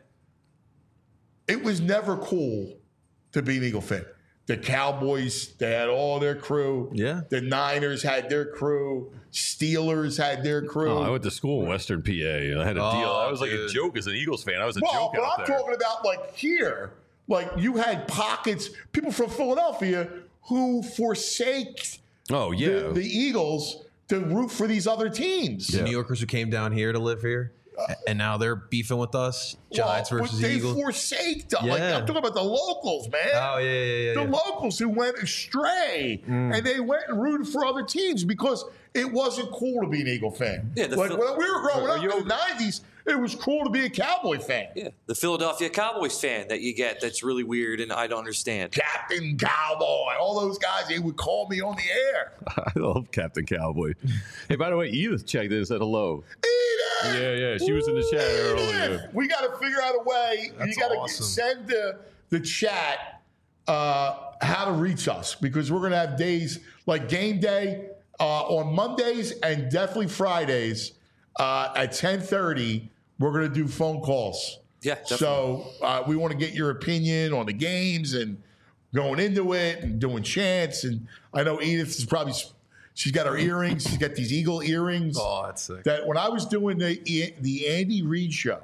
S2: It was never cool to be an Eagle fan. The Cowboys, they had all their crew.
S3: Yeah.
S2: The Niners had their crew. Steelers had their crew.
S4: Oh, I went to school in Western P A and I had a
S3: Oh,
S4: deal. I was like a
S3: dude.
S4: joke as an Eagles fan. I was a
S2: well,
S4: joke
S2: but
S4: out
S2: I'm
S4: there.
S2: talking about like here. Like you had pockets, people from Philadelphia who forsake
S4: oh, yeah.
S2: the, the Eagles to root for these other teams.
S3: The New Yorkers who came down here to live here, and now they're beefing with us. Giants
S2: Well,
S3: versus
S2: but they
S3: Eagles.
S2: forsake them. Like,
S3: Yeah.
S2: I'm talking about the locals, man.
S3: Oh yeah, yeah, yeah.
S2: the
S3: yeah.
S2: locals who went astray
S3: Mm.
S2: and they went and rooted for other teams because it wasn't cool to be an Eagle fan.
S10: Yeah, the
S2: like
S10: Phil-
S2: when we were growing
S10: Are
S2: up
S10: you-
S2: in the nineties, it was cool to be a Cowboy fan.
S10: Yeah. The Philadelphia Cowboys fan that you get that's really weird and I don't understand.
S2: Captain Cowboy, all those guys, they would call me on the air.
S4: I love Captain Cowboy. Hey, by the way, Edith checked in and said hello.
S2: Edith!
S4: Yeah, yeah. She was in the chat earlier.
S2: Edith! We got to figure out a way.
S3: That's
S2: you got to
S3: awesome.
S2: send the, the chat uh, how to reach us because we're going to have days like game day uh, on Mondays and definitely Fridays uh, at ten thirty. We're going to do phone calls.
S10: Yeah, definitely.
S2: So uh, we want to get your opinion on the games and going into it and doing chants. And I know Edith is probably, she's got her earrings. She's got these eagle earrings.
S3: Oh, that's sick.
S2: That when I was doing the the Andy Reid show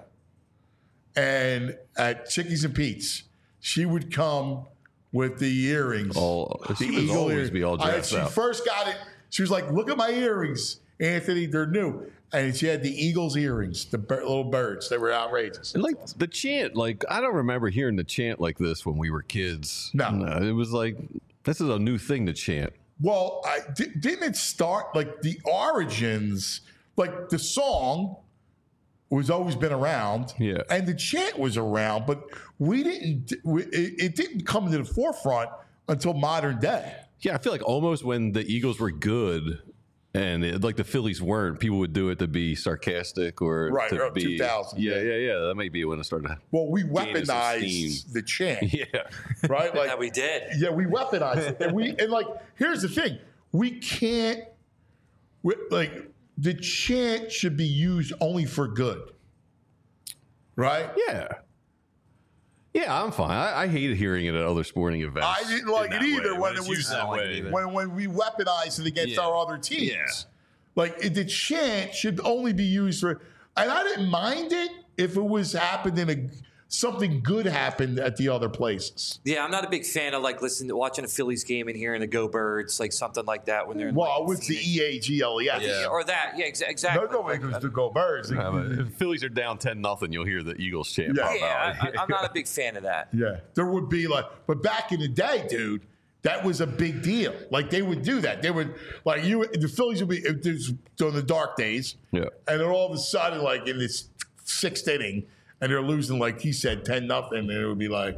S2: and at Chickies and Pete's, she would come with the earrings.
S4: All-
S2: the
S4: she would always be all
S2: I-
S4: dressed
S2: she
S4: up.
S2: first got it. She was like, "Look at my earrings, Anthony. They're new." And she had the Eagles earrings, the bir- little birds. They were outrageous.
S4: And like the chant, like I don't remember hearing the chant like this when we were kids.
S2: No.
S4: it was like this is a new thing to chant.
S2: Well, I, di- didn't it start like the origins? Like the song was always been around,
S4: Yeah.
S2: and the chant was around, but we didn't. We, it, it didn't come to the forefront until modern day.
S4: Yeah, I feel like almost when the Eagles were good and it, like the Phillies weren't, people would do it to be sarcastic or
S2: Right,
S4: to
S2: around
S4: be
S2: two thousand,
S4: Yeah,
S2: yeah.
S4: yeah, yeah. That might be when it started.
S2: Well, we
S4: Gaining some
S2: weaponized
S4: steam.
S2: the chant,
S4: Yeah,
S2: right? Like
S10: Yeah, we did.
S2: Yeah, we weaponized it, and we and like here's the thing: we can't we, like the chant should be used only for good, right?
S4: yeah, yeah. I'm fine. I, I hated hearing it at other sporting events.
S2: I didn't like
S4: in
S2: it
S4: that
S2: either
S4: way,
S2: when
S4: it's
S2: it was
S4: used that way.
S2: when when we weaponized it against
S4: Yeah.
S2: our other teams.
S4: Yeah.
S2: Like it, the chant should only be used for, and I didn't mind it if it was happened in a something good happened at the other places.
S10: Yeah, I'm not a big fan of like listening to watching a Phillies game and hearing the Go Birds, like something like that when they're in,
S2: Well,
S10: like,
S2: with the E A G L E S.
S3: Yeah.
S10: or that. Yeah, exa-
S2: No,
S10: exactly.
S2: no, because the Go Birds.
S4: Yeah, but if the Phillies are down ten nothing, you'll hear the Eagles chant
S2: Yeah.
S4: pop
S10: Yeah,
S4: out.
S10: I, I'm not a big fan of that.
S2: Yeah, there would be like, but back in the day, dude, that was a big deal. Like they would do that. They would like you. The Phillies would be if there's during the dark days.
S4: Yeah.
S2: and then all of a sudden, like in this sixth inning and they're losing, like he said, ten nothing, and it would be like,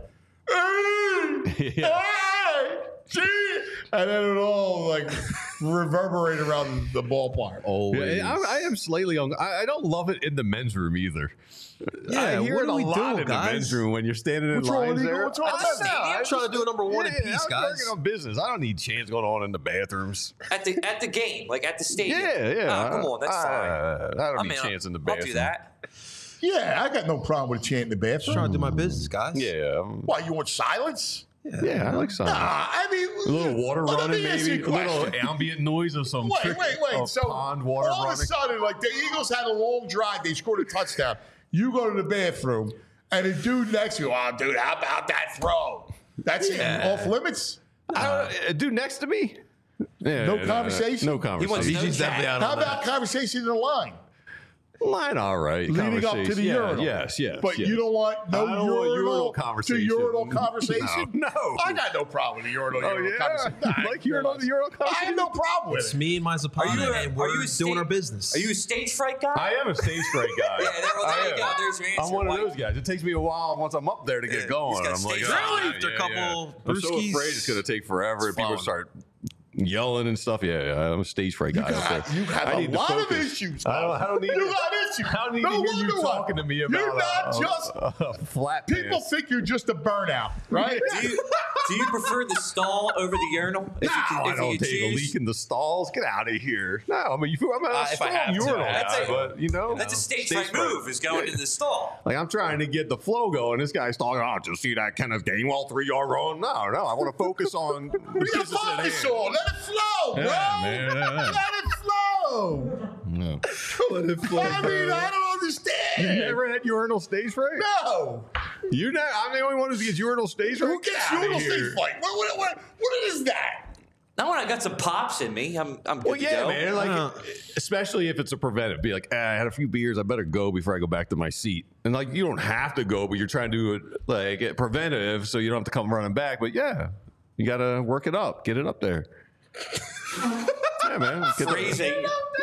S2: hey,
S4: Yeah.
S2: hey, gee, and then it all like reverberate around the ballpark.
S3: Always.
S4: Yeah, I, I am slightly on. I, I don't love it in the men's room either.
S3: Yeah,
S4: I hear
S3: what
S4: it
S3: are
S4: a
S3: we
S4: lot
S3: doing,
S4: in
S3: guys?
S4: the men's room when you're standing in
S2: What's wrong
S4: lines
S2: with you?
S4: there.
S2: What's wrong with
S4: I don't
S2: that?
S4: know.
S3: I'm trying to do a number one
S4: yeah,
S3: in peace,
S4: I'm
S3: guys.
S4: working on business. I don't need chants going on in the bathrooms.
S10: At the at the game, like at the stadium.
S4: Yeah, yeah.
S10: Oh, come on, that's
S4: I,
S10: fine.
S4: I, I don't
S10: I
S4: need
S10: mean,
S4: chants in the
S10: I'll
S4: bathroom.
S10: do that.
S2: Yeah, I got no problem with a chant in the
S3: Just trying
S2: bathroom.
S3: to do my business, guys.
S4: Yeah, um,
S2: Why, you want silence?
S4: yeah. I like something.
S2: Nah, I mean,
S4: A little water
S2: well, let
S4: running,
S2: me ask
S4: maybe
S2: you
S4: a little
S2: question.
S4: ambient noise of some
S2: Wait,
S4: trick
S2: wait, wait.
S4: of
S2: So
S4: pond water
S2: all
S4: running.
S2: of a sudden, like the Eagles had a long drive, they scored a touchdown. You go to the bathroom, and the dude next to you, oh, dude, how about that throw? That's
S4: Yeah.
S2: off limits.
S4: Uh, a dude next to me. Yeah,
S2: No
S4: no, no,
S2: conversation?
S4: No
S10: He wants
S4: conversation.
S10: no
S3: D G's definitely
S10: chat.
S3: out
S2: How
S3: on
S2: about
S3: that.
S2: conversation in the line?
S4: Line, all right.
S2: Leading up to
S4: Conversation.
S2: the
S4: yeah,
S2: urinal.
S4: Yes, yes.
S2: But
S4: yes.
S2: you don't want no
S4: I don't
S2: urinal,
S4: want urinal conversation.
S2: to urinal conversation?
S4: No, no.
S2: I got no problem with the urinal,
S4: Oh,
S2: urinal
S4: yeah?
S2: conversation. Nah, I
S4: Like urinal to urinal
S2: I have no problem with
S3: It's
S2: it.
S3: me and my Zapata,
S10: Are you a-
S3: and
S10: are
S3: we're
S10: you a
S3: doing
S10: state-
S3: our business.
S10: Are you a stage fright guy?
S4: I am a stage fright guy.
S10: Yeah, there, well, there
S4: I
S10: you
S4: am.
S10: go. There's your answer.
S4: I'm one of
S10: Why-
S4: those guys. It takes me a while once I'm up there to get
S10: Yeah,
S4: going.
S10: he's got
S4: I'm like,
S10: stage
S4: oh,
S10: fright.
S4: yeah,
S3: After a
S4: yeah,
S3: couple
S4: yeah. I'm so
S3: brewskis,
S4: afraid it's going to take forever.
S3: it's
S4: People
S3: fun.
S4: start yelling and stuff. Yeah, yeah, I'm a stage fright guy.
S2: You got,
S4: so
S2: you have
S4: I
S2: a
S4: need to
S2: lot of
S4: focus.
S2: issues.
S4: I don't, I don't need
S2: you
S4: to,
S2: got issues.
S4: I don't need
S2: no
S4: to hear you
S2: wonder why.
S4: talking to me about
S2: You're not
S4: a,
S2: just.
S4: a, a flat
S2: People
S4: pants.
S2: think you're just a burnout, right?
S10: Do you, do you prefer the stall over the urinal? If
S4: No,
S10: you can,
S4: I
S10: if
S4: don't
S10: you
S4: take a
S10: choose?
S4: leak in the stalls. Get out of here. No, I mean, you- I'm a
S10: Uh, if I
S4: strong
S10: have to,
S4: urinal
S10: I have
S4: guy,
S10: to.
S4: but you know,
S10: That's a stage
S4: stage
S10: fright
S4: fright.
S10: move, is going to the stall.
S4: Like I'm trying to get the flow going. This guy's talking. Oh, just see that Kenneth Gainwell three yard run. No, no, I want to focus on the
S2: What are you
S4: business at hand.
S2: focused on? Let it flow, bro.
S4: Yeah, man.
S2: Let it flow.
S4: No.
S2: Let it flow. I mean, I don't
S4: You
S2: understand.
S4: never had urinal stage fright?
S2: No.
S4: You know, I'm the only one who gets urinal stage fright.
S2: Who gets
S4: Get outta
S2: urinal
S4: here.
S2: stage fright? What, what, what, what is that?
S10: Now when I got some pops in me, I'm I'm good
S4: Well,
S10: to
S4: yeah,
S10: go.
S4: man. Like,
S3: Uh.
S4: especially if it's a preventive. Be like, ah, I had a few beers. I better go before I go back to my seat. And like, you don't have to go, but you're trying to do it like it preventive, so you don't have to come running back. But yeah, you got to work it up, get it up there. Yeah, man. Get the-
S10: Phrasing.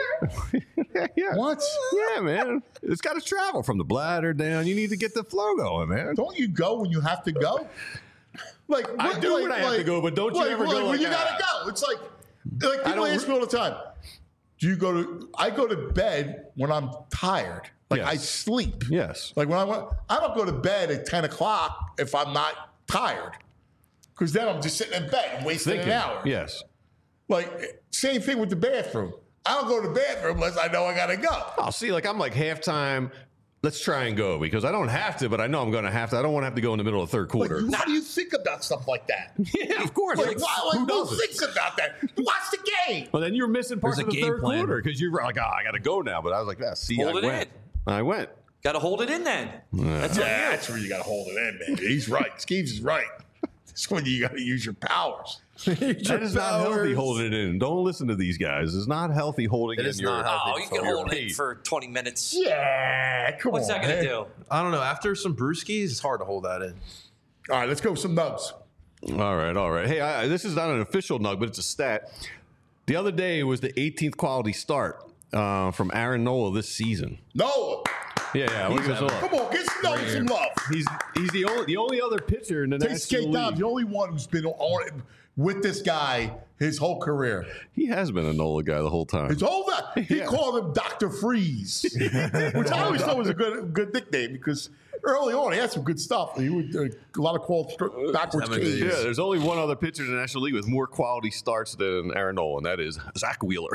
S4: yeah.
S2: What?
S4: Yeah, man. It's got to travel from the bladder down. You need to get the flow going, man.
S2: Don't you go when you have to go? Like
S4: I
S2: what-
S4: do
S2: like,
S4: when I have to
S2: like-
S4: go, but don't you
S2: like,
S4: ever
S2: like,
S4: go
S2: when
S4: like
S2: you
S4: that.
S2: gotta go? It's like like people
S4: don't
S2: ask me all the time. Do you go to? I go to bed when I'm tired. Like I
S4: Yes.
S2: sleep.
S4: Yes.
S2: Like when I want, I don't go to bed at ten o'clock if I'm not tired, because then I'm just sitting in bed and wasting
S4: Thinking.
S2: an hour.
S4: Yes.
S2: Like same thing with the bathroom. I don't go to the bathroom unless I know I gotta go.
S4: I'll see, like, I'm like halftime. Let's try and go because I don't have to, but I know I'm going to have to. I don't want to have to go in the middle of the third
S2: Like,
S4: quarter.
S2: how do you think about stuff like that?
S4: Yeah, of course.
S2: Like,
S4: Like,
S2: why, like,
S4: who
S2: who
S4: doesn't?
S2: thinks about that? Watch the game.
S4: Well, then you're missing parts
S3: There's
S4: of
S3: a
S4: the
S3: game
S4: third
S3: plan.
S4: quarter because you're like, oh, I got to go now. But I was like, yeah, see,
S10: Hold
S4: I
S10: it
S4: went.
S10: in.
S4: I went.
S10: Got to hold it in then. That's on
S2: Yeah,
S10: you.
S2: that's where you got to hold it in, man. He's right. Skeeves is right. That's when you got to use your powers.
S4: That is not healthy
S2: powers.
S4: holding it in. Don't listen to these guys. It's not healthy holding
S3: It
S4: in
S3: is
S4: your.
S3: not healthy.
S10: Oh, you can
S4: your
S10: hold it
S4: pee.
S10: for twenty minutes.
S2: Yeah, come
S10: What's
S2: on.
S10: that going to
S2: man.
S10: do?
S3: I don't know. After some brewskis, it's hard to hold that in.
S2: All right, let's go with some nugs.
S4: All right, all right. Hey, I, this is not an official nug, but it's a stat. The other day was the eighteenth quality start uh, from Aaron Nola this season.
S2: Noah,
S4: Yeah, yeah. We'll give us a look.
S2: come on, get Noah some love.
S4: He's he's the only the only other pitcher in the
S2: Take
S4: National
S2: skate down.
S4: League.
S2: The only one who's been on with this guy his whole career.
S4: He has been a Nola guy the whole time.
S2: His whole that he
S4: Yeah.
S2: called him Doctor Freeze, which I always thought was a good good nickname because early on he had some good stuff. He would uh, a lot of called str- backwards
S3: Seven days.
S2: caves.
S4: Yeah, there's only one other pitcher in the National League with more quality starts than Aaron Nola, and that is Zach Wheeler.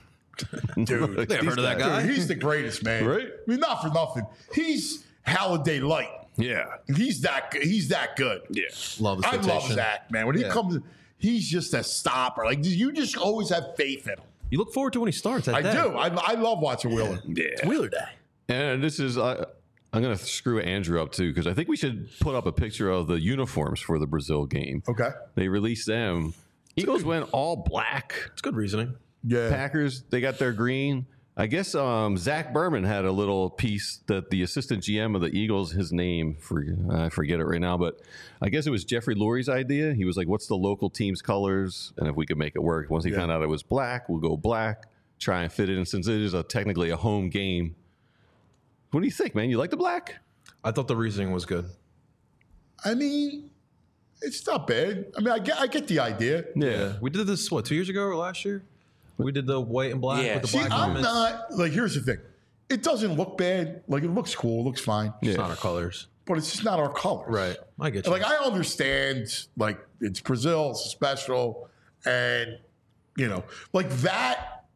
S2: Dude,
S3: Never heard of that guy.
S2: Dude, he's the greatest, man.
S4: Right?
S2: I mean, not for nothing. He's Halliday light.
S4: Yeah,
S2: He's that. good. He's that good.
S4: yeah.
S3: Love the
S2: I
S3: rotation.
S2: love Zach, man. When he
S3: Yeah.
S2: comes, he's just a stopper. Like you just always have faith in him.
S3: You look forward to when he starts. That
S2: I
S3: day.
S2: do. I, I love watching Wheeler.
S3: It's Wheeler Day.
S4: And this is uh, I'm gonna screw Andrew up too because I think we should put up a picture of the uniforms for the Brazil game.
S2: Okay.
S4: They released them. Eagles went all black.
S3: It's good reasoning.
S2: Yeah.
S4: Packers, they got their green. I guess um, Zach Berman had a little piece that the assistant G M of the Eagles, his name, for, I forget it right now, but I guess it was Jeffrey Lurie's idea. He was like, what's the local team's colors? And if we could make it work. Once he
S2: Yeah.
S4: found out it was black, we'll go black, try and fit it in. Since it is a, technically a home game, What do you think, man? You like the black?
S3: I thought the reasoning was good.
S2: I mean, it's not bad. I mean, I get, I get the idea.
S3: Yeah. We did this, what, two years ago or last year? We did the white and black
S10: Yeah.
S3: with the
S2: See,
S3: black
S2: I'm
S3: elements.
S2: not, like, here's the thing. It doesn't look bad. Like, it looks cool. It looks fine.
S3: It's not our colors.
S2: But it's just not our colors.
S3: Right. I get you.
S2: Like, I understand, like, it's Brazil, it's special, and, you know, like that,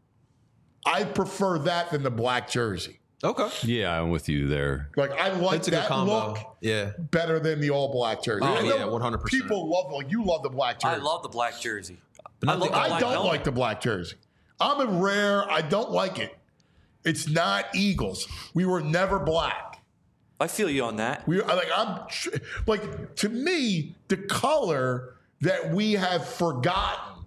S2: I prefer that than the black jersey.
S3: Okay.
S4: Yeah, I'm with you there.
S2: Like, I like
S3: That's a good
S2: that
S3: combo.
S2: look
S3: Yeah.
S2: better than the all black jersey.
S3: Oh,
S2: I know
S3: yeah, one hundred percent.
S2: People love, like, you love the black jersey.
S10: I love the black jersey.
S3: But
S10: I
S3: not
S10: love
S3: the-
S10: the
S2: I
S10: black
S2: don't
S10: helmet.
S2: like the black jersey. I'm a rare, I don't like it. It's not Eagles. We were never black.
S10: I feel you on that.
S2: We like I'm like to me the color that we have forgotten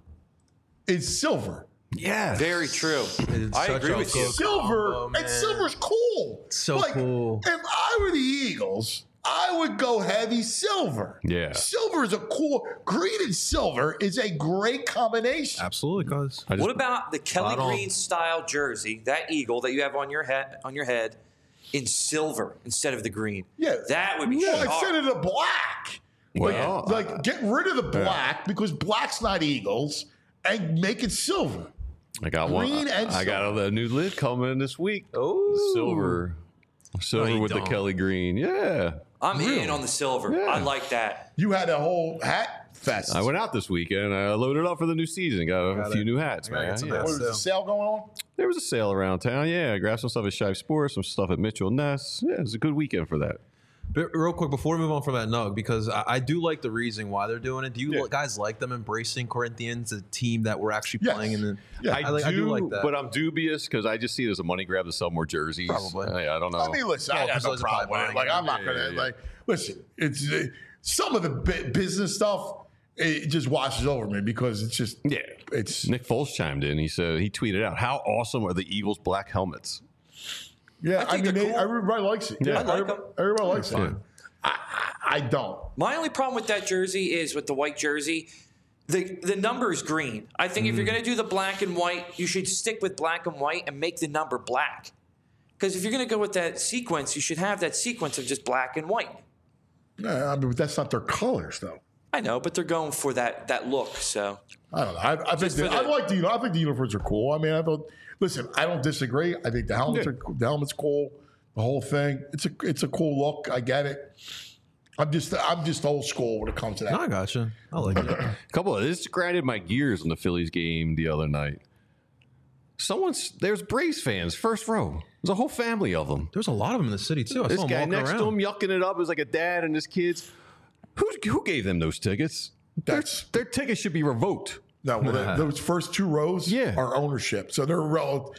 S2: is silver.
S4: Yeah.
S10: Very true.
S3: It's
S10: I
S3: such
S10: agree
S3: a
S10: with you.
S3: good
S2: Silver
S3: combo,
S2: and
S3: man.
S2: silver's cool.
S3: So
S2: like,
S3: cool.
S2: If I were the Eagles, I would go heavy silver.
S4: Yeah.
S2: Silver is a cool green and silver is a great combination.
S3: Absolutely, cuz.
S10: What about the Kelly
S3: Spot on.
S10: Green style jersey, that eagle that you have on your head on your head, in silver instead of the green?
S2: Yeah,
S10: that would be
S2: yeah,
S10: sharp.
S2: instead of the black.
S4: Well,
S2: like, like get rid of the black because black's not Eagles and make it silver.
S4: I got
S2: Green
S4: one.
S2: and
S4: I got a, a new lid coming this week.
S3: Oh.
S4: Silver. Silver
S3: No, you
S4: with
S3: don't.
S4: the Kelly Green. Yeah.
S10: I'm in on the silver.
S4: Yeah.
S10: I like that.
S2: You had a whole hat fest.
S4: I went out this weekend. I loaded up for the new season. Got a
S3: Got
S4: few
S3: it.
S4: new hats,
S3: I gotta
S4: man.
S3: get some
S4: Yeah.
S3: hats.
S2: What was the sale going on?
S4: There was a sale around town. Yeah, I grabbed some stuff at Shive Sports, some stuff at Mitchell Ness. Yeah, it was a good weekend for that.
S3: But real quick, before we move on from that Nug, because I, I do like the reason why they're doing it. Do you
S4: Yeah.
S3: guys like them embracing Corinthians, a team that we're actually
S2: Yes.
S3: playing in the
S2: Yeah.
S3: I, like, I do like that.
S4: but I'm dubious because I just see it as a money grab to sell more jerseys.
S3: Probably.
S4: I, I don't know.
S2: I mean, listen, I
S3: Well,
S2: got no
S3: Brazil's
S2: problem
S3: probably
S2: with it. Like,
S3: buying
S2: I'm not
S4: it.
S2: gonna
S4: Yeah, yeah,
S2: like. Listen, it's uh, some of the bu- business stuff. It just washes over me because it's just
S4: yeah.
S2: It's
S4: Nick Foles chimed in. He said he tweeted out, "How awesome are the Eagles' black helmets?"
S2: yeah.
S10: I
S2: I,
S10: think
S2: mean,
S10: they're
S2: they,
S10: cool.
S2: everybody likes it.
S4: Yeah.
S2: Yeah,
S10: I like
S2: everybody,
S10: them.
S2: everybody likes it.
S4: Yeah.
S2: I, I, I don't.
S10: My only problem with that jersey is with the white jersey, the the number is green. I think if you're going to do the black and white, you should stick with black and white and make the number black. Because if you're going to go with that sequence, you should have that sequence of just black and white.
S2: Yeah, I mean, that's not their colors, though.
S10: I know, but they're going for that that look. So
S2: I don't know. I, I think
S10: Just
S2: the,
S10: for
S2: I
S10: the-
S2: like the. I think the uniforms are cool. I mean, I thought. Listen, I don't disagree. I think the helmets
S4: Yeah.
S2: are the helmet's cool. The whole thing. It's a it's a cool look. I get it. I'm just I'm just old school when it comes to that.
S3: No, I gotcha. I like it.
S4: A couple of this grinded my gears on the Phillies game the other night. Someone's there's Braves fans, first row. There's a whole family of them.
S3: There's a lot of them in the city too. I
S4: This
S3: saw them
S4: guy
S3: walking
S4: next
S3: around.
S4: to him yucking it up. It was like a dad and his kids. Who who gave them those tickets?
S2: That's
S4: Their tickets should be revoked.
S2: no. Well, the- those first two rows
S4: Yeah.
S2: are ownership, so they're rel-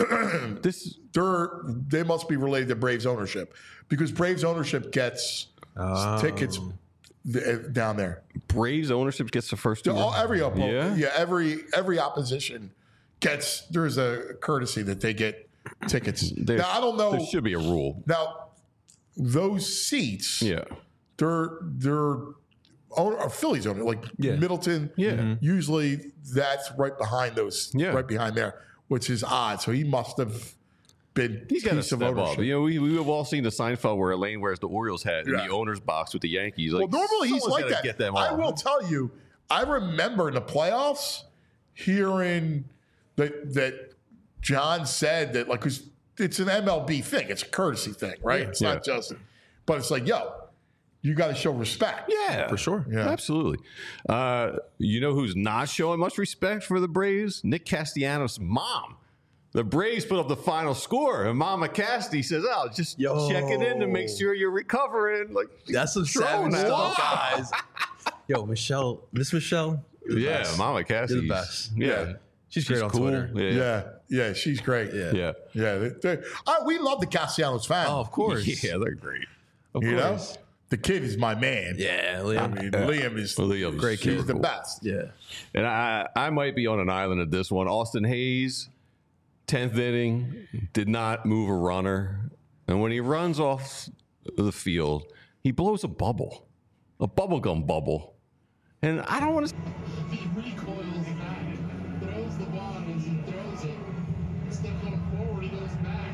S4: This
S2: they're they must be related to Braves ownership because Braves ownership gets
S3: Oh.
S2: tickets th- down there.
S4: Braves ownership gets the first two.
S2: All, every oppo-
S4: Yeah?
S2: yeah, every every opposition gets. There's a courtesy that they get tickets.
S4: There-
S2: now I don't know.
S4: There should be a rule.
S2: Now those seats,
S4: Yeah.
S2: they're they're own, or Phillies own it, like
S3: Yeah.
S2: Middleton.
S4: Yeah. Mhm.
S2: Usually that's right behind those.
S4: Yeah.
S2: right behind there, which is odd. So he must have been
S4: He's got to
S2: piece of
S4: step up.
S2: ownership.
S4: You know, we, we have all seen the Seinfeld where Elaine wears the Orioles hat in
S2: Yeah.
S4: the owner's box with the Yankees. Like,
S2: Well, normally he's
S4: someone's
S2: like
S4: gotta
S2: that.
S4: Get them
S2: I
S4: all.
S2: will tell you, I remember in the playoffs hearing that that John said that like 'cause it's an M L B thing, it's a courtesy thing, right?
S3: Yeah.
S2: It's not
S4: Yeah.
S2: just, but it's like, yo, you got to show respect.
S4: Yeah,
S3: For sure.
S2: Yeah.
S4: Absolutely. Uh, you know who's not showing much respect for the Braves? Nick Castellanos' mom. The Braves put up the final score, and Mama Casty says, "Oh, just
S3: Yo.
S4: checking in to make sure you're recovering." Like
S3: That's some
S4: throwing
S3: savage
S4: that.
S3: stuff, guys. Yo, Michelle, Miss Michelle. you're the
S4: Yeah,
S3: best.
S4: Mama Casty.
S3: You're the best.
S4: Yeah,
S3: She's great on
S4: cool.
S3: Twitter.
S4: Yeah,
S2: Yeah, yeah, she's great.
S3: Yeah.
S4: yeah.
S2: yeah. They, they, I, we love the Castellanos fan.
S3: Oh, of course.
S4: Yeah, they're great.
S3: Of
S2: you
S3: course.
S2: know, the kid is my man.
S3: Yeah,
S2: I
S3: Liam.
S2: mean, Liam is
S4: Liam's
S3: Great
S4: super
S3: kid.
S2: he's the
S4: cool.
S2: best.
S3: Yeah.
S4: And I, I might be on an island at this one. Austin Hayes, tenth inning, did not move a runner. And when he runs off the field, he blows a bubble, a bubblegum bubble. And I don't want to.
S11: He recoils back, throws the ball as he throws it. Instead of going forward, he goes back.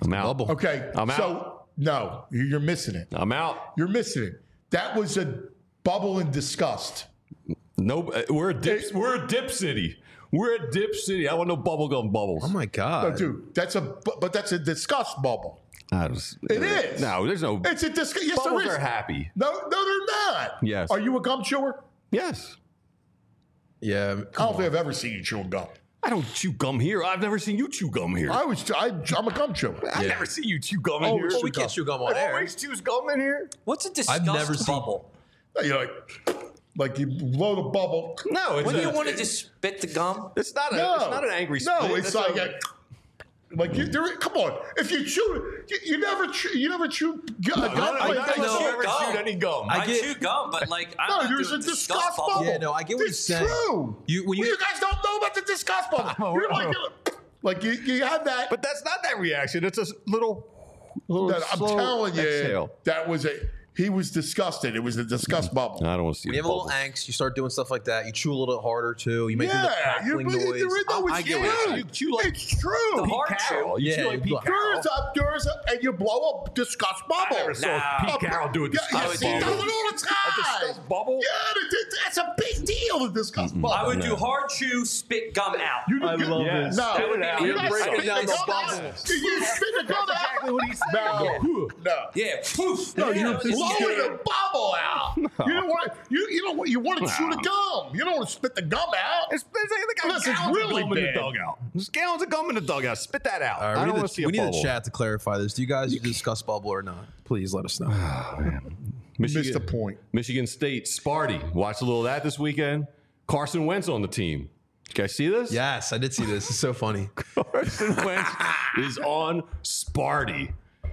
S4: I'm out.
S3: Bubble.
S2: Okay,
S4: I'm
S2: so
S4: out.
S2: no, you- you're missing it.
S4: I'm out.
S2: You're missing it. That was a bubble in disgust.
S4: No, uh, we're a dip. We're a dip city. We're a dip city. I want no bubblegum bubbles.
S3: Oh my
S2: No,
S3: god.
S2: dude, that's a bu- but that's a disgust bubble.
S4: I was,
S2: It is.
S4: No, there's no.
S2: It's a disgust. Yes,
S4: bubbles
S2: there is.
S4: are happy.
S2: No, no, they're not.
S4: Yes.
S2: Are you a gum chewer?
S4: Yes.
S3: Yeah.
S2: I don't think I've ever seen you chewing gum.
S4: I don't chew gum here. I've never seen you chew gum here.
S2: I was. I, I'm a gum chewer.
S4: I've never seen you chew gum in
S2: Oh,
S4: here.
S2: well,
S3: we can't chew gum on
S4: I
S3: air.
S4: always chews gum in here.
S10: What's a disgust
S3: I've never seen-
S10: bubble?
S2: You're like, like you blow the bubble.
S4: No, it's
S10: When
S4: a,
S10: do you want to just spit the gum?
S4: It's not a.
S2: No,
S4: It's not an angry.
S2: No,
S4: spit.
S2: it's
S4: That's
S2: like
S4: a,
S2: a, like you. There, come on, if you chew, you, you never, chew, you never chew gu-
S4: No,
S2: gum.
S4: none of-
S2: like
S4: none
S2: that.
S4: of us
S10: chew
S4: have ever
S10: gum.
S4: chewed any gum.
S10: I,
S3: I get-
S10: chew gum, but like I'm
S2: No,
S10: not
S2: there's a
S10: doing
S2: disgust bubble.
S3: Yeah, no, I get what
S2: it's
S3: you're saying.
S2: true.
S3: You- when you-
S2: you guys don't know about the disgust bubble. You're like, like you, you have that.
S4: But that's not that reaction. It's a little. little
S2: that I'm
S4: slow
S2: telling you,
S4: exhale.
S2: that was a. He was disgusted. It was a disgust bubble.
S4: I don't want to see
S3: When you
S4: the
S3: have a little
S4: bubbles.
S3: angst, you start doing stuff like that. You chew a little bit harder too. You make a little
S2: Yeah, you,
S3: crackling
S2: you,
S3: noise.
S2: you, no,
S3: I, I
S2: it's
S3: get what you're
S2: true.
S3: saying.
S4: You chew like
S2: It's true.
S10: The
S4: Pete
S10: hard
S4: Carroll. You
S3: Yeah,
S4: chew like
S3: you
S4: Pete
S3: blow-
S4: Carroll.
S2: There's a, there's a, and you blow a disgust bubble.
S4: I never saw
S10: Nah.
S4: Pete Carroll do a
S2: Yeah,
S4: disgust
S2: yes, he
S4: bubble.
S2: does it all the time.
S4: A disgust bubble?
S2: Yeah, that- that- that's a big deal. The disgust bubble.
S10: I would do hard chew, spit gum out.
S2: You do
S3: I
S2: good-
S3: love
S4: Yes.
S3: this.
S2: No,
S10: That would be
S2: you
S10: me.
S2: don't
S10: You're
S2: spit
S10: breaking
S2: the
S10: down the
S2: gum out.
S10: bubbles.
S2: You spit the gum out.
S4: exactly what he said.
S2: No, no.
S10: Yeah, poof.
S2: No,
S10: You
S2: you're
S10: know, it's
S2: blowing
S10: scary.
S2: the bubble out. You don't want you. You don't. want- You want to chew the gum. You don't want to spit the gum out.
S4: It's, it's like they got
S2: Unless it's
S4: gallons of
S2: really
S4: gum in the
S2: bad.
S4: dugout. There's gallons of gum in the dugout. Spit that out.
S3: All right,
S4: I
S3: we
S4: don't
S3: need,
S4: want to see
S3: the,
S4: a
S3: we need
S4: bubble.
S3: the chat to clarify this. Do you guys discuss bubble or not? Please let us know.
S2: Missed the point.
S4: Michigan State, Sparty. Watch a little of that this weekend. Carson Wentz on the team. Did you guys see this?
S3: Yes, I did see this. It's so funny.
S4: Carson Wentz is on Sparty.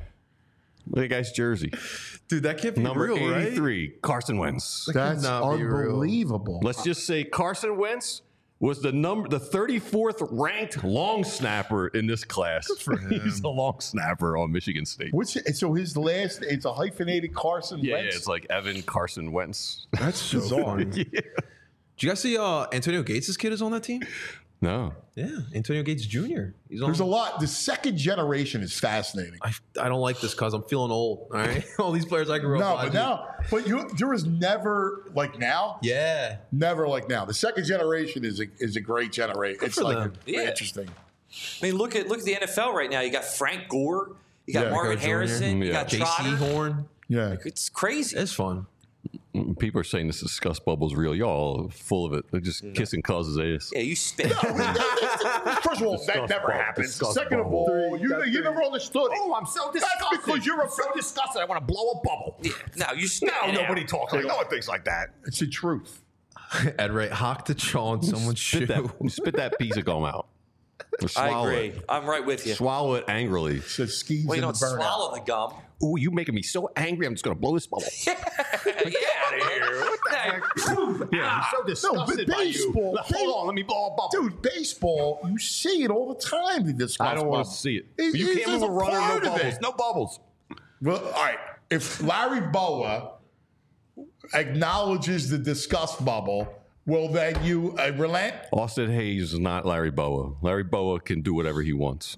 S4: Look at that guy's jersey.
S3: Dude, that can't be
S4: Number
S3: real, right?
S4: eighty-three, Carson Wentz.
S2: That's
S3: not be real.
S2: unbelievable.
S4: Let's just say Carson Wentz was the number, the thirty-fourth ranked long snapper in this class.
S3: for him.
S4: He's a long snapper on Michigan State.
S2: What's it, so his last? It's a hyphenated Carson
S4: Yeah, yeah,
S2: Wentz.
S4: it's like Evan Carson Wentz.
S2: That's so funny.
S4: Yeah.
S3: Did you guys see uh, Antonio Gates' kid is on that team?
S4: No.
S3: Yeah, Antonio Gates Junior He's on.
S2: There's a lot. The second generation is fascinating.
S3: I, I don't like this because I'm feeling old. All right, all these players I grew
S2: No,
S3: up.
S2: but
S3: watching.
S2: now, but you, there was never like now.
S3: Yeah,
S2: Never like now. The second generation is a is a great generation. It's
S3: for
S2: like
S3: them.
S2: a-
S10: Yeah.
S2: interesting.
S10: I mean, look at look at the N F L right now. You got Frank Gore, you got
S2: Yeah,
S10: Marvin
S3: Gore Junior
S10: Harrison, you
S4: Yeah.
S10: got
S3: J C
S10: Trotter.
S3: Horn.
S2: Yeah.
S10: It's crazy.
S3: It's fun.
S4: People are saying this disgust bubble's real. Y'all are full of it. They're just kissing causes ass.
S10: Yeah, you spit.
S2: First of all, that
S4: Disgust
S2: never
S4: bubble.
S2: happens.
S4: Disgust
S2: Second of
S4: bubble.
S2: all, you, you never understood it.
S4: Oh, I'm so
S2: That's because you're a
S4: so disgusted. I want to blow a bubble.
S10: Yeah, no, you spit.
S4: No,
S10: it
S4: nobody
S10: out.
S4: talks like no one thinks like that.
S2: It's the truth.
S3: Ed Ray, hock the chaw on someone's shoe.
S4: Spit that, spit that piece of gum out. Or
S10: I
S4: swallow
S10: agree.
S4: It.
S10: I'm right with you.
S4: Swallow it angrily.
S2: So skis
S10: Well, you
S2: in
S10: don't
S2: the burnout.
S10: swallow the gum.
S4: Ooh, you making me so angry. I'm just gonna blow this bubble.
S10: Get out of here. What the heck?
S4: Yeah, I'm so disgusted
S2: but
S4: by you.
S2: baseball-
S4: Hold on, let me blow a bubble.
S2: Dude, baseball, you see it all the time. The disgust
S4: I don't want
S2: bubble.
S4: to see it.
S2: It-
S4: you
S2: it's
S4: can't move
S2: just
S4: a
S2: a
S4: runner,
S2: part
S4: no
S2: of
S4: bubbles.
S2: it.
S4: No bubbles.
S2: Well, all right. If Larry Boa acknowledges the disgust bubble, will then you uh, relent?
S4: Austin Hayes is not Larry Boa. Larry Boa can do whatever he wants.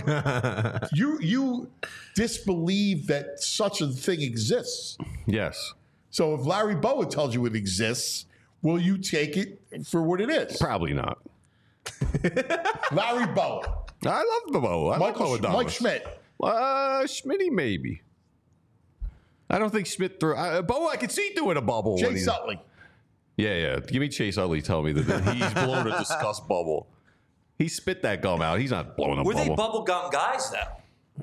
S2: But you you disbelieve that such a thing exists.
S4: Yes.
S2: So if Larry Boa tells you it exists, will you take it for what it is?
S4: Probably not.
S2: Larry Boa.
S4: I love the Boa. I
S2: Michael,
S4: love Boa
S2: Mike Schmidt.
S4: Uh, Schmitty maybe. I don't think Schmidt threw. Uh, Boa, I could see doing a bubble. when
S2: Chase
S4: he-
S2: Utley.
S4: Yeah, yeah. Give me Chase Utley. Tell me that he's blown a disgust bubble. He spit that gum out. He's not blowing a
S10: Were they
S4: bubble.
S10: bubble gum guys though?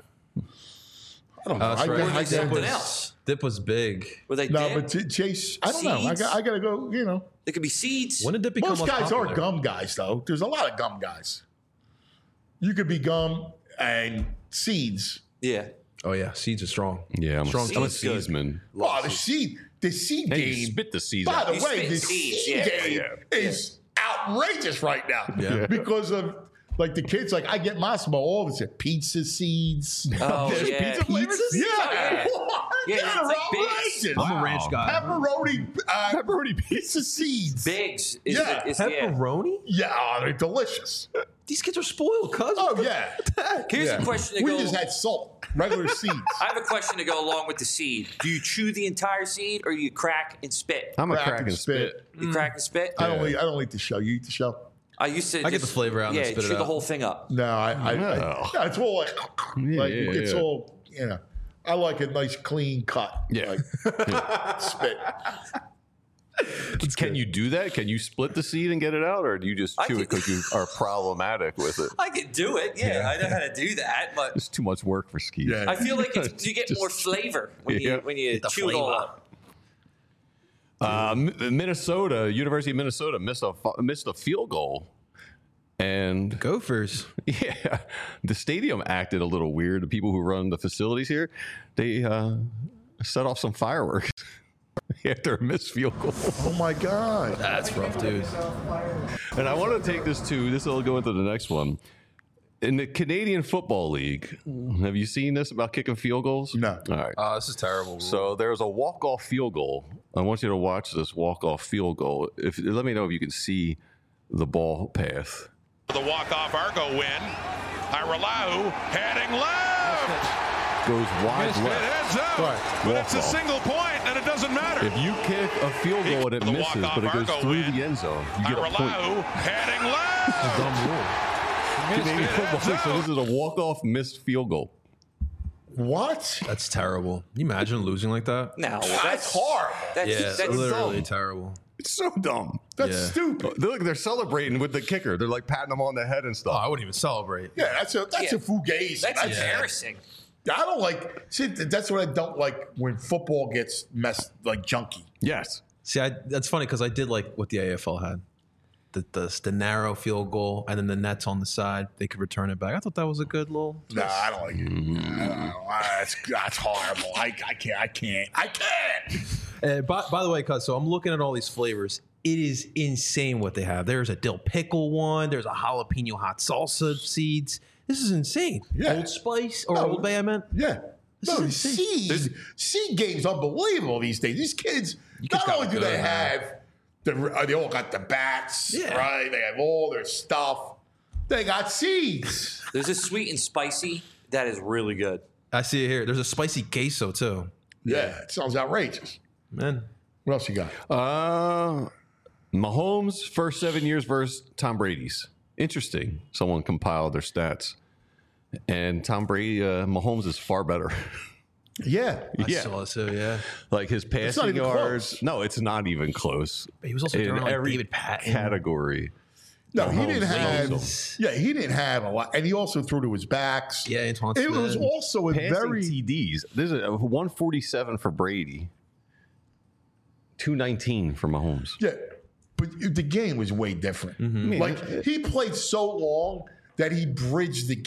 S2: I don't know.
S3: Uh, that's
S2: I,
S3: right.
S2: I,
S10: Or were
S2: I,
S10: they something
S3: was-
S10: else?
S3: Dip was big.
S10: Were they
S2: no,
S10: dead?
S2: but Ch- Chase, I don't know. I
S10: Seeds?
S2: got, I got to go, you know.
S10: They could be seeds.
S3: When did Dip become
S2: Most
S3: less
S2: guys
S3: popular?
S2: are gum guys, though. There's a lot of gum guys. You could be gum and seeds.
S10: Yeah.
S3: Oh yeah, seeds are strong.
S4: Yeah, I'm
S3: Strong
S4: a, I'm a
S10: seeds good.
S4: seedsman.
S2: Oh, the seed, the seed
S4: Hey, you
S2: game.
S4: spit the seeds
S2: By
S4: out.
S2: the
S10: You
S2: way,
S10: spit
S2: the
S10: seeds,
S2: seed
S10: yeah,
S2: game
S4: yeah,
S2: is outrageous right now.
S3: Yeah.
S2: Because of like the kids, like I get my small all of it. Pizza seeds.
S10: Oh,
S2: There's
S10: yeah.
S2: pizza flavors. Yeah,
S10: yeah.
S2: What?
S10: Yeah,
S2: They're
S10: it's like Biggs.
S2: outrageous.
S3: I'm a ranch guy.
S2: Pepperoni, uh,
S4: Pepperoni
S2: pizza seeds.
S10: Bigs. Is,
S2: Yeah.
S10: is, yeah.
S3: Pepperoni?
S2: Yeah, oh, they're delicious.
S3: These kids are spoiled, cuz.
S2: Oh, yeah.
S10: Here's
S2: yeah.
S10: a question to
S2: We
S10: go.
S2: just had salt, regular seeds.
S10: I have a question to go along with the seed. Do you chew the entire seed or do you crack and spit?
S4: I'm a
S2: Crack
S4: crack
S2: and
S4: and spit.
S2: spit.
S10: You crack and spit?
S2: I don't eat. I don't eat the shell. You eat the shell?
S10: I used to.
S3: I get
S10: just-
S3: the flavor out and
S10: Yeah,
S3: then spit it
S10: chew the
S3: out.
S10: whole thing up.
S2: No, I. I,
S4: No.
S2: I yeah, it's all like,
S4: Yeah,
S2: like
S4: yeah,
S2: it's
S4: yeah.
S2: all. You know, I like a nice clean cut.
S4: Yeah.
S2: Like, spit.
S4: Can you do that? Can you split the seed and get it out, or do you just
S10: I
S4: chew
S10: can-
S4: it because you are problematic with it?
S10: I can do it. Yeah, I know how to do that, but
S4: It's too much work for skis.
S2: Yeah.
S10: I feel like it's, you get
S4: Just-
S10: more flavor when you
S4: Yeah.
S10: when you
S3: Get the
S10: chew it all
S3: flavor.
S10: up.
S4: Uh, Mi- Minnesota, University of Minnesota missed a fu- missed a field goal, and
S3: Gophers.
S4: yeah, the stadium acted a little weird. The people who run the facilities here, they uh, set off some fireworks after a missed field goal.
S2: Oh my God.
S3: That's rough, dude.
S4: And I want to take this to this will go into the next one. In the Canadian Football League, have you seen this about kicking field goals?
S2: No.
S4: All right.
S3: Oh, this is terrible.
S4: So there's a walk-off field goal. I want you to watch this walk-off field goal. If let me know if you can see the ball path.
S1: The walk-off Argo win. Iralau heading left.
S4: Goes wide
S1: It
S4: left.
S1: is out.
S2: Right.
S1: But it's a
S4: Walk-off.
S1: single point, and it doesn't matter.
S4: If you kick a field goal and it
S1: The
S4: misses,
S1: walk-off
S4: but it goes
S1: Argo
S4: through
S1: win.
S4: the end zone, you get a point.
S1: Iralau heading left.
S3: Dumb rule.
S4: Canadian Football League. So this is a walk-off missed field goal.
S2: What?
S3: That's terrible. Can you imagine losing like that?
S10: No,
S2: That's
S10: that's
S2: horrible.
S10: That's,
S3: Yeah,
S10: that's
S3: literally
S2: dumb.
S3: terrible.
S4: It's so dumb.
S2: That's
S3: Yeah.
S2: stupid.
S4: Look, they're celebrating with the kicker. They're like patting him on the head and
S3: Oh,
S4: stuff.
S3: I wouldn't even celebrate.
S2: Yeah, that's a that's
S10: Yeah.
S2: a fugazi.
S10: that's embarrassing.
S2: I don't like. See, that's what I don't like when football gets messed like junky.
S4: Yes.
S3: See, I, that's funny because I did like what the A F L had. The, the the narrow field goal and then the nets on the side. They could return it back. I thought that was a good little.
S2: No, I don't like it. I don't know. That's that's horrible. I, I can't. I can't. I can't.
S3: Uh, by, by the way, cuz so I'm looking at all these flavors. It is insane what they have. There's a dill pickle one. There's a jalapeno hot salsa seeds. This is insane.
S2: Yeah.
S3: Old Spice or
S2: No.
S3: Old Bay, I meant.
S2: Yeah. No,
S3: is insane.
S2: seed seed game's unbelievable these days. These kids,
S3: kids
S2: not
S3: got
S2: only do
S3: good,
S2: they
S3: man.
S2: have the, uh, they all got the bats,
S3: Yeah.
S2: right? They have all their stuff. They got seeds.
S10: There's a sweet and spicy that is really good.
S3: I see it here. There's a spicy queso too.
S2: Yeah, it sounds outrageous.
S3: Man.
S2: What else you got?
S4: Uh, Mahomes' first seven years versus Tom Brady's. Interesting. Someone compiled their stats. And Tom Brady, uh, Mahomes is far better.
S2: Yeah.
S3: I
S4: Yeah.
S3: saw it too, yeah.
S4: Like his
S2: not
S4: passing
S2: even
S4: yards.
S2: close.
S4: No, it's not even close.
S3: But he was also
S4: In
S3: throwing like
S4: every
S3: David Patton.
S4: category.
S2: No, he
S4: Mahomes
S2: didn't have.
S4: leads
S2: Yeah, he didn't have a lot, and he also threw to his backs.
S3: Yeah, Antoine
S2: It was
S3: Smith.
S2: also a
S4: Passing
S2: very.
S4: T Ds. This is a one forty-seven for Brady. two nineteen for Mahomes.
S2: Yeah, but the game was way different.
S3: Mm-hmm.
S2: Like he played so long that he bridged the